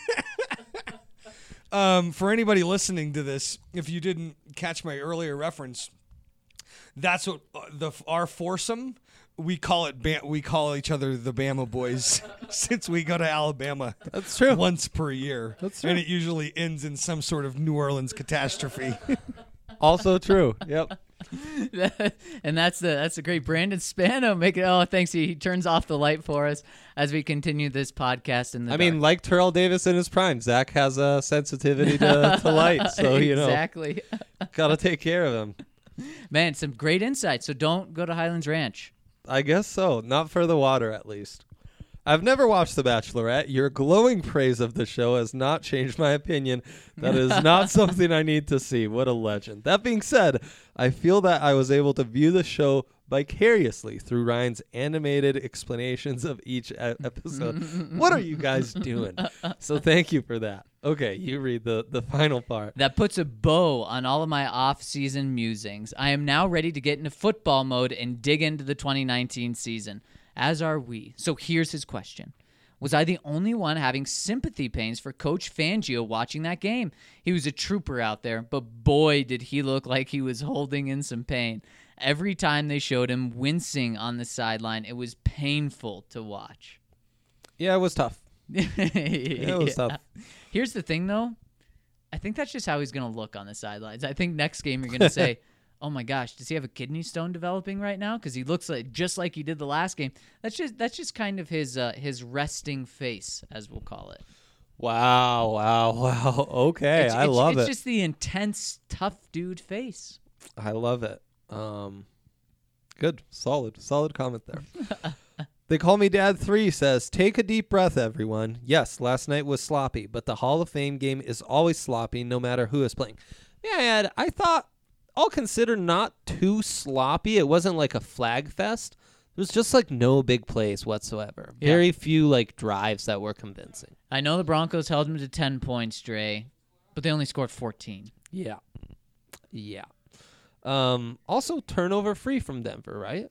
Um, for anybody listening to this, if you didn't catch my earlier reference, that's what uh, the our foursome. We call it. Ba- we call each other the Bama Boys since we go to Alabama. That's true. Once per year. That's true. And it usually ends in some sort of New Orleans catastrophe. Also true. Yep. And that's the that's the great Brandon Spano making. Oh, thanks. He, he turns off the light for us as we continue this podcast. In the I mean, dark. like Terrell Davis in his prime, Zach has a sensitivity to, to light, so you know, exactly. gotta take care of him. Man, some great insight. So don't go to Highlands Ranch. I guess so. Not for the water, at least. I've never watched The Bachelorette. Your glowing praise of the show has not changed my opinion. That is not something I need to see. What a legend. That being said, I feel that I was able to view the show vicariously through Ryan's animated explanations of each e- episode. What are you guys doing? So thank you for that. Okay, you read the, the final part. That puts a bow on all of my off-season musings. I am now ready to get into football mode and dig into the twenty nineteen season, as are we. So here's his question. Was I the only one having sympathy pains for Coach Fangio watching that game? He was a trooper out there, but boy, did he look like he was holding in some pain. Every time they showed him wincing on the sideline, it was painful to watch. Yeah, it was tough. Yeah, it was tough. Here's the thing, though. I think that's just how he's going to look on the sidelines. I think next game you're going to say, oh, my gosh, does he have a kidney stone developing right now? Because he looks like just like he did the last game. That's just that's just kind of his uh, his resting face, as we'll call it. Wow, wow, wow. Okay, It's, I it's, love it's it. just the intense, tough dude face. I love it. Um, good, solid, solid comment there. They Call Me Dad three says, take a deep breath, everyone. Yes, last night was sloppy, but the Hall of Fame game is always sloppy no matter who is playing. Yeah, Ed, I thought, all considered, not too sloppy. It wasn't like a flag fest. It was just like no big plays whatsoever. Yeah. Very few like drives that were convincing. I know the Broncos held him to ten points, Dre, but they only scored fourteen. Yeah. Yeah. Um, also, turnover free from Denver, right?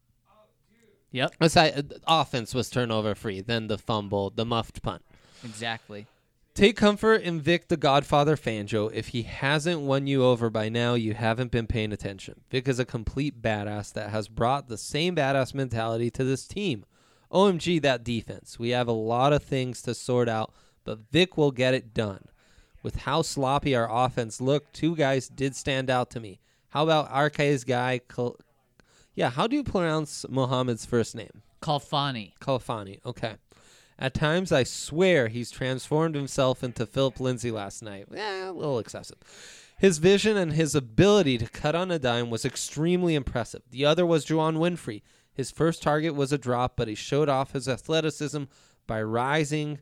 Yep. Aside, uh, the offense was turnover free. Then the fumble, the muffed punt. Exactly. Take comfort in Vic the Godfather Fangio. If he hasn't won you over by now, you haven't been paying attention. Vic is a complete badass that has brought the same badass mentality to this team. O M G, that defense. We have a lot of things to sort out, but Vic will get it done. With how sloppy our offense looked, two guys did stand out to me. How about Arce's guy? Kal- yeah, how do you pronounce Mohammed's first name? Kalfani. Kalfani, okay. At times, I swear he's transformed himself into Philip Lindsay last night. Eh, a little excessive. His vision and his ability to cut on a dime was extremely impressive. The other was Juwan Winfrey. His first target was a drop, but he showed off his athleticism by rising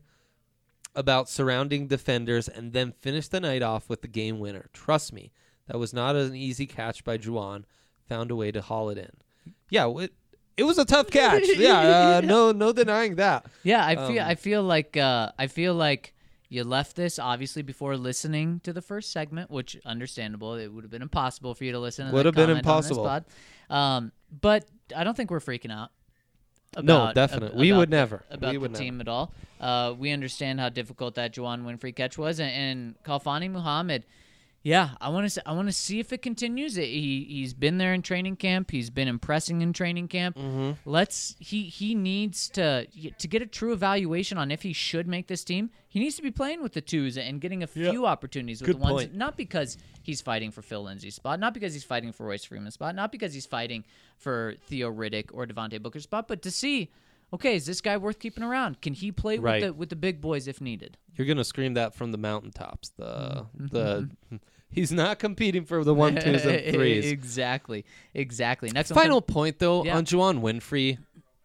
about surrounding defenders and then finished the night off with the game winner. Trust me, that was not an easy catch by Juwan. Found a way to haul it in. Yeah, it, it was a tough catch. Yeah, uh, no, no denying that. Yeah, I feel Um, I feel like uh, I feel like you left this obviously before listening to the first segment, which understandable. It would have been impossible for you to listen. Would have and been comment on this impossible. pod. Um, but I don't think we're freaking out. No, About, definitely. ab- We about would the- never. about We the would team at all. Uh, we understand how difficult that Juwan Winfrey catch was, and, and Kalfani Muhammad. Yeah, I want to. I want to see if it continues. He he's been there in training camp. He's been impressing in training camp. Mm-hmm. Let's. He he needs to to get a true evaluation on if he should make this team. He needs to be playing with the twos and getting a few opportunities with Good the ones. point. Not because he's fighting for Phil Lindsay's spot, not because he's fighting for Royce Freeman's spot, not because he's fighting for Theo Riddick or Devontae Booker's spot, but to see. Okay, is this guy worth keeping around? Can he play Right. with the with the big boys if needed? You're gonna scream that from the mountaintops. The Mm-hmm. the he's not competing for the one, twos, and threes. exactly, exactly. Next one Final come- point though Yeah. on Juwan Winfrey.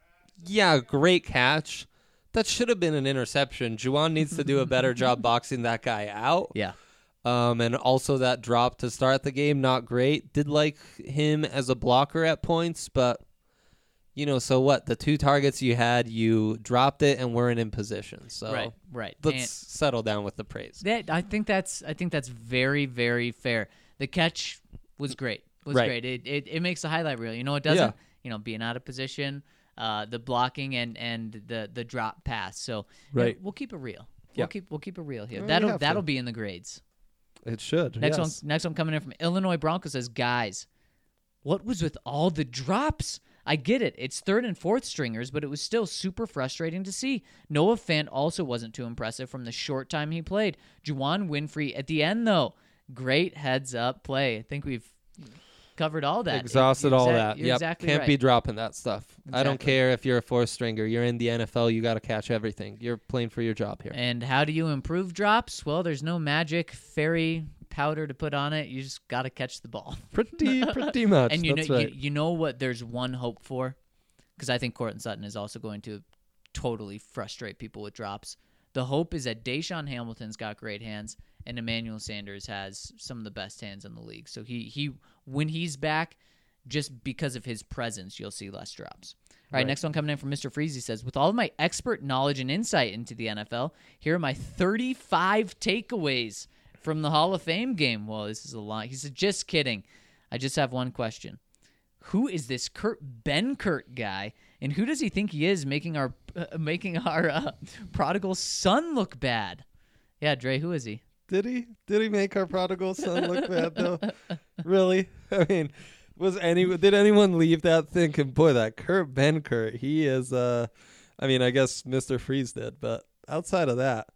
Yeah, great catch. That should have been an interception. Juwan needs to do a better job boxing that guy out. Yeah. Um, and also that drop to start the game, not great. Did like him as a blocker at points, but you know, so what? The two targets you had, you dropped it and weren't in position. So Right, right. let's And- settle down with the praise. That I think that's I think that's very very fair. The catch was great. Was Right. great. It, it it makes the highlight reel. You know it doesn't. Yeah. You know being out of position, uh, the blocking and and the the drop pass. So yeah, Right. we'll keep it real. Yeah. We'll keep we'll keep it real here. Well, we that'll have to. that'll be in the grades. It should. Next yes. one next one coming in from Illinois Broncos says, guys, what was with all the drops? I get it. It's third and fourth stringers, but it was still super frustrating to see. Noah Fant also wasn't too impressive from the short time he played. Juwan Winfrey at the end, though, great heads up play. I think we've covered all that. Exhausted You're all exa- that. You're Yep. exactly Can't right. be dropping that stuff. I don't Exactly. care if you're a fourth stringer. You're in the N F L. You got to catch everything. You're playing for your job here. And how do you improve drops? Well, there's no magic fairy powder to put on it. You just got to catch the ball. Pretty, pretty much. And you That's know, right. you, you know what? There's one hope for, because I think Courtland Sutton is also going to totally frustrate people with drops. The hope is that Deshaun Hamilton's got great hands, and Emmanuel Sanders has some of the best hands in the league. So he he when he's back, just because of his presence, you'll see less drops. All right, Right. next one coming in from Mister Freezy says, with all of my expert knowledge and insight into the N F L, here are my thirty-five takeaways from the Hall of Fame game. Well, this is a lot. He said, just kidding. I just have one question. Who is this Kurt Benkert guy, and who does he think he is, making our uh, making our uh, prodigal son look bad? Yeah, Dre, who is he? Did he? Did he make our prodigal son look bad though? Really? I mean, was any did anyone leave that thinking, boy, that Kurt Benkert, he is uh I mean, I guess Mister Freeze did, but outside of that,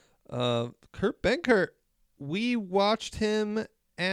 uh, Kurt Benkert, we watched him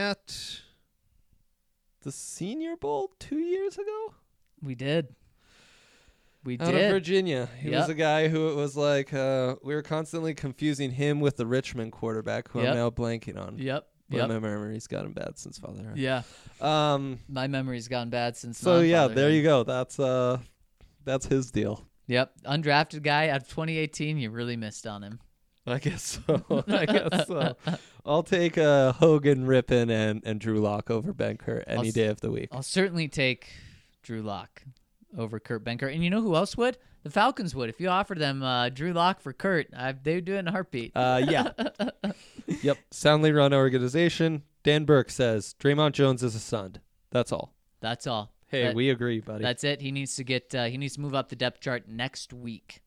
at the Senior Bowl two years ago. We did. We Out did. of Virginia. He Yep. was a guy who it was like, uh, we were constantly confusing him with the Richmond quarterback, who Yep. I'm now blanking on. Yep. But Yep. my memory's gotten bad since fatherhood. Yeah. Um. My memory's gone bad since. So yeah, there non-fatherhood. you go. That's uh, that's his deal. Yep. Undrafted guy out of twenty eighteen. You really missed on him. I guess so. I guess so. I'll take uh, Hogan, Rippon, and, and Drew Lock over Benkert any I'll s- day of the week. I'll certainly take Drew Lock over Kurt Benkert. And you know who else would? The Falcons would. If you offered them uh, Drew Lock for Kurt, I, they would do it in a heartbeat. Uh, yeah. Yep. Soundly run organization. Dan Burke says Draymond Jones is a son. That's all. That's all. Hey, That- we agree, buddy. That's it. He needs to get. Uh, he needs to move up the depth chart next week.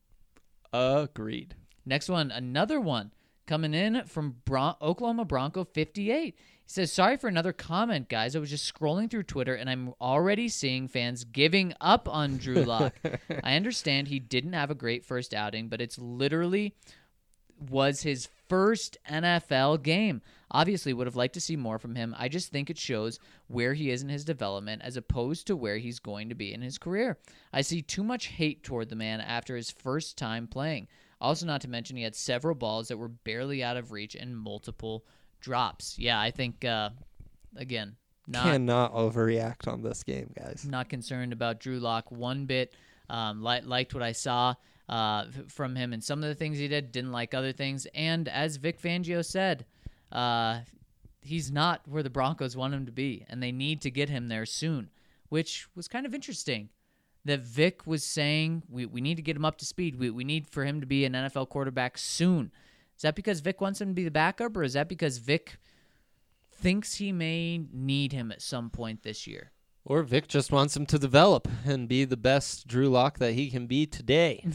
Agreed. Next one, another one coming in from Bron- Oklahoma Bronco fifty-eight. He says, sorry for another comment, guys. I was just scrolling through Twitter, and I'm already seeing fans giving up on Drew Lock. I understand he didn't have a great first outing, but it's literally was his first N F L game. Obviously, would have liked to see more from him. I just think it shows where he is in his development as opposed to where he's going to be in his career. I see too much hate toward the man after his first time playing. Also, not to mention, he had several balls that were barely out of reach and multiple drops. Yeah, I think, uh, again, not Cannot overreact on this game, guys. not concerned about Drew Lock one bit. Um, li- liked what I saw uh, f- from him and some of the things he did. Didn't like other things. And as Vic Fangio said, uh, he's not where the Broncos want him to be, and they need to get him there soon, which was kind of interesting. That Vic was saying we, we need to get him up to speed. We we need for him to be an N F L quarterback soon. Is that because Vic wants him to be the backup, or is that because Vic thinks he may need him at some point this year? Or Vic just wants him to develop and be the best Drew Lock that he can be today.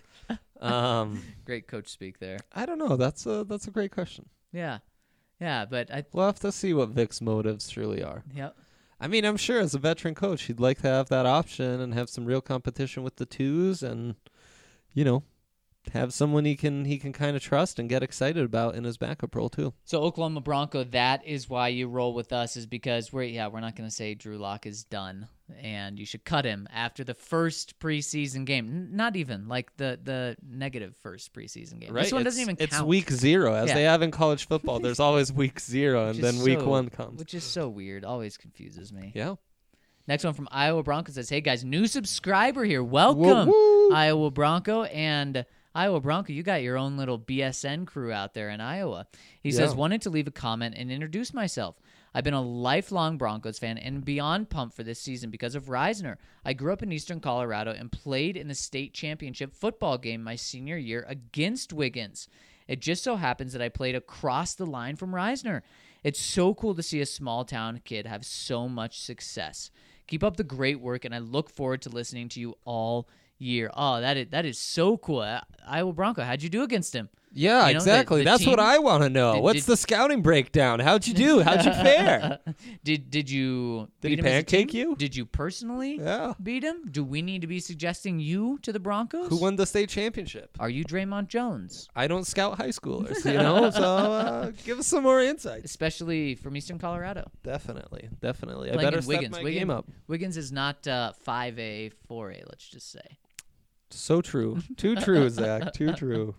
um, Great coach speak there. I don't know. That's a that's a great question. Yeah, yeah, but I We'll have to see what Vic's motives truly are. yep. I mean, I'm sure as a veteran coach, he'd like to have that option and have some real competition with the twos, and you know, have someone he can he can kind of trust and get excited about in his backup role too. So Oklahoma Bronco, that is why you roll with us, is because we're yeah we're not going to say Drew Lock is done and you should cut him after the first preseason game. N- not even like the the negative first preseason game. Right? This one it's, doesn't even It's count. week zero, as Yeah. they have in college football. There's always week zero, and Which is then week so- one comes. which is so weird. Always confuses me. Yeah. Next one from Iowa Bronco says, "Hey guys, new subscriber here. Welcome, Iowa Bronco and." Iowa Bronco, you got your own little B S N crew out there in Iowa. He says, Yeah. wanted to leave a comment and introduce myself. I've been a lifelong Broncos fan and beyond pumped for this season because of Reisner. I grew up in eastern Colorado and played in the state championship football game my senior year against Wiggins. It just so happens that I played across the line from Reisner. It's so cool to see a small town kid have so much success. Keep up the great work, and I look forward to listening to you all year. Oh, that is that is so cool. I- Iowa Bronco, how'd you do against him? Yeah, You know, the- exactly. the That's what team- I want to know. Did- What's did- the scouting breakdown? How'd you do? How'd you fare? Did did you Did beat he him as a pancake team? you? Did you personally Yeah. beat him? Do we need to be suggesting you to the Broncos? Who won the state championship? Are you Draymond Jones? I don't scout high schoolers, you know. So uh, give us some more insights. Especially from Eastern Colorado. Definitely, definitely. I Playing better in step Wiggins. my Wiggins, game up. Wiggins is not uh, five A, four A, let's just say. So true. Too true, Zach. Too true.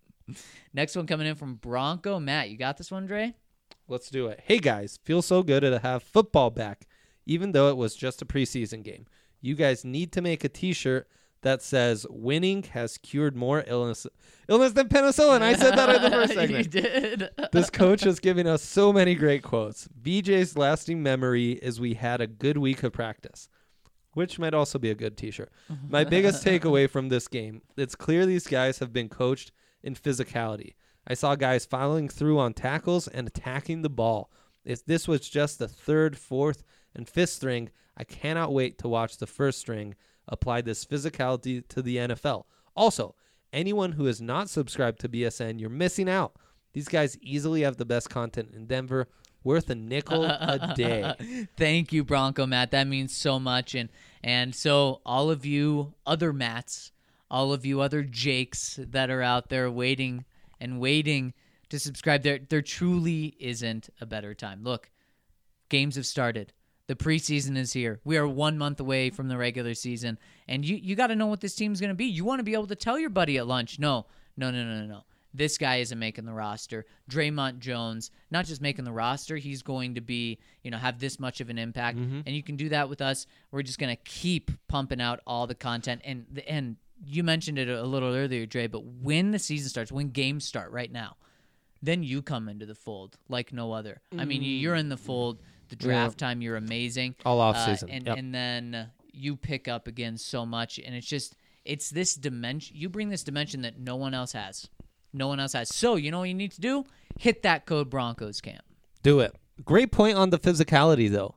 Next one coming in from Bronco. Matt, you got this one, Dre? Let's do it. Hey guys, feels so good to have football back, even though it was just a preseason game. You guys need to make a T-shirt that says "Winning has cured more illness illness than penicillin." I said that in the first segment. You did. This coach is giving us so many great quotes. B J's lasting memory is we had a good week of practice, which might also be a good T-shirt. My biggest takeaway from this game: it's clear these guys have been coached in physicality. I saw guys following through on tackles and attacking the ball. If this was just the third, fourth, and fifth string, I cannot wait to watch the first string apply this physicality to the N F L. Also, anyone who is not subscribed to B S N, you're missing out. These guys easily have the best content in Denver, worth a nickel a day. Thank you, Bronco Matt. That means so much. And and so all of you other Matts, all of you other Jakes that are out there waiting and waiting to subscribe, there there truly isn't a better time. Look, games have started. The preseason is here. We are one month away from the regular season, and you, you got to know what this team's going to be. You want to be able to tell your buddy at lunch, no, no, no, no, no, no. This guy isn't making the roster. Draymond Jones, not just making the roster, he's going to be, you know, have this much of an impact. Mm-hmm. And you can do that with us. We're just going to keep pumping out all the content. And the, and you mentioned it a little earlier, Dre, but when the season starts, when games start right now, then you come into the fold like no other. Mm. I mean, you're in the fold. The draft yeah. time, you're amazing. All off uh, season. And, yep. and then you pick up again so much. And it's just, it's this dimension. You bring this dimension that no one else has. No one else has. So, you know what you need to do? Hit that code Broncos camp. Do it. Great point on the physicality, though.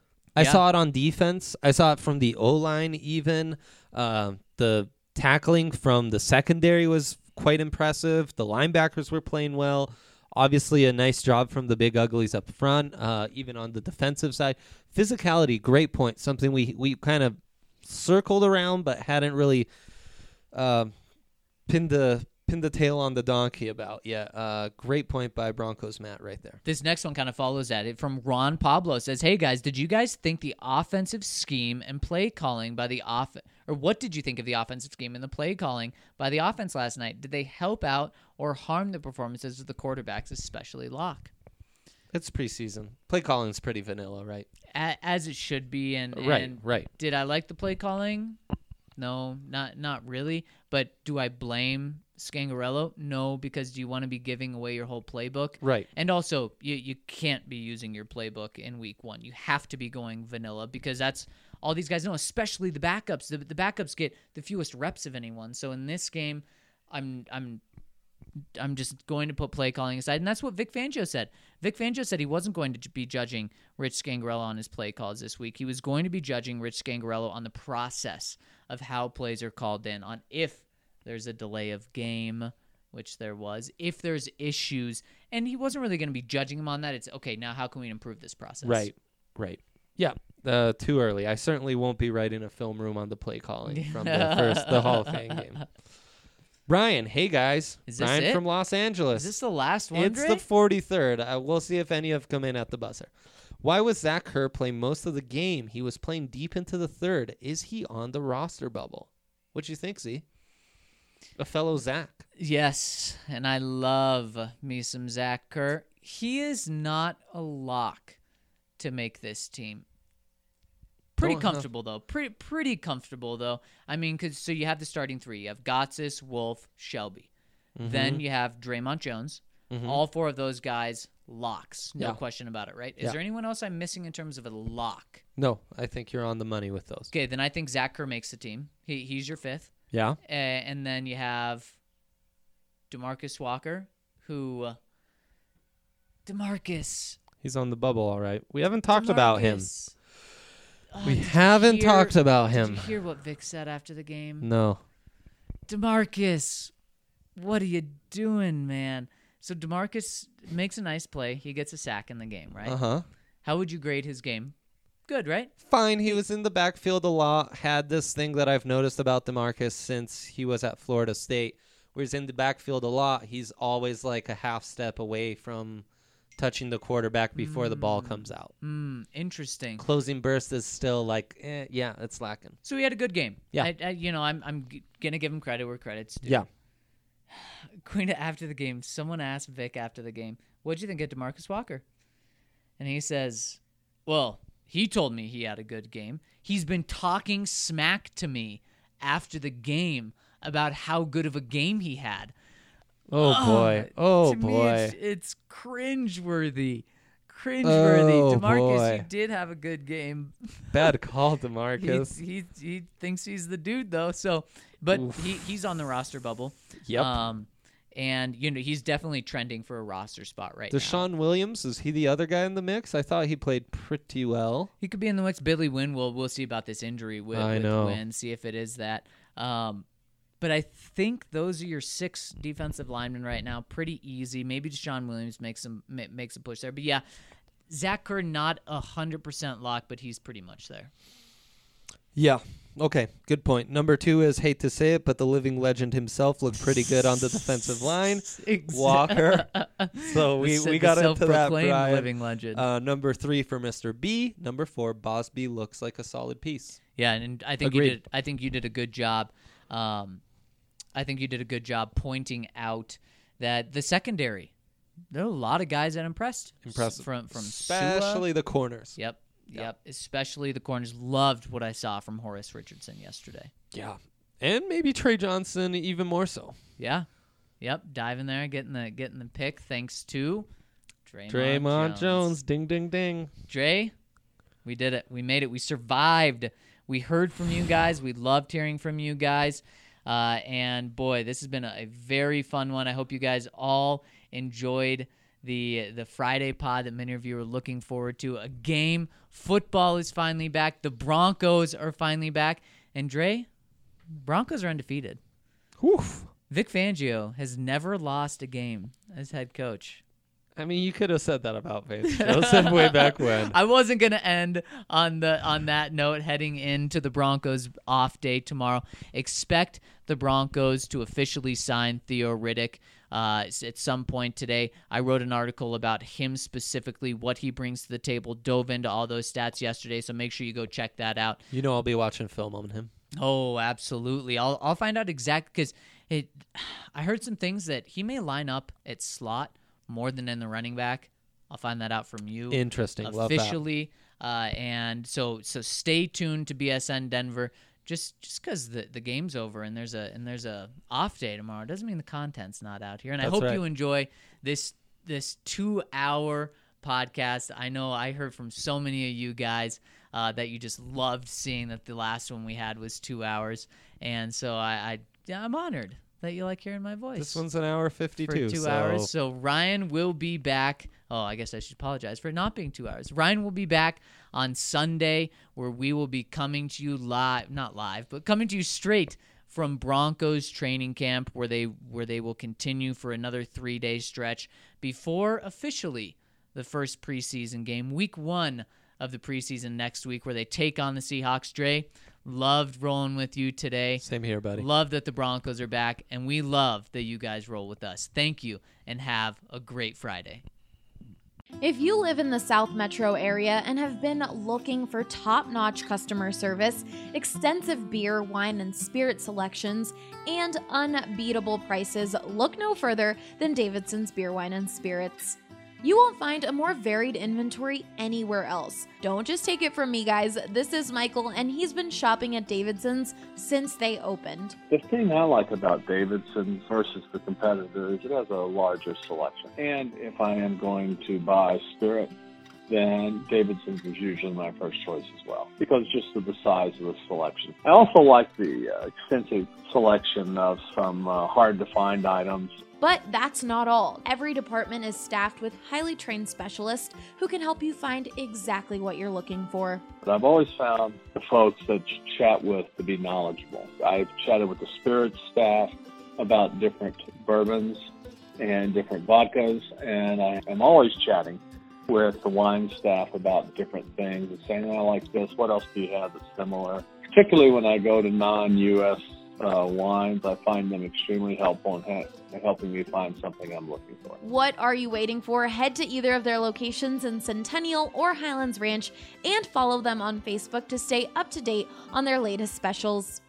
I yeah. saw it on defense. I saw it from the O-line even. Uh, the tackling from the secondary was quite impressive. The linebackers were playing well. Obviously, a nice job from the big uglies up front, uh, even on the defensive side. Physicality, great point. Something we, we kind of circled around but hadn't really uh, pinned the pinned the tail on the donkey about yet. Uh, great point by Broncos Matt right there. This next one kind of follows that. It from Ron Pablo says, "Hey guys, did you guys think the offensive scheme and play calling by the off or what did you think of the offensive scheme and the play calling by the offense last night? Did they help out or harm the performances of the quarterbacks, especially Locke?" It's preseason. Play calling's pretty vanilla, right? A- as it should be. And right, and right. Did I like the play calling? No, not not really. But do I blame Scangarello? No, because do you want to be giving away your whole playbook? Right. And also, you, you can't be using your playbook in week one. You have to be going vanilla because that's all these guys know, especially the backups. The, the backups get the fewest reps of anyone. So in this game, I'm I'm I'm just going to put play calling aside. And that's what Vic Fangio said. Vic Fangio said he wasn't going to be judging Rich Scangarello on his play calls this week. He was going to be judging Rich Scangarello on the process of how plays are called in, on if there's a delay of game, which there was, if there's issues. And he wasn't really going to be judging him on that. It's, okay, now how can we improve this process? Right, right. Yeah, uh, too early. I certainly won't be writing a film room on the play calling from the first, the Hall of Fame game. Brian, hey guys. Is this Brian it? from Los Angeles. Is this the last one, It's Dre? the forty-third. Uh, we'll see if any have come in at the buzzer. Why was Zach Kerr playing most of the game? He was playing deep into the third. Is he on the roster bubble? What you think, Z? A fellow Zach. Yes, and I love me some Zach Kerr. He is not a lock to make this team. Pretty Don't comfortable, though. Pretty pretty comfortable, though. I mean, cause, so you have the starting three. You have Gotsis, Wolf, Shelby. Mm-hmm. Then you have Draymond Jones. Mm-hmm. All four of those guys, locks. No Yeah. question about it, right? Is Yeah. there anyone else I'm missing in terms of a lock? No, I think you're on the money with those. Okay, then I think Zach Kerr makes the team. He He's your fifth. Yeah. Uh, and then you have DeMarcus Walker, who... Uh, DeMarcus. He's on the bubble, all right. We haven't talked about him. DeMarcus. Oh, We did you haven't hear- talked about him. Did you hear what Vic said after the game? No. DeMarcus, what are you doing, man? So DeMarcus makes a nice play. He gets a sack in the game, right? Uh-huh. How would you grade his game? Good, right? Fine. He was in the backfield a lot. Had this thing that I've noticed about DeMarcus since he was at Florida State, where he's in the backfield a lot. He's always like a half step away from touching the quarterback before mm. the ball comes out. Mm, interesting. Closing burst is still like, eh, yeah, it's lacking. So he had a good game. Yeah. I, I, you know, I'm I'm g- gonna give him credit where credit's due. Yeah. Going to after the game, someone asked Vic after the game, "What'd you think of DeMarcus Walker?" And he says, "Well, he told me he had a good game. He's been talking smack to me after the game about how good of a game he had." Oh, oh boy. Oh, to me, boy. it's, it's cringeworthy. Cringeworthy. Oh, DeMarcus, boy. you did have a good game. Bad call, DeMarcus. he, he he thinks he's the dude though. So, but Oof. he he's on the roster bubble. Yep. Um, and you know he's definitely trending for a roster spot right now. Deshaun Williams, is he the other guy in the mix? I thought he played pretty well. He could be in the mix. Billy Wynn. We'll we'll see about this injury with, I with know. Wynn. See if it is that. Um, but I think those are your six defensive linemen right now. Pretty easy. Maybe Deshaun Williams makes some ma- makes a push there. But yeah, Zach Kerr not a hundred percent lock, but he's pretty much there. Yeah. Okay, good point. Number two is, hate to say it, but the living legend himself looked pretty good on the defensive line. Walker. So we, The- we the got into that, self-proclaimed Brian. living legend. Uh, number three for Mister B. Number four, Bosby looks like a solid piece. Yeah, and I think you Agreed. did. I think you did a good job. Um, I think you did a good job pointing out that the secondary, there are a lot of guys that impressed. Impressive. From from Especially Sua. the corners. Yep. Yep. Especially the corners. Loved what I saw from Horace Richardson yesterday. Yeah. And maybe Trey Johnson even more so. Yeah. Yep. Diving there, getting the getting the pick thanks to Draymond, Draymond Jones. Jones. Ding, ding, ding. Dre, we did it. We made it. We survived. We heard from you guys. We loved hearing from you guys. Uh, and boy, this has been a, a very fun one. I hope you guys all enjoyed the the Friday pod that many of you are looking forward to. A game. Football is finally back. The Broncos are finally back. And Dre, Broncos are undefeated. Whew. Vic Fangio has never lost a game as head coach. I mean, you could have said that about Vince Joseph way back when. I wasn't gonna end on the on that note. Heading into the Broncos off day tomorrow, expect the Broncos to officially sign Theo Riddick uh, at some point today. I wrote an article about him specifically, what he brings to the table. Dove into all those stats yesterday, so make sure you go check that out. You know, I'll be watching film on him. Oh, absolutely. I'll I'll find out exact because it. I heard some things that he may line up at slot more than in the running back. I'll find that out from you. Interesting. Love that. Officially. Uh, and so so stay tuned to B S N Denver. Just just because the, the game's over and there's a and there's a off day tomorrow doesn't mean the content's not out here. And That's I hope right. you enjoy this this two hour podcast. I know I heard from so many of you guys uh, that you just loved seeing that the last one we had was two hours, and so I, I I'm honored that you like hearing my voice. This one's an hour fifty-two. For two so hours. So Ryan will be back. Oh, I guess I should apologize for it not being two hours. Ryan will be back on Sunday, where we will be coming to you live, not live, but coming to you straight from Broncos training camp, where they where they will continue for another three-day stretch before officially the first preseason game, week one of the preseason next week, where they take on the Seahawks. Dre, loved rolling with you today. Same here, buddy. Love that the Broncos are back, and we love that you guys roll with us. Thank you, and have a great Friday. If you live in the South Metro area and have been looking for top-notch customer service, extensive beer, wine, and spirit selections, and unbeatable prices, look no further than Davidson's Beer, Wine, and Spirits. You won't find a more varied inventory anywhere else. Don't just take it from me, guys. This is Michael, and he's been shopping at Davidson's since they opened. The thing I like about Davidson versus the competitor is it has a larger selection. And if I am going to buy spirit, then Davidson's is usually my first choice as well, because just of the size of the selection. I also like the uh, extensive selection of some uh, hard-to-find items. But that's not all. Every department is staffed with highly trained specialists who can help you find exactly what you're looking for. But I've always found the folks that you chat with to be knowledgeable. I've chatted with the spirits staff about different bourbons and different vodkas, and I am always chatting with the wine staff about different things and saying, I like this, what else do you have that's similar? Particularly when I go to non-U S uh, wines, I find them extremely helpful in ha- helping me find something I'm looking for. What are you waiting for? Head to either of their locations in Centennial or Highlands Ranch and follow them on Facebook to stay up to date on their latest specials.